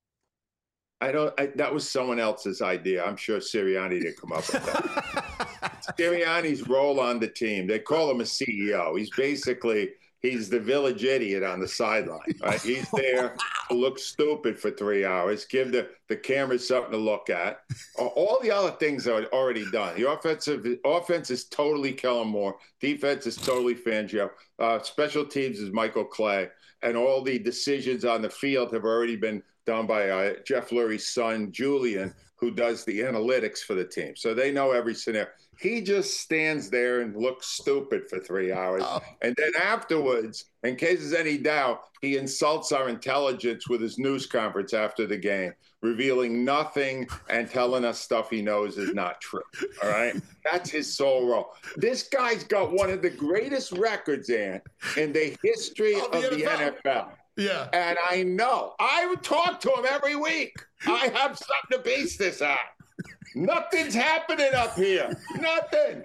I don't. I, that was someone else's idea. I'm sure Sirianni didn't come up with that. Sirianni's role on the team, they call him a C E O. He's basically, he's the village idiot on the sideline. Right? He's there to look stupid for three hours, give the, the cameras something to look at. All the other things are already done. The offensive offense is totally Kellen Moore. Defense is totally Fangio. Uh, special teams is Michael Clay. And all the decisions on the field have already been done by uh, Jeff Lurie's son, Julian, who does the analytics for the team. So they know every scenario. He just stands there and looks stupid for three hours. Oh. And then afterwards, in case there's any doubt, he insults our intelligence with his news conference after the game, revealing nothing and telling us stuff he knows is not true. All right? That's his sole role. This guy's got one of the greatest records, Ant, in the history of, of the, the N F L. Yeah. And I know. I would talk to him every week. I have something to base this on. Nothing's happening up here. Nothing.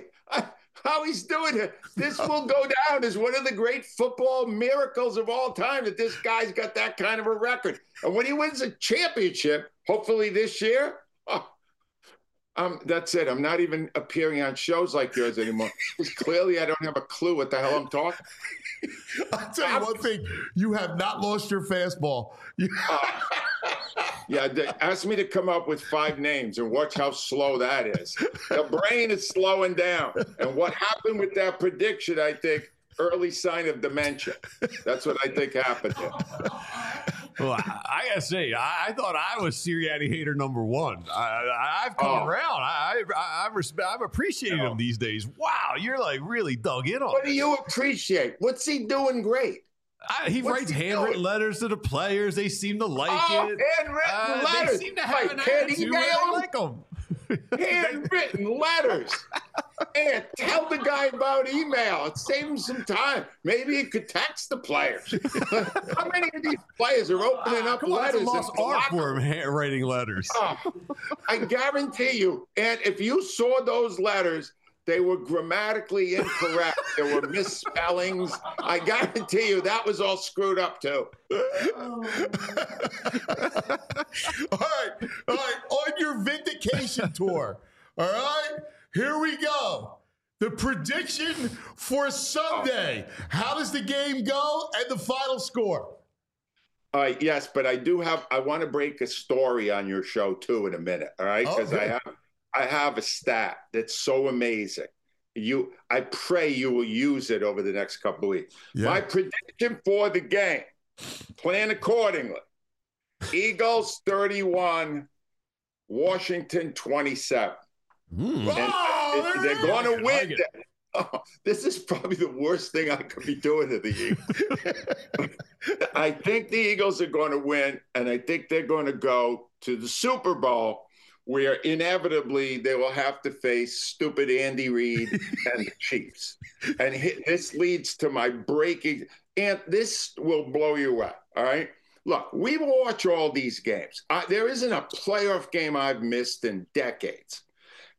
How he's doing it. This will go down as one of the great football miracles of all time, that this guy's got that kind of a record. And when he wins a championship, hopefully this year, oh, um, that's it. I'm not even appearing on shows like yours anymore. Because clearly I don't have a clue what the hell I'm talking. I'll tell you one thing. You have not lost your fastball. You- uh, yeah, they asked me to come up with five names and watch how slow that is. The brain is slowing down. And what happened with that prediction, I think, early sign of dementia. That's what I think happened there. Well, I, I gotta say, I, I thought I was Sirianni hater number one. I, I've come Oh. around. I, I, I'm, respe- I'm appreciating him these days. Wow, you're like really dug in on. What do this. you appreciate? What's he doing great? I, he What's writes he handwritten doing? letters to the players. They seem to like Oh, it. handwritten Uh, letters. They seem to have Right, an can't attitude email where them? they like them. Handwritten letters. And tell the guy about email. It saves him some time. Maybe he could text the players. How many of these players are opening up Come on, that's a letters? lost and art blocking for him, ha- writing letters. Oh, I guarantee you, and if you saw those letters, they were grammatically incorrect. There were misspellings. I guarantee you that was all screwed up too. all right, all right. On your vindication tour, all right, here we go. The prediction for Sunday. How does the game go and the final score? Uh, yes, but I do have, I want to break a story on your show too in a minute, all right? Because Okay. I have I have a stat that's so amazing. You, I pray you will use it over the next couple of weeks. Yeah. My prediction for the game, plan accordingly. Eagles thirty-one, Washington twenty-seven. Mm. And Oh, they're there going I to like win. it. that. Oh, this is probably the worst thing I could be doing to the Eagles. I think the Eagles are going to win, and I think they're going to go to the Super Bowl, where inevitably they will have to face stupid Andy Reid and the Chiefs. And hi- this leads to my breaking, and this will blow you away, all right? Look, we watch all these games. I, there isn't a playoff game I've missed in decades.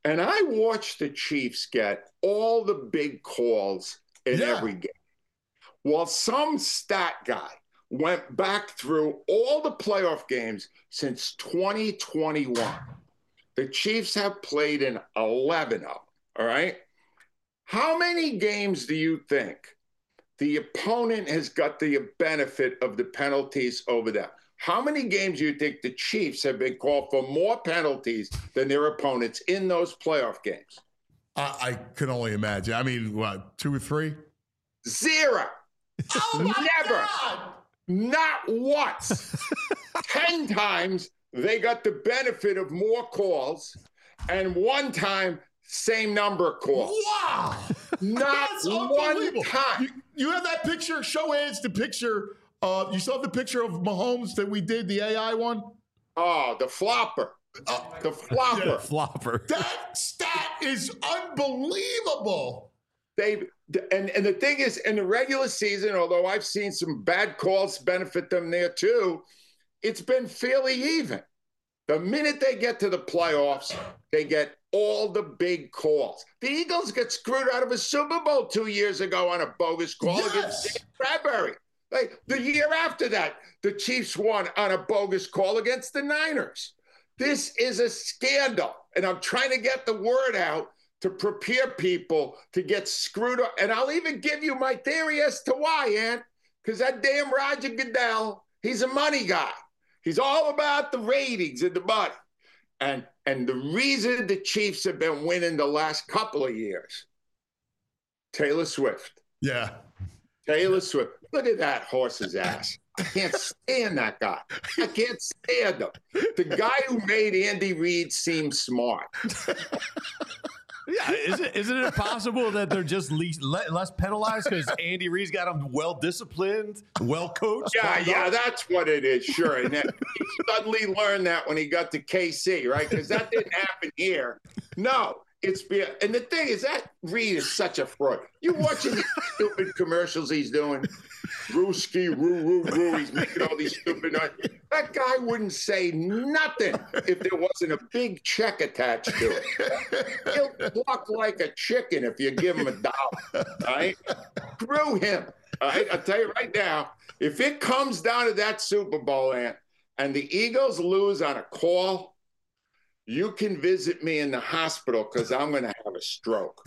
And I watched the Chiefs get all the big calls in Yeah. every game. While some stat guy went back through all the playoff games since twenty twenty-one. The Chiefs have played in eleven of them, all right? How many games do you think the opponent has got the benefit of the penalties over them? How many games do you think the Chiefs have been called for more penalties than their opponents in those playoff games? I, I can only imagine. I mean, what, two or three? Zero. Oh my Never. God. Not once. Ten times they got the benefit of more calls, and one time, same number of calls. Wow. Not That's one unbelievable. time. You, you have that picture? Show Eds the picture. Uh, you saw the picture of Mahomes that we did, the A I one? Oh, the flopper. Uh, the flopper. Yeah, flopper. That stat is unbelievable. They and and the thing is, in the regular season, although I've seen some bad calls benefit them there too, it's been fairly even. The minute they get to the playoffs, they get all the big calls. The Eagles got screwed out of a Super Bowl two years ago on a bogus call Yes. against Dave Bradbury. Like the year after that, the Chiefs won on a bogus call against the Niners. This is a scandal, and I'm trying to get the word out to prepare people to get screwed up. And I'll even give you my theory as to why, Ant, because that damn Roger Goodell, he's a money guy. He's all about the ratings and the money. And, and the reason the Chiefs have been winning the last couple of years, Taylor Swift. Yeah. Taylor Swift. Look at that horse's ass. I can't stand that guy. I can't stand him. The guy who made Andy Reid seem smart. Yeah, is it, isn't it possible that they're just least, le- less penalized because Andy Reid's got them well disciplined, well coached? Yeah, yeah, that's what it is. Sure, and then he suddenly learned that when he got to K C, right? Because that didn't happen here. No, it's be and the thing is that Reid is such a fraud. You watching these stupid commercials he's doing? Rooski, roo, roo, roo. He's making all these stupid noise. That guy wouldn't say nothing if there wasn't a big check attached to it. He'll pluck like a chicken if you give him a dollar. All right? Screw him. All right? I'll tell you right now, if it comes down to that Super Bowl, Ant, and the Eagles lose on a call, you can visit me in the hospital because I'm going to have a stroke.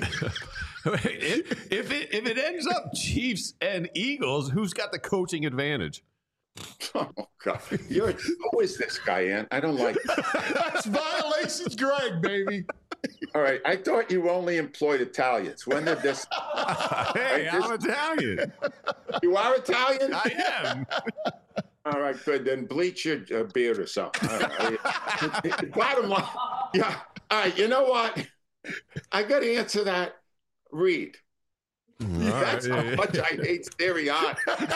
if, if it if it ends up Chiefs and Eagles, who's got the coaching advantage? Oh God! You're, who is this guy, Ant? I don't like. That's Violations Greg, baby. All right, I thought you only employed Italians. When did this? Hey, right, I'm this... Italian. You are Italian? I am. All right, good. Then bleach your uh, beard or something. All right. Bottom line, yeah. All right, you know what? I got to answer that. Read. That's right. how much I hate Sirianni.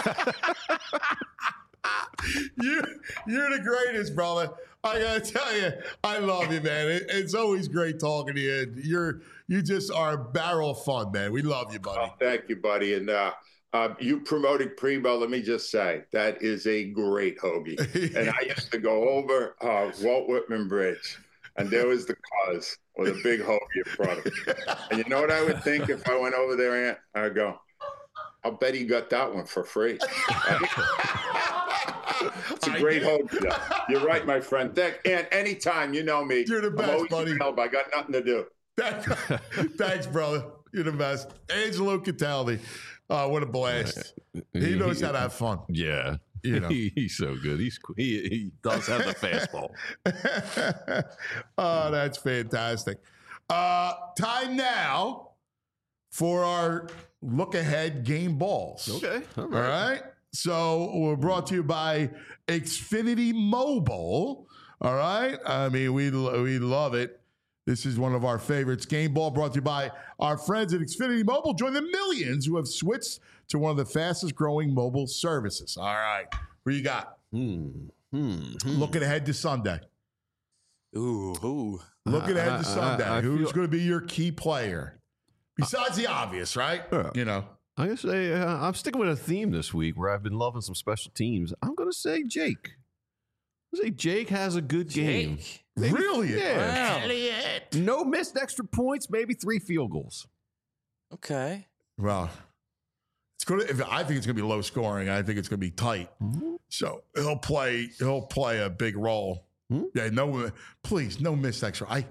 you, you're the greatest, brother. I gotta tell you, I love you, man. It, it's always great talking to you. You're you just are a barrel of fun, man. We love you, buddy. Oh, thank you, buddy. And uh, uh, you promoted Primo. Let me just say that is a great hoagie. And I used to go over uh, Walt Whitman Bridge, and there was the cause with a big hoagie in front of it. And you know what I would think if I went over there, Ant? I'd go, I'll bet he got that one for free. It's a great hoagie, though. You're right, my friend. Thank, and anytime, you know me. You're the best, I'm always buddy. available. I got nothing to do. Thanks, brother. You're the best. Angelo Cataldi. Uh, what a blast. He knows how to have fun. Yeah. You know. he, he's so good. He's he, he does have the fastball. Oh, that's fantastic. Uh, time now for our look ahead game balls. Okay. All All right. right. So we're brought to you by Xfinity Mobile. All right. I mean, we we love it. This is one of our favorites. Game ball brought to you by our friends at Xfinity Mobile. Join the millions who have switched to one of the fastest growing mobile services. All right. What you got? Hmm. Hmm. Looking ahead to Sunday. Ooh. Ooh. Looking ahead I- to I- Sunday. I- I Who's feel- going to be your key player? Besides the obvious, right? Yeah. You know. I guess say uh, I'm sticking with a theme this week where I've been loving some special teams. I'm going to say Jake. I say Jake has a good game. Really? Yeah. Elliot. it. No missed extra points, maybe three field goals. Okay. Well, it's going to. I think it's going to be low scoring. I think it's going to be tight. Mm-hmm. So he'll play. He'll play a big role. Mm-hmm. Yeah. No. Please, no missed extra. I.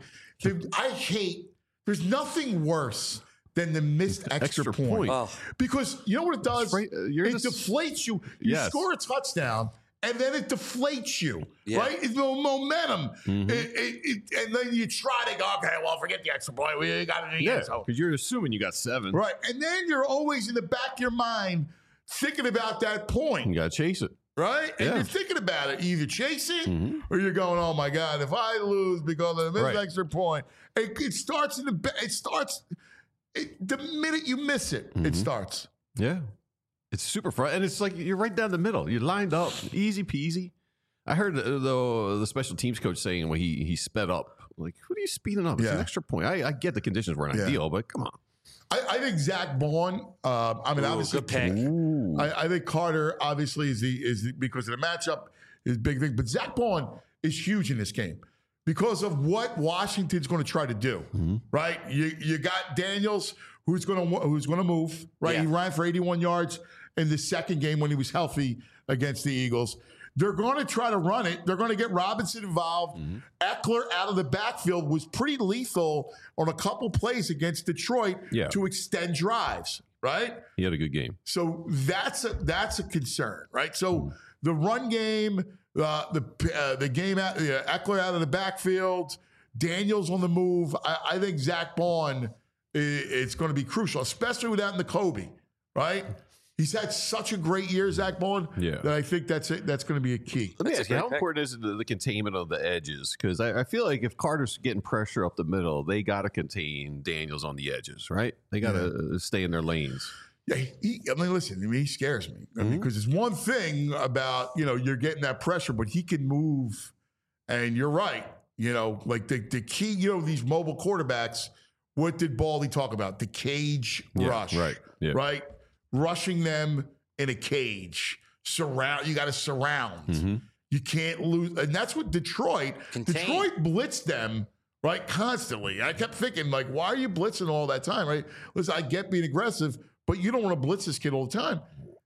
I hate. There's nothing worse than the missed extra, extra point. point. Oh. Because you know what it does? Right, uh, it just, deflates you. You yes. score a touchdown, and then it deflates you, yeah. right? It's no momentum. Mm-hmm. It, it, it, and then you try to go, okay, well, forget the extra point. We got it again. Yeah, because you're assuming you got seven. Right. And then you're always in the back of your mind thinking about that point. You got to chase it. Right? And yeah. you're thinking about it. You either chase it mm-hmm. or you're going, oh my God, if I lose because of this right. extra point, it, it starts in the it starts it, the minute you miss it, mm-hmm. it starts. Yeah. It's super fun. And it's like you're right down the middle. You're lined up. Easy peasy. I heard the, the special teams coach saying when he he sped up, like, what are you speeding up? It's yeah. an extra point. I, I get the conditions weren't yeah. ideal, but come on. I, I think Zach Baun. Uh, I mean, Ooh, obviously, good pick. I, I think Carter obviously is the is the, because of the matchup is a big thing. But Zach Baun is huge in this game because of what Washington's going to try to do. Mm-hmm. Right? You you got Daniels who's going to who's going to move. Right? Yeah. He ran for eighty-one yards in the second game when he was healthy against the Eagles. They're going to try to run it. They're going to get Robinson involved. Mm-hmm. Eckler out of the backfield was pretty lethal on a couple plays against Detroit yeah. to extend drives, right? He had a good game. So that's a that's a concern, right? So the run game, uh, the uh, the game out, uh, Eckler out of the backfield, Daniels on the move. I, I think Zach Baun is, it's going to be crucial, especially without Nakobe, right? He's had such a great year, Zach Baun, yeah. that I think that's a, that's going to be a key. Let me ask you, how important is the, the containment of the edges? Because I, I feel like if Carter's getting pressure up the middle, they got to contain Daniels on the edges, right? They got to yeah. stay in their lanes. Yeah, he, I mean, listen, I mean, he scares me. I mean, because mm-hmm. it's one thing about, you know, you're getting that pressure, but he can move. And you're right. You know, like the, the key, you know, these mobile quarterbacks, what did Baldy talk about? The cage yeah, rush. Right. Yeah. Right. Rushing them in a cage, surround. You got to surround. Mm-hmm. You can't lose, and that's what Detroit. Contain. Detroit blitzed them right constantly. I kept thinking, like, why are you blitzing all that time? Right? Listen, I get being aggressive, but you don't want to blitz this kid all the time.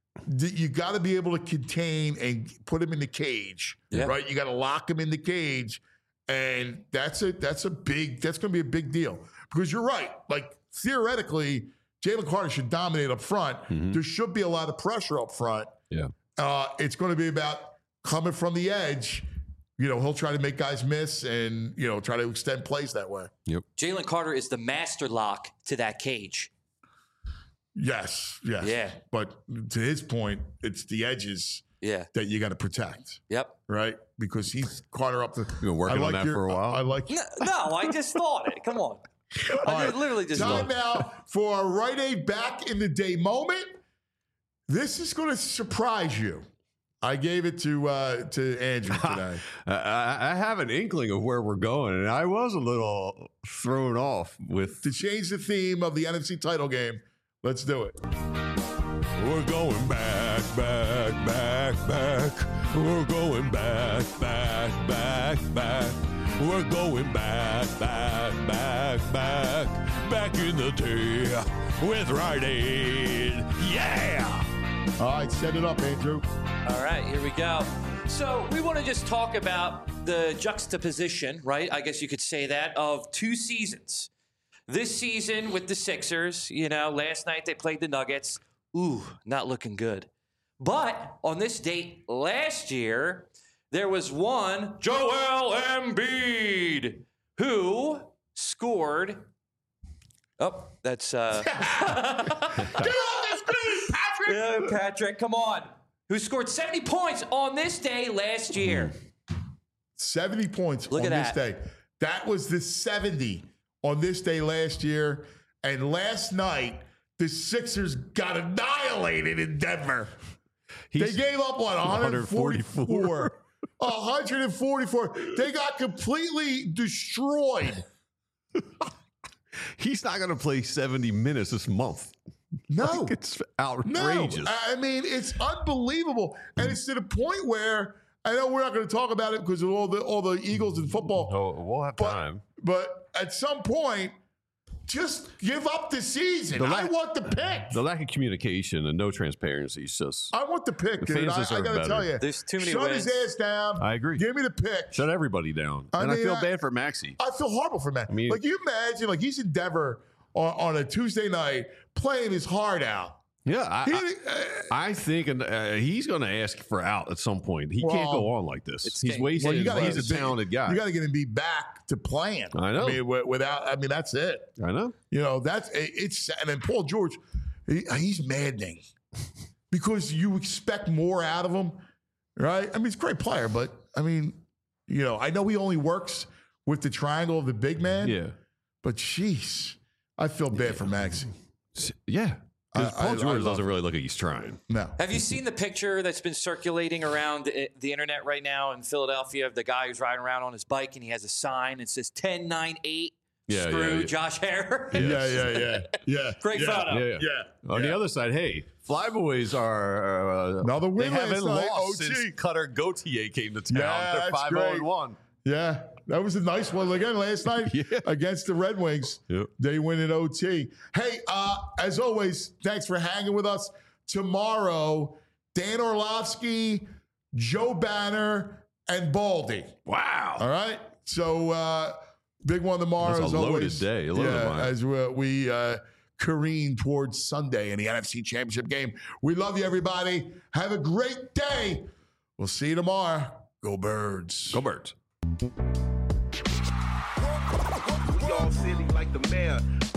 You got to be able to contain and put him in the cage. Yeah. Right? You got to lock him in the cage, and that's a that's a big. That's going to be a big deal because you're right. Like theoretically, Jalen Carter should dominate up front. Mm-hmm. There should be a lot of pressure up front. Yeah. Uh, it's going to be about coming from the edge. You know, he'll try to make guys miss and, you know, try to extend plays that way. Yep. Jalen Carter is the master lock to that cage. Yes. Yes. Yeah. But to his point, it's the edges yeah. that you got to protect. Yep. Right? Because he's Carter up the. You've been working like on that your, for a while. I, I like. No, no, I just thought it. Come on. I right. literally just time out for a Rite Aid back in the day moment. This is going to surprise you. I gave it to uh, to Andrew today. I, I have an inkling of where we're going, and I was a little thrown off with to change the theme of the N F C title game. Let's do it. We're going back, back, back, back. We're going back, back, back, back. We're going back, back, back, back, back in the day with Rite Aid. Yeah! All right, set it up, Andrew. All right, here we go. So we want to just talk about the juxtaposition, right? I guess you could say that, of two seasons. This season with the Sixers, you know, last night they played the Nuggets. Ooh, not looking good. But on this date last year, there was one Joel Embiid who scored. Oh, that's uh. Get off the screen, Patrick. Yeah, Patrick, come on. Who scored seventy points on this day last year? seventy points Look on at this that. day. That was the seventy on this day last year, and last night the Sixers got annihilated in Denver. He's they gave up what one forty-four. one hundred forty-four. They got completely destroyed. He's not going to play seventy minutes this month. No. Like, it's outrageous. No. I mean, it's unbelievable. And it's to the point where I know we're not going to talk about it because of all the all the Eagles in football. No, we'll have but, time. But at some point, just give up the season. The la- I want the pick. The lack of communication and no transparency is just. I want the pick, the dude. fans I, I deserve got to better. tell you. There's too many Shut wins. his ass down. I agree. Give me the pick. Shut everybody down. I and mean, I feel I- bad for Maxey. I feel horrible for Matt. I mean- like, you imagine, like, he's in Denver on, on a Tuesday night playing his heart out. Yeah, I, He- I, I think and uh, he's going to ask for out at some point. He can't Well, go on like this. it's He's getting- wasting. Well, you gotta he's get a the big- talented guy. You got to get him be back to playing. I know. I mean, wi- without, I mean, that's it. I know. You know, that's it- it's, and then Paul George, he, he's maddening because you expect more out of him, right? I mean, he's a great player, but I mean, you know, I know he only works with the triangle of the big man. Yeah. But jeez, I feel bad for Maxey. Yeah. Because I- I- Paul I George love doesn't it. really look like he's trying. No. Have you seen the picture that's been circulating around i- the internet right now in Philadelphia of the guy who's riding around on his bike and he has a sign that says ten nine eight Yeah, screw yeah, yeah. Josh Hare? Yeah, yeah, yeah, yeah. Great yeah, photo. Yeah. Yeah. On yeah. the other side, hey, Flyboys are uh, Another win They haven't last night, lost O T. since Cutter Gauthier came to town. Yeah, They're that's five zero great. and one. Yeah, that was a nice one again last night Yeah. against the Red Wings. Yep. They win in O T. Hey, uh, as always, thanks for hanging with us. Tomorrow, Dan Orlovsky, Joe Banner, and Baldy. Wow. All right. So uh, big one tomorrow. That's a as loaded always. day, a loaded yeah, one. as we, we uh, careen towards Sunday in the N F C Championship game. We love you, everybody. Have a great day. We'll see you tomorrow. Go Birds. Go Birds. We all silly like the mayor.